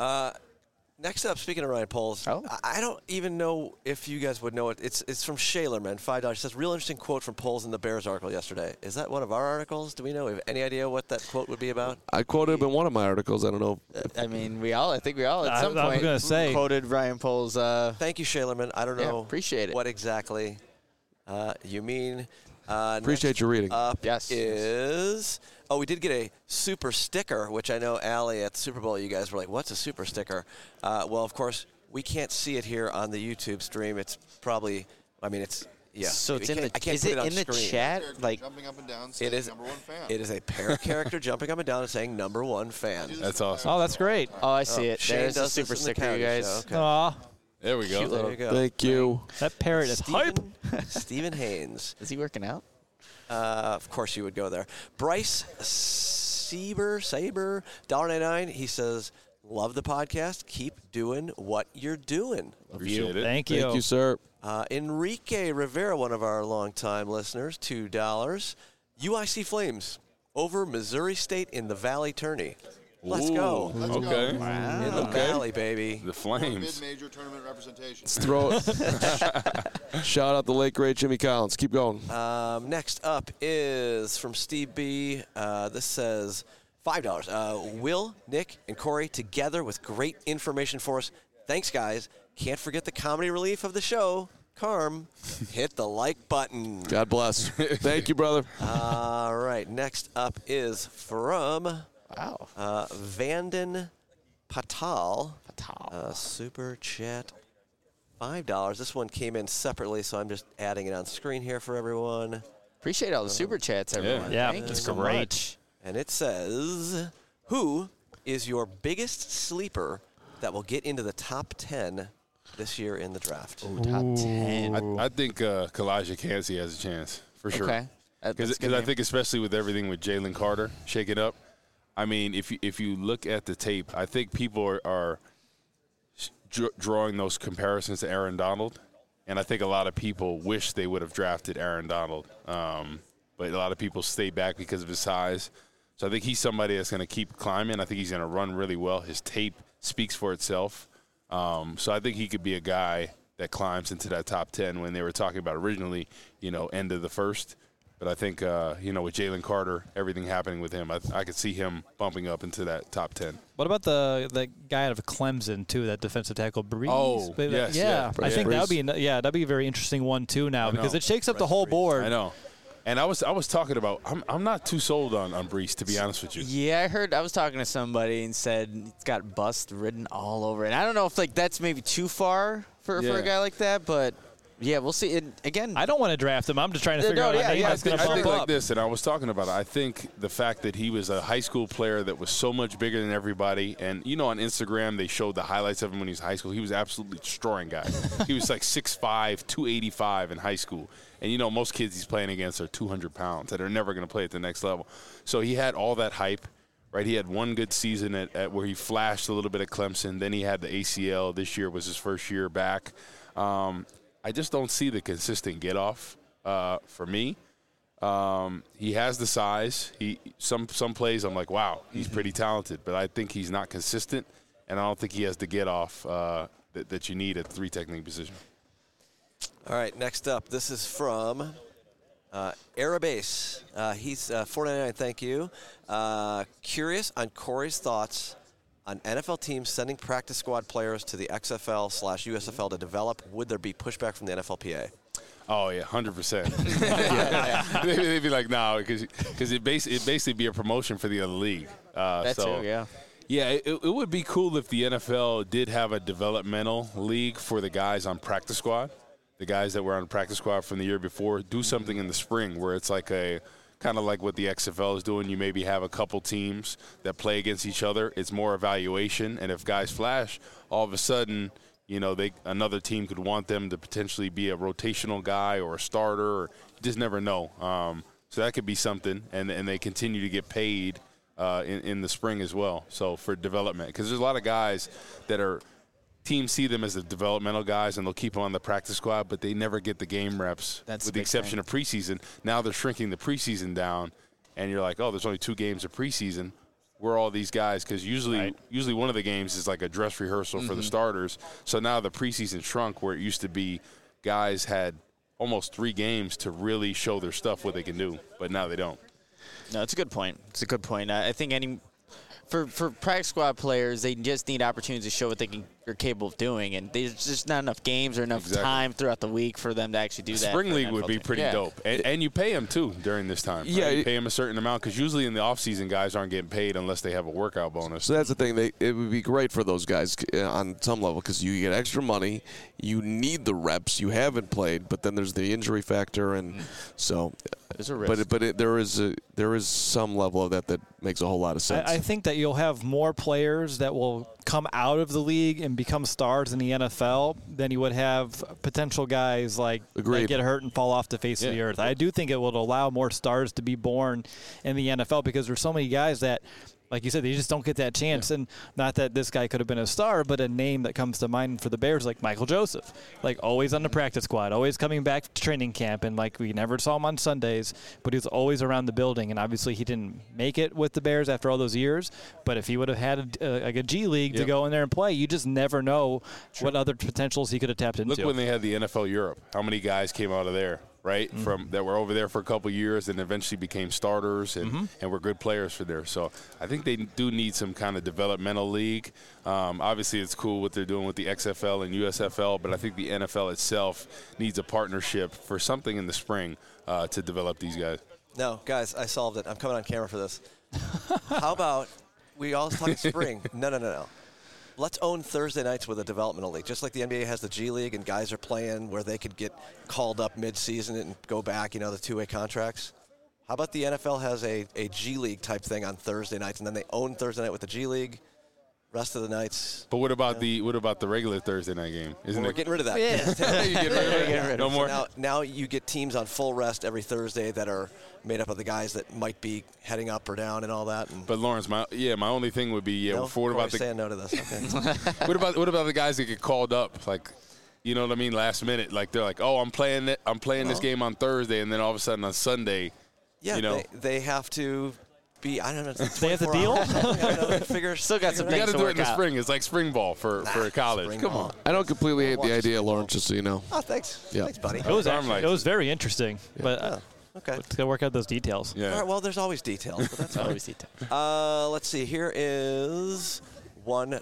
Speaker 2: Next up, speaking of Ryan Poles,
Speaker 8: Oh.
Speaker 2: I I don't even know if you guys would know it. It's it's from Shaler, man. Five dollars. It says real interesting quote from Poles in the Bears article yesterday. Is that one of our articles? Do we know? Have any idea what that quote would be about?
Speaker 3: I quoted him in one of my articles. I don't know. If,
Speaker 8: I mean, we all. I think we all at
Speaker 7: I-
Speaker 8: some
Speaker 7: I was
Speaker 8: point
Speaker 7: gonna say.
Speaker 8: quoted Ryan Poles. Uh,
Speaker 2: Thank you, Shalerman. I don't
Speaker 8: Yeah,
Speaker 2: know.
Speaker 8: appreciate it.
Speaker 2: What exactly uh, you mean? Uh,
Speaker 3: Appreciate
Speaker 2: next
Speaker 3: your reading.
Speaker 2: Up
Speaker 8: Yes.
Speaker 2: is Oh, we did get a super sticker, which I know, Allie, at the Super Bowl, you guys were like, what's a super sticker? Uh, well, of course, we can't see it here on the YouTube stream. It's probably, I mean, it's, yeah.
Speaker 8: So it's in the,
Speaker 2: I can't
Speaker 8: is
Speaker 2: put
Speaker 8: it,
Speaker 2: it on
Speaker 8: in the
Speaker 2: screen.
Speaker 8: chat? Like,
Speaker 6: jumping up and down,
Speaker 2: It
Speaker 6: saying
Speaker 2: is,
Speaker 6: number one fan.
Speaker 2: it is a parrot character jumping up and down and saying number one fan.
Speaker 4: That's awesome.
Speaker 7: Oh, that's great.
Speaker 8: oh, I see it.
Speaker 2: Shane
Speaker 8: There's a
Speaker 2: does this
Speaker 8: super
Speaker 2: in the
Speaker 8: sticker,
Speaker 2: Coyote
Speaker 8: you guys.
Speaker 2: Show. Okay.
Speaker 7: Aw,
Speaker 4: There we go.
Speaker 2: There you go.
Speaker 3: Thank you.
Speaker 7: that parrot is hype.
Speaker 2: Stephen, Stephen Haynes.
Speaker 8: Is he working out?
Speaker 2: Uh, of course you would go there. Bryce Saber, Saber, one dollar ninety-nine. He says, love the podcast. Keep doing what you're doing.
Speaker 4: Appreciate it.
Speaker 7: Thank you.
Speaker 3: Thank you, sir.
Speaker 2: Uh, Enrique Rivera, one of our longtime listeners, two dollars. U I C Flames over Missouri State in the Valley Tourney. Let's go.
Speaker 4: Ooh, okay.
Speaker 2: In the
Speaker 4: Okay.
Speaker 2: Valley, baby.
Speaker 4: The Flames.
Speaker 6: Mid-major tournament representation.
Speaker 3: Let's throw it. Shout out the late, great Jimmy Collins. Keep going.
Speaker 2: Um, next up is from Steve B. Uh, this says five dollars. Uh, Will, Nick, and Corey together with great information for us. Thanks, guys. Can't forget the comedy relief of the show. Carm, hit the like button.
Speaker 3: God bless. Thank you, brother.
Speaker 2: All right. Next up is from
Speaker 8: Wow.
Speaker 2: uh, Vanden Patal.
Speaker 8: Patal.
Speaker 2: Uh, super chat. five dollars. This one came in separately, so I'm just adding it on screen here for everyone.
Speaker 8: Appreciate all the super chats, everyone.
Speaker 7: Yeah,
Speaker 8: Thank you
Speaker 7: it's
Speaker 8: so
Speaker 7: great.
Speaker 8: much.
Speaker 2: And it says, who is your biggest sleeper that will get into the top ten this year in the draft?
Speaker 8: Top ten.
Speaker 4: I, I think uh, Kalijah Cansey has a chance for sure.
Speaker 8: Okay. That- that's
Speaker 4: Because
Speaker 8: a good
Speaker 4: I
Speaker 8: name.
Speaker 4: think especially with everything with Jalen Carter shaking up, I mean, if you, if you look at the tape, I think people are, are dr- drawing those comparisons to Aaron Donald, and I think a lot of people wish they would have drafted Aaron Donald, um, but a lot of people stay back because of his size. So I think he's somebody that's going to keep climbing. I think he's going to run really well. His tape speaks for itself. Um, so I think he could be a guy that climbs into that top ten when they were talking about originally, you know, end of the first. But I think, uh, you know, with Jalen Carter, everything happening with him, I, I could see him bumping up into that top ten.
Speaker 7: What about the the guy out of Clemson too? That defensive tackle, Breeze.
Speaker 4: Oh,
Speaker 7: But, uh,
Speaker 4: yes,
Speaker 7: yeah.
Speaker 4: yeah.
Speaker 7: I think
Speaker 3: Breeze.
Speaker 7: that would be an- yeah, that'd be a very interesting one too now
Speaker 4: I know.
Speaker 7: because it shakes up the whole board.
Speaker 4: I know. And I was I was talking about, I'm, I'm not too sold on, on Brees, to be honest with you.
Speaker 8: Yeah, I heard. I was talking to somebody and said it's got bust written all over it. And I don't know if like that's maybe too far for, for
Speaker 4: Yeah.
Speaker 8: a guy like that, but yeah, we'll see. And again,
Speaker 7: I don't want to draft him. I'm just trying to
Speaker 8: No,
Speaker 7: figure
Speaker 8: no,
Speaker 7: out a
Speaker 8: yeah,
Speaker 7: name
Speaker 8: yeah,
Speaker 7: that's going to
Speaker 4: I
Speaker 7: bump
Speaker 4: think
Speaker 7: up.
Speaker 4: like this, and I was talking about it. I think the fact that he was a high school player that was so much bigger than everybody, and you know, on Instagram they showed the highlights of him when he was in high school. He was absolutely destroying guys. He was like six five, two eighty-five in high school, and you know, most kids he's playing against are two hundred pounds that are never going to play at the next level. So he had all that hype. Right, he had one good season at, at where he flashed a little bit at Clemson. Then he had the A C L. This year was his first year back. Um, I just don't see the consistent get off uh, for me. Um, he has the size. He some some plays I'm like, wow, he's pretty talented, but I think he's not consistent, and I don't think he has the get off uh, that, that you need at the three technique position.
Speaker 2: All right, next up, this is from uh, Arabase. Uh, he's uh, four ninety-nine. Thank you. Uh, curious on Corey's thoughts on N F L teams sending practice squad players to the X F L slash U S F L to develop. Would there be pushback from the N F L P A?
Speaker 4: Oh yeah, hundred percent. They'd be like, no, because because it bas- it basically be a promotion for the other league. Uh,
Speaker 8: that
Speaker 4: so,
Speaker 8: too, yeah.
Speaker 4: Yeah, it, it would be cool if the N F L did have a developmental league for the guys on practice squad, the guys that were on practice squad from the year before. Do something in the spring where it's like a kind of like what the X F L is doing. You maybe have a couple teams that play against each other. It's more evaluation, and if guys flash, all of a sudden, you know, they another team could want them to potentially be a rotational guy or a starter. Or, you just never know. Um, so that could be something, and and they continue to get paid uh, in in the spring as well. So for development, because there's a lot of guys that are teams see them as the developmental guys, and they'll keep them on the practice squad, but they never get the game reps.
Speaker 8: That's
Speaker 4: with
Speaker 8: the
Speaker 4: the
Speaker 8: big
Speaker 4: exception
Speaker 8: thing.
Speaker 4: of preseason. Now they're shrinking the preseason down, and you're like, oh, there's only two games of preseason. Where are all these guys? Because usually,
Speaker 7: Right.
Speaker 4: usually one of the games is like a dress rehearsal for the starters. So now the preseason shrunk, where it used to be guys had almost three games to really show their stuff, what they can do, but now they don't.
Speaker 8: No, it's a good point. It's a good point. I I think any for for practice squad players, they just need opportunities to show what they can are capable of doing, and there's just not enough games or enough
Speaker 4: Exactly.
Speaker 8: time throughout the week for them to actually do that.
Speaker 4: Spring
Speaker 8: for an
Speaker 4: league
Speaker 8: N F L
Speaker 4: would be
Speaker 8: team.
Speaker 4: pretty
Speaker 8: Yeah.
Speaker 4: dope, and, and you pay them too during this time.
Speaker 3: Yeah,
Speaker 4: right? you
Speaker 3: it-
Speaker 4: pay them a certain amount because usually in the off season, guys aren't getting paid unless they have a workout bonus.
Speaker 3: So that's the thing. They, it would be great for those guys uh, on some level because you get extra money. You need the reps. You haven't played, but then there's the injury factor, and so.
Speaker 8: There's a risk.
Speaker 3: But it, but it, there is a, there is some level of that that makes a whole lot of sense.
Speaker 7: I, I think that you'll have more players that will come out of the league and become stars in the N F L than you would have potential guys like
Speaker 3: Agreed.
Speaker 7: that get hurt and fall off the face of
Speaker 4: Yeah.
Speaker 7: the earth. I do think it will allow more stars to be born in the N F L because there's so many guys that, like you said, they just don't get that chance. And not that this guy could have been a star, but a name that comes to mind for the Bears, like Michael Joseph, like always on the practice squad, always coming back to training camp, and like we never saw him on Sundays, but he was always around the building. And obviously, he didn't make it with the Bears after all those years. But if he would have had a, a, like a G League to
Speaker 4: Yep.
Speaker 7: go in there and play, you just never know what other potentials he could have tapped into.
Speaker 4: Look when they had the N F L Europe. How many guys came out of there, right?
Speaker 7: Mm-hmm.
Speaker 4: From that were over there for a couple years and eventually became starters and,
Speaker 7: Mm-hmm.
Speaker 4: and were good players for there. So I think they do need some kind of developmental league. Um, obviously, it's cool what they're doing with the X F L and U S F L, but I think the N F L itself needs a partnership for something in the spring uh, to develop these guys.
Speaker 2: No, guys, I solved it. I'm coming on camera for this. How about we all talk spring? No, no, no, no. Let's own Thursday nights with a developmental league. Just like the N B A has the G League and guys are playing where they could get called up mid-season and go back, you know, the two-way contracts. How about the N F L has a, a G League type thing on Thursday nights, and then they own Thursday night with the G League. Rest of the nights,
Speaker 4: But what about the what about the regular Thursday night game? Isn't
Speaker 2: we're
Speaker 4: it?
Speaker 2: getting rid of that.
Speaker 8: Yeah.
Speaker 4: you get rid of it? No more.
Speaker 2: Now, now you get teams on full rest every Thursday that are made up of the guys that might be heading up or down and all that. And
Speaker 4: But Lawrence, my yeah, my only thing would be yeah.
Speaker 2: no,
Speaker 4: For what about
Speaker 2: Corey's
Speaker 4: the
Speaker 2: saying no to this? Okay.
Speaker 4: what about what about the guys that get called up like, you know what I mean, last minute? Like they're like, oh, I'm playing it, I'm playing this
Speaker 2: Well.
Speaker 4: game on Thursday, and then all of a sudden on Sunday,
Speaker 2: Yeah,
Speaker 4: you know,
Speaker 2: they, they have to be. I don't know.
Speaker 7: They have to
Speaker 2: twenty-four
Speaker 7: deal?
Speaker 2: hours, something, I don't know, figure.
Speaker 8: Still got some
Speaker 4: you
Speaker 8: things
Speaker 4: got to
Speaker 8: to
Speaker 4: do it
Speaker 8: work
Speaker 4: in the
Speaker 8: out.
Speaker 4: spring. It's like spring ball for for college.
Speaker 2: spring
Speaker 4: Come
Speaker 2: ball.
Speaker 4: on.
Speaker 3: I don't completely hate
Speaker 2: Watch
Speaker 3: the
Speaker 2: the
Speaker 3: idea,
Speaker 2: Super
Speaker 3: Lauren, just so you know.
Speaker 2: Oh, thanks.
Speaker 3: Yeah.
Speaker 2: Thanks, buddy.
Speaker 7: It was
Speaker 4: Arm
Speaker 7: actually,
Speaker 4: like
Speaker 7: it was very interesting, but
Speaker 2: Oh,
Speaker 7: uh,
Speaker 2: okay.
Speaker 7: let's go work out those details.
Speaker 2: All
Speaker 4: Yeah.
Speaker 2: right. Well, there's always details, but that's fine.
Speaker 8: Always detail.
Speaker 2: Uh, let's see. Here is one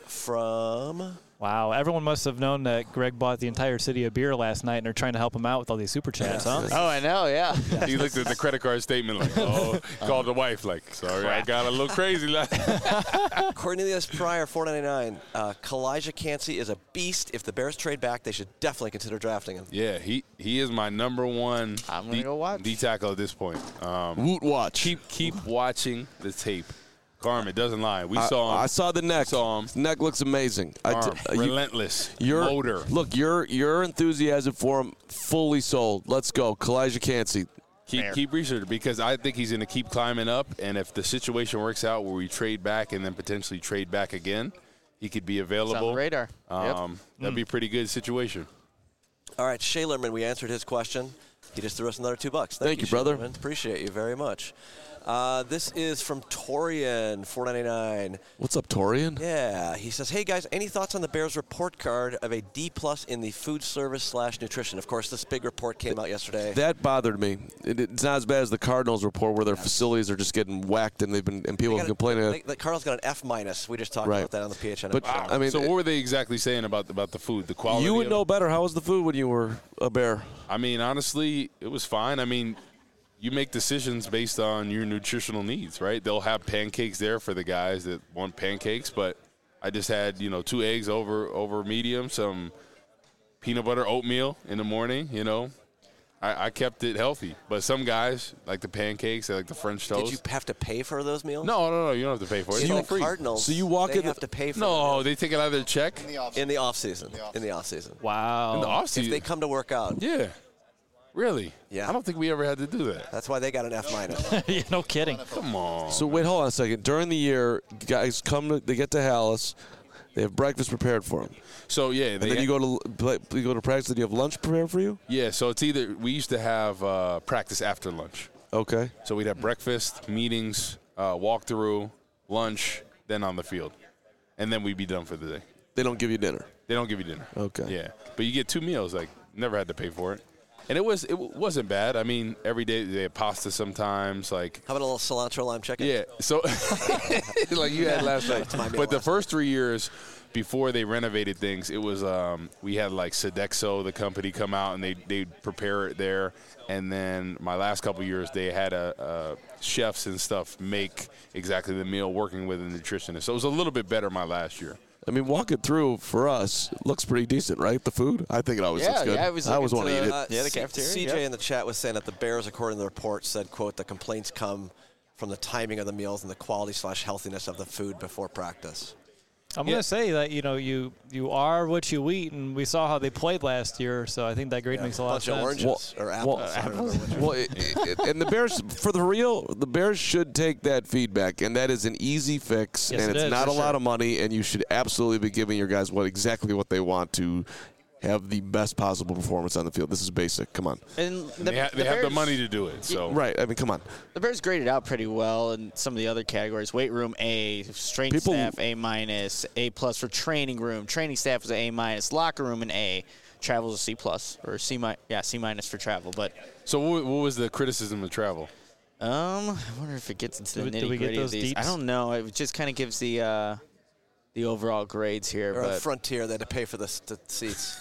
Speaker 2: from.
Speaker 7: Wow, everyone must have known that Greg bought the entire city of beer last night, and they're trying to help him out with all these super chats, huh?
Speaker 8: Oh, I know, yeah.
Speaker 4: He looked at the credit card statement like, oh, called the wife like, sorry, I got a little crazy last.
Speaker 2: Cornelius Pryor, four ninety-nine. Uh, Kalijah Cansey is a beast. If the Bears trade back, they should definitely consider drafting him.
Speaker 4: Yeah, he he is my number one.
Speaker 8: I'm gonna
Speaker 4: D,
Speaker 8: go watch.
Speaker 4: D tackle at this point. Um,
Speaker 3: Woot watch.
Speaker 4: keep keep watching the tape. Carm, it doesn't lie. We
Speaker 3: I,
Speaker 4: saw him.
Speaker 3: I saw the neck.
Speaker 4: Saw him.
Speaker 3: His neck looks amazing. I
Speaker 4: Carm,
Speaker 3: t- uh, you-
Speaker 4: relentless.
Speaker 3: your
Speaker 4: motor.
Speaker 3: Look, your your enthusiasm for him fully sold. Let's go, Kalijah Cansey.
Speaker 4: Keep keep researching because I think he's going to keep climbing up. And if the situation works out where we trade back and then potentially trade back again, he could be available.
Speaker 8: It's on the radar. Yep.
Speaker 4: Um, That'd be a pretty good situation.
Speaker 2: All right, Shalerman, we answered his question. He just threw us another two bucks. Thank,
Speaker 3: Thank you, brother.
Speaker 2: Shalerman. Appreciate you very much. Uh, this is from Torian, four ninety-nine.
Speaker 3: What's up, Torian?
Speaker 2: Yeah, he says, hey guys, any thoughts on the Bears report card of a D plus in the food service slash nutrition? Of course, this big report came out yesterday.
Speaker 3: That bothered me. It, it's not as bad as the Cardinals report where their facilities are just getting whacked and they've been and people
Speaker 2: They
Speaker 3: have
Speaker 2: got a-
Speaker 3: complaining.
Speaker 2: they- The Cardinals got an F minus. We just talked
Speaker 3: Right.
Speaker 2: about that on the P H N.
Speaker 3: But
Speaker 2: Wow.
Speaker 3: I mean,
Speaker 4: so what were they exactly saying about about the food, the quality?
Speaker 3: you would
Speaker 4: of
Speaker 3: know
Speaker 4: it?
Speaker 3: better. How was the food when you were a Bear?
Speaker 4: I mean, honestly, it was fine. I mean, you make decisions based on your nutritional needs, right? They'll have pancakes there for the guys that want pancakes, but I just had, you know, two eggs over over medium, some peanut butter oatmeal in the morning, you know. I, I kept it healthy. But some guys like the pancakes, they like the French toast.
Speaker 2: Did you have to pay for those meals?
Speaker 4: No, no, no, you don't have to pay for it.
Speaker 2: See,
Speaker 4: It's
Speaker 2: the
Speaker 4: all free.
Speaker 2: Cardinals,
Speaker 3: So you walk
Speaker 2: they
Speaker 3: in the-
Speaker 2: have to pay for
Speaker 4: No,
Speaker 2: the
Speaker 4: they take it out of their check
Speaker 6: In the off-
Speaker 2: in the off season.
Speaker 6: In the off-
Speaker 2: In the off season.
Speaker 7: Wow.
Speaker 4: in the off
Speaker 2: If
Speaker 4: season.
Speaker 2: they come to work out,
Speaker 4: Yeah. Really?
Speaker 2: Yeah.
Speaker 4: I don't think we ever had to do that.
Speaker 2: that's why they got an F minus.
Speaker 7: yeah, no kidding.
Speaker 4: Come on.
Speaker 3: So wait, hold on a second. During the year, guys come to they get to Hallis, they have breakfast prepared for them,
Speaker 4: So yeah,
Speaker 3: and
Speaker 4: they
Speaker 3: then you go to play- you go to practice. And you have lunch prepared for you.
Speaker 4: Yeah, so it's either we used to have uh, practice after lunch.
Speaker 3: Okay.
Speaker 4: So we'd have breakfast, meetings, uh, walkthrough, lunch, then on the field, and then we'd be done for the day.
Speaker 3: They don't give you dinner.
Speaker 4: They don't give you dinner.
Speaker 3: Okay.
Speaker 4: Yeah, but you get two meals. Like never had to pay for it. And it was it wasn't bad. I mean, every day they had pasta sometimes. Like
Speaker 2: How about a little cilantro lime chicken?
Speaker 4: yeah, so like you had last night. But the first three years before they renovated things, it was um, we had like Sodexo, the company, come out and they they prepare it there. And then my last couple years, they had a, a chefs and stuff make exactly the meal, working with a nutritionist. So it was a little bit better my last year.
Speaker 3: I mean, walking through for us looks pretty decent, right? The food, I think it always
Speaker 8: Yeah,
Speaker 3: looks good.
Speaker 8: yeah, I was
Speaker 3: I always
Speaker 8: looking
Speaker 3: want to
Speaker 8: to-
Speaker 3: eat it.
Speaker 2: Uh,
Speaker 8: Yeah, the
Speaker 2: C-
Speaker 8: cafeteria,
Speaker 2: C J
Speaker 8: yeah.
Speaker 2: in the chat was saying that the Bears, according to the report, said, quote, the complaints come from the timing of the meals and the quality slash healthiness of the food before practice.
Speaker 7: I'm
Speaker 4: Yeah.
Speaker 7: going to say that, you know, you you are what you eat, and we saw how they played last year, so I think that grade makes a lot
Speaker 2: bunch
Speaker 7: of
Speaker 2: of
Speaker 7: sense.
Speaker 2: oranges or apples. I don't remember which one.
Speaker 3: Well, it, it, and the Bears, for the real, the Bears should take that feedback, and that is an easy fix,
Speaker 7: Yes,
Speaker 3: and
Speaker 7: it
Speaker 3: it's
Speaker 7: is,
Speaker 3: not
Speaker 7: for
Speaker 3: a lot
Speaker 7: sure.
Speaker 3: of money, and you should absolutely be giving your guys what exactly what they want to have the best possible performance on the field. This is basic. Come on.
Speaker 8: And the,
Speaker 4: They, ha-
Speaker 8: the
Speaker 4: they have the
Speaker 8: Bears-
Speaker 4: money to do it. So
Speaker 3: Right. I mean, come on.
Speaker 8: The Bears graded out pretty well in some of the other categories. Weight room A, strength
Speaker 3: People-
Speaker 8: staff A minus, A plus for training room. Training staff was A minus. Locker room an A. Travel was a C plus or C minus. Yeah, C minus for travel. But
Speaker 4: so what, what was the criticism of travel?
Speaker 8: um, I wonder if it gets into the
Speaker 7: Did we- did
Speaker 8: nitty
Speaker 7: we get
Speaker 8: gritty of
Speaker 7: those
Speaker 8: these. I
Speaker 7: deets?
Speaker 8: don't know. It just kind of gives the uh, the overall grades here.
Speaker 2: Or a
Speaker 8: But
Speaker 2: Frontier, they had to pay for the, s- the seats.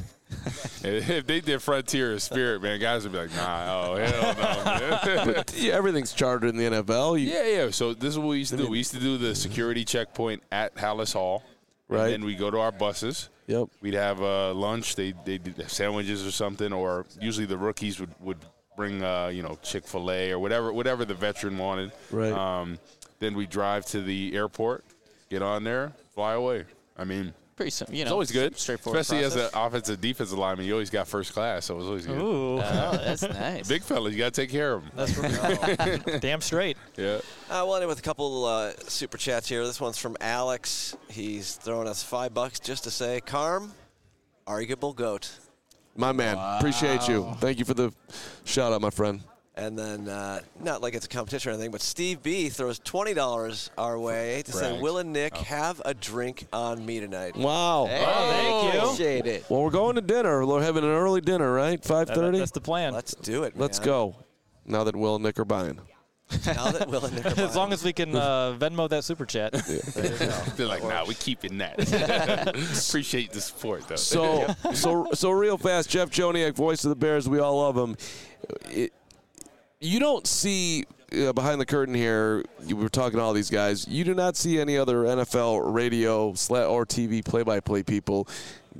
Speaker 4: If they did Frontier or Spirit, man, guys would be like, nah, oh, hell no, man.
Speaker 3: Yeah, everything's chartered in the N F L. You,
Speaker 4: Yeah, yeah. So this is what we used to do. We used to do the security checkpoint at Hallis Hall.
Speaker 3: Right.
Speaker 4: And then we go to our buses.
Speaker 3: Yep.
Speaker 4: We'd have uh, lunch. They they did sandwiches or something, or usually the rookies would, would bring uh, you know Chick-fil-A or whatever whatever the veteran wanted.
Speaker 3: Right.
Speaker 4: Um, then we drive to the airport, get on there, fly away. I mean,
Speaker 8: pretty simple. You know,
Speaker 4: it's always good,
Speaker 8: straightforward.
Speaker 4: especially as
Speaker 8: process.
Speaker 4: an offensive defensive lineman. You always got first class, so it was always good.
Speaker 7: Ooh,
Speaker 8: Oh, that's nice.
Speaker 4: Big fella, you got to take care of them.
Speaker 7: that's damn straight.
Speaker 4: Yeah.
Speaker 2: Uh, we'll end it with a couple uh, super chats here. This one's from Alex. He's throwing us five bucks just to say, Carm, arguable GOAT.
Speaker 3: My man. Appreciate you. Thank you for the shout out, my friend.
Speaker 2: And then, uh, not like it's a competition or anything, but Steve B throws twenty dollars our way to say,
Speaker 4: Brags.
Speaker 2: Will and Nick have a drink on me tonight?
Speaker 3: Wow.
Speaker 8: Hey,
Speaker 7: thank you.
Speaker 8: Appreciate it.
Speaker 3: Well, we're going to dinner. We're having an early dinner, right? five
Speaker 7: That-
Speaker 3: thirty?
Speaker 7: that's the plan.
Speaker 2: Let's do it,
Speaker 3: Let's
Speaker 2: man.
Speaker 3: go. Now that Will and Nick are buying.
Speaker 2: Now that Will and Nick are
Speaker 7: As
Speaker 2: buying.
Speaker 7: long as we can uh, Venmo that super chat.
Speaker 4: They're like, nah, we keeping that. Appreciate the support, though.
Speaker 3: So, so, so real fast, Jeff Joniak, voice of the Bears. We all love him. It, you don't see uh, behind the curtain here. You were talking to all these guys. You do not see any other N F L radio sla- or T V play-by-play people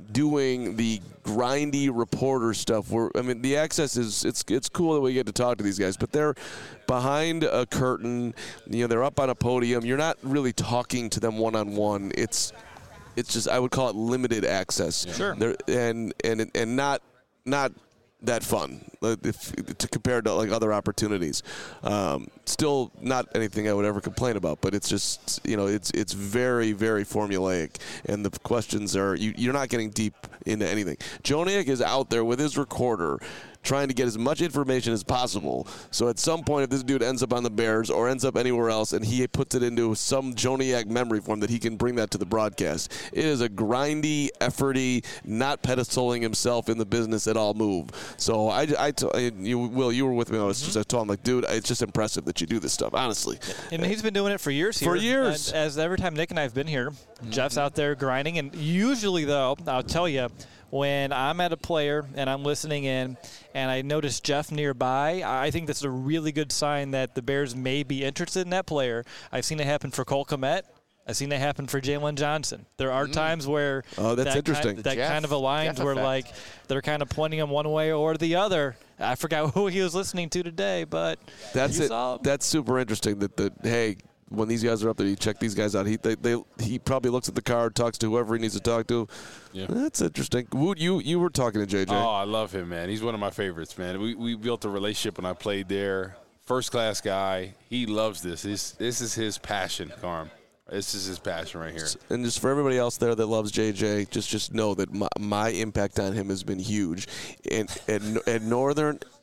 Speaker 3: doing the grindy reporter stuff. Where I mean, the access is it's it's cool that we get to talk to these guys, but they're behind a curtain. You know, they're up on a podium. You're not really talking to them one-on-one. It's it's just I would call it limited access.
Speaker 7: Sure.
Speaker 3: They're, and and and not not that fun like, if, to compare to like other opportunities. Um, still not anything I would ever complain about, but it's just you know it's it's very very formulaic, and the questions are you, you're not getting deep into anything. Joniak is out there with his recorder, trying to get as much information as possible. So at some point, if this dude ends up on the Bears or ends up anywhere else and he puts it into some Joniak memory form that he can bring that to the broadcast, it is a grindy, efforty, not pedestaling himself in the business at all move. So I, I t- you, Will, you were with me. I was just I told him, like, dude, it's just impressive that you do this stuff, honestly.
Speaker 7: And he's been doing it for years here.
Speaker 3: For years.
Speaker 7: And as every time Nick and I have been here, Jeff's out there grinding. And usually, though, I'll tell you, when I'm at a player and I'm listening in and I notice Jeff nearby, I think that's a really good sign that the Bears may be interested in that player. I've seen it happen for Cole Kmet. I've seen it happen for Jalen Johnson. There are times where
Speaker 3: Oh, that's
Speaker 7: that
Speaker 3: interesting.
Speaker 7: Kind, that
Speaker 8: Jeff-
Speaker 7: kind of aligns
Speaker 8: Jeff
Speaker 7: where,
Speaker 8: effect.
Speaker 7: like, they're kind of pointing him one way or the other. I forgot who he was listening to today, but
Speaker 3: That's
Speaker 7: you
Speaker 3: it.
Speaker 7: saw him.
Speaker 3: That's super interesting. That the hey, when these guys are up there, you check these guys out. He they, they he probably looks at the card, talks to whoever he needs to talk to.
Speaker 4: Yeah.
Speaker 3: That's interesting. Wood, you you were talking to J J.
Speaker 4: Oh, I love him, man. He's one of my favorites, man. We we built a relationship when I played there. First class guy. He loves this. This this is his passion, Carm. This is his passion right here.
Speaker 3: And just for everybody else there that loves J J, just just know that my, my impact on him has been huge. And at, at Northern,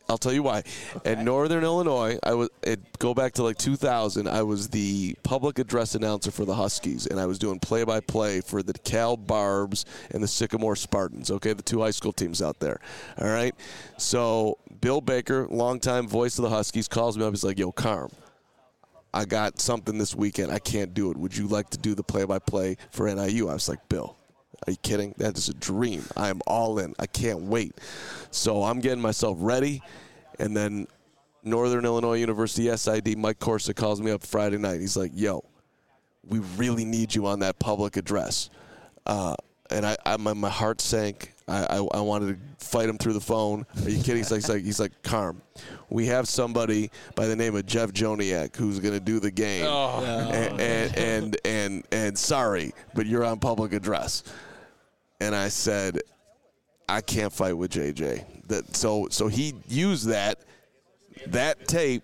Speaker 3: I'll tell you why. Okay. At Northern Illinois, I was it go back to like two thousand. I was the public address announcer for the Huskies, and I was doing play-by-play for the Cal Barbs and the Sycamore Spartans. Okay, the two high school teams out there. All right. So Bill Baker, longtime voice of the Huskies, calls me up. He's like, "Yo, Carm, I got something this weekend. I can't do it. Would you like to do the play-by-play for N I U?" I was like, "Bill, are you kidding? That is a dream. I am all in. I can't wait." So I'm getting myself ready, and then Northern Illinois University S I D, Mike Corsa, calls me up Friday night. He's like, "Yo, we really need you on that public address." Uh, and I, I my, my heart sank. I, I, I wanted to fight him through the phone. Are you kidding? He's like, he's like, he's like, "Carm, we have somebody by the name of Jeff Joniak who's going to do the game.
Speaker 4: Oh.
Speaker 3: And, and, and, and, and sorry, but you're on public address." And I said, "I can't fight with J J." That so so he used that. That tape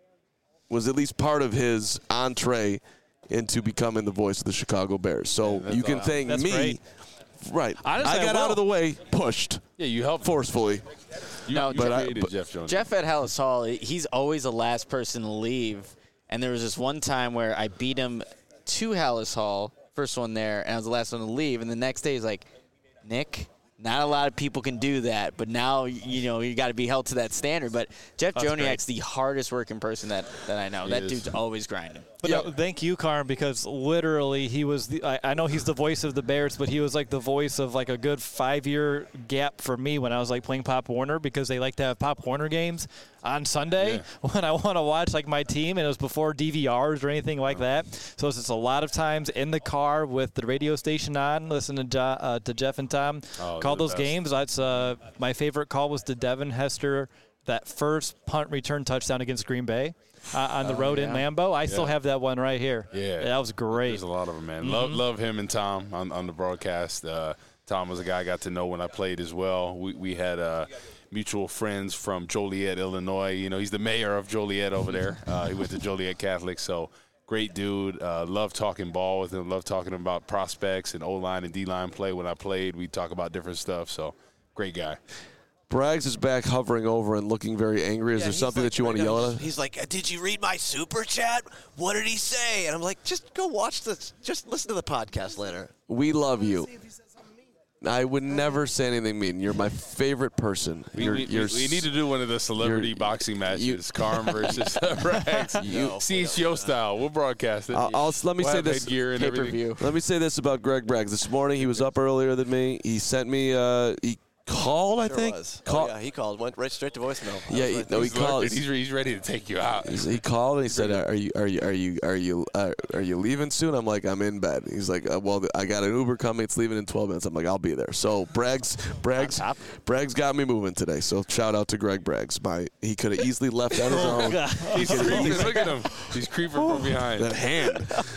Speaker 3: was at least part of his entree into becoming the voice of the Chicago Bears. So
Speaker 4: Yeah,
Speaker 3: you can
Speaker 4: awesome.
Speaker 3: thank
Speaker 7: That's
Speaker 3: me.
Speaker 7: great.
Speaker 3: Right.
Speaker 1: Honestly,
Speaker 3: I got
Speaker 1: I
Speaker 3: out
Speaker 1: will.
Speaker 3: of the way, pushed
Speaker 4: Yeah, you helped.
Speaker 3: forcefully.
Speaker 4: You,
Speaker 8: No,
Speaker 4: you
Speaker 3: but I-
Speaker 4: created
Speaker 3: but-
Speaker 4: Jeff Jones.
Speaker 8: Jeff at Hallis Hall, he's always the last person to leave. And there was this one time where I beat him to Hallis Hall, first one there, and I was the last one to leave. And the next day he's like, "Nick, not a lot of people can do that, but now, you know, you got to be held to that standard." But Jeff
Speaker 1: That's
Speaker 8: Joniak's the hardest working person that, that I know.
Speaker 4: He
Speaker 8: that
Speaker 4: is.
Speaker 8: dude's always grinding.
Speaker 7: But no, thank you, Carm, because literally he was the, I, I know he's the voice of the Bears, but he was like the voice of like a good five-year gap for me when I was like playing Pop Warner, because they like to have Pop Warner games on Sunday
Speaker 4: Yeah.
Speaker 7: when I want to watch like my team, and it was before D V Rs or anything like that. So it's just a lot of times in the car with the radio station on, listening to, Jo- uh, to Jeff and Tom
Speaker 4: Oh,
Speaker 7: call
Speaker 4: the
Speaker 7: those
Speaker 4: best.
Speaker 7: games. That's uh, my favorite call was to Devin Hester, that first punt return touchdown against Green Bay. Uh, on the road in Lambeau. I still
Speaker 4: Yeah.
Speaker 7: have that one right here.
Speaker 4: Yeah.
Speaker 7: That was great.
Speaker 4: There's a lot of them, man. Love love him and Tom on, on the broadcast. Uh, Tom was a guy I got to know when I played as well. We we had uh, mutual friends from Joliet, Illinois. You know, he's the mayor of Joliet over there. Uh, he went to Joliet Catholic, so great dude. Uh, love talking ball with him. Love talking about prospects and O-line and D-line play. When I played, we talk about different stuff. So great guy.
Speaker 3: Braggs is back hovering over and looking very angry. Is
Speaker 2: Yeah,
Speaker 3: there
Speaker 2: he's
Speaker 3: something
Speaker 2: like
Speaker 3: that you want to
Speaker 2: right now,
Speaker 3: yell at
Speaker 2: he's-
Speaker 3: him?
Speaker 2: He's like, "Did you read my super chat? What did he say?" And I'm like, "Just go watch this. Just listen to the podcast later."
Speaker 3: We love you. I would never say anything mean. You're my favorite person.
Speaker 4: We,
Speaker 3: You're,
Speaker 4: we,
Speaker 3: you're
Speaker 4: we need to do one of the celebrity
Speaker 3: you're-
Speaker 4: boxing matches,
Speaker 3: you-
Speaker 4: Carm versus Braggs.
Speaker 2: No,
Speaker 4: C H O style. We'll broadcast it.
Speaker 3: I'll, I'll- let me
Speaker 4: We'll
Speaker 3: say
Speaker 4: have
Speaker 3: this.
Speaker 4: headgear and everything.
Speaker 3: Let me say this about Greg Braggs. This morning he was up earlier than me. He sent me. Uh, he called. I
Speaker 2: Sure
Speaker 3: think.
Speaker 2: was.
Speaker 3: Call-
Speaker 2: Oh, yeah, he called. Went right straight to voicemail. I
Speaker 3: Yeah,
Speaker 2: was
Speaker 3: he-
Speaker 2: like,
Speaker 3: no, he
Speaker 4: He's lurking.
Speaker 3: called.
Speaker 4: He's, re- he's ready to take you out.
Speaker 3: He's- He called and he said, "Are you are you are you are you uh, are you leaving soon?" I'm like, "I'm in bed." He's like, uh, "Well, I got an Uber coming. It's leaving in twelve minutes." I'm like, "I'll be there." So Braggs Braggs
Speaker 8: top.
Speaker 3: Braggs got me moving today. So shout out to Greg Braggs. My he could have easily left on his own.
Speaker 4: He's creeping. Look at him. He's creeping from behind.
Speaker 3: That hand.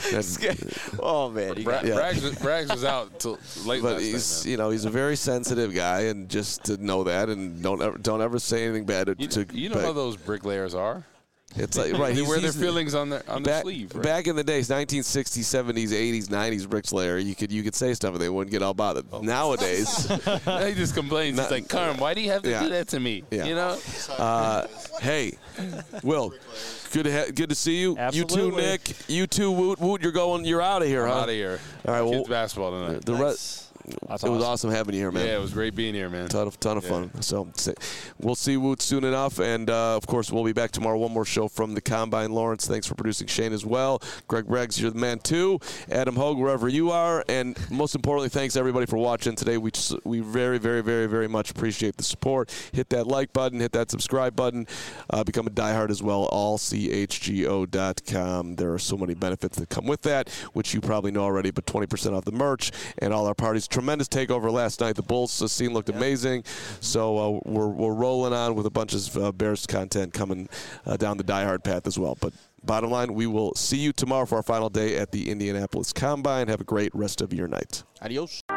Speaker 3: That-
Speaker 2: "Oh man, you
Speaker 4: Bra-
Speaker 2: got
Speaker 3: Yeah.
Speaker 4: Braggs, was- Braggs was out till late
Speaker 3: but
Speaker 4: last
Speaker 3: he's
Speaker 4: night,
Speaker 3: you know he's a very sensitive guy, and just to know that, and don't ever don't ever say anything bad to.
Speaker 4: man.
Speaker 3: to
Speaker 4: You, you know
Speaker 3: Bragg.
Speaker 4: how those bricklayers are.
Speaker 3: It's like right.
Speaker 4: They
Speaker 3: he's-
Speaker 4: wear their
Speaker 3: he's-
Speaker 4: feelings on their on their
Speaker 3: Back,
Speaker 4: sleeve. Right?
Speaker 3: back in the days, nineteen sixties, seventies, eighties, nineties, Bricklayer, you could you could say stuff and they wouldn't get all bothered.
Speaker 4: Oh.
Speaker 3: Nowadays,
Speaker 4: Now he just complains.
Speaker 3: Not-
Speaker 4: He's like, Carm, why do you have to
Speaker 3: Yeah.
Speaker 4: do that to me?
Speaker 3: Yeah.
Speaker 4: You know?
Speaker 3: uh, hey, Will, good to ha- good to see you. You too,
Speaker 7: Absolutely.
Speaker 3: Nick. You too, Woot. Woot, you're going. You're out of here, huh?
Speaker 4: Out of here.
Speaker 3: All right, well,
Speaker 4: Kids basketball tonight.
Speaker 3: the rest.
Speaker 7: That's
Speaker 3: it was
Speaker 7: awesome.
Speaker 3: awesome having you here, man.
Speaker 4: Yeah, it was great being here, man.
Speaker 3: Ton of, ton of
Speaker 4: Yeah.
Speaker 3: fun. So say- we'll see Woot soon enough. And, uh, of course, we'll be back tomorrow. One more show from the Combine. Lawrence, thanks for producing Shane as well. Greg Braggs, you're the man, too. Adam Hogue, wherever you are. And most importantly, thanks, everybody, for watching today. We just, we very, very, very, very much appreciate the support. Hit that like button. Hit that subscribe button. Uh, become a diehard as well. all c h g o dot com. There are so many benefits that come with that, which you probably know already, but twenty percent off the merch and all our parties. Tremendous takeover last night. The Bulls uh, scene looked amazing. So uh, we're, we're rolling on with a bunch of uh, Bears content coming uh, down the diehard path as well. But bottom line, we will see you tomorrow for our final day at the Indianapolis Combine. Have a great rest of your night.
Speaker 8: Adios.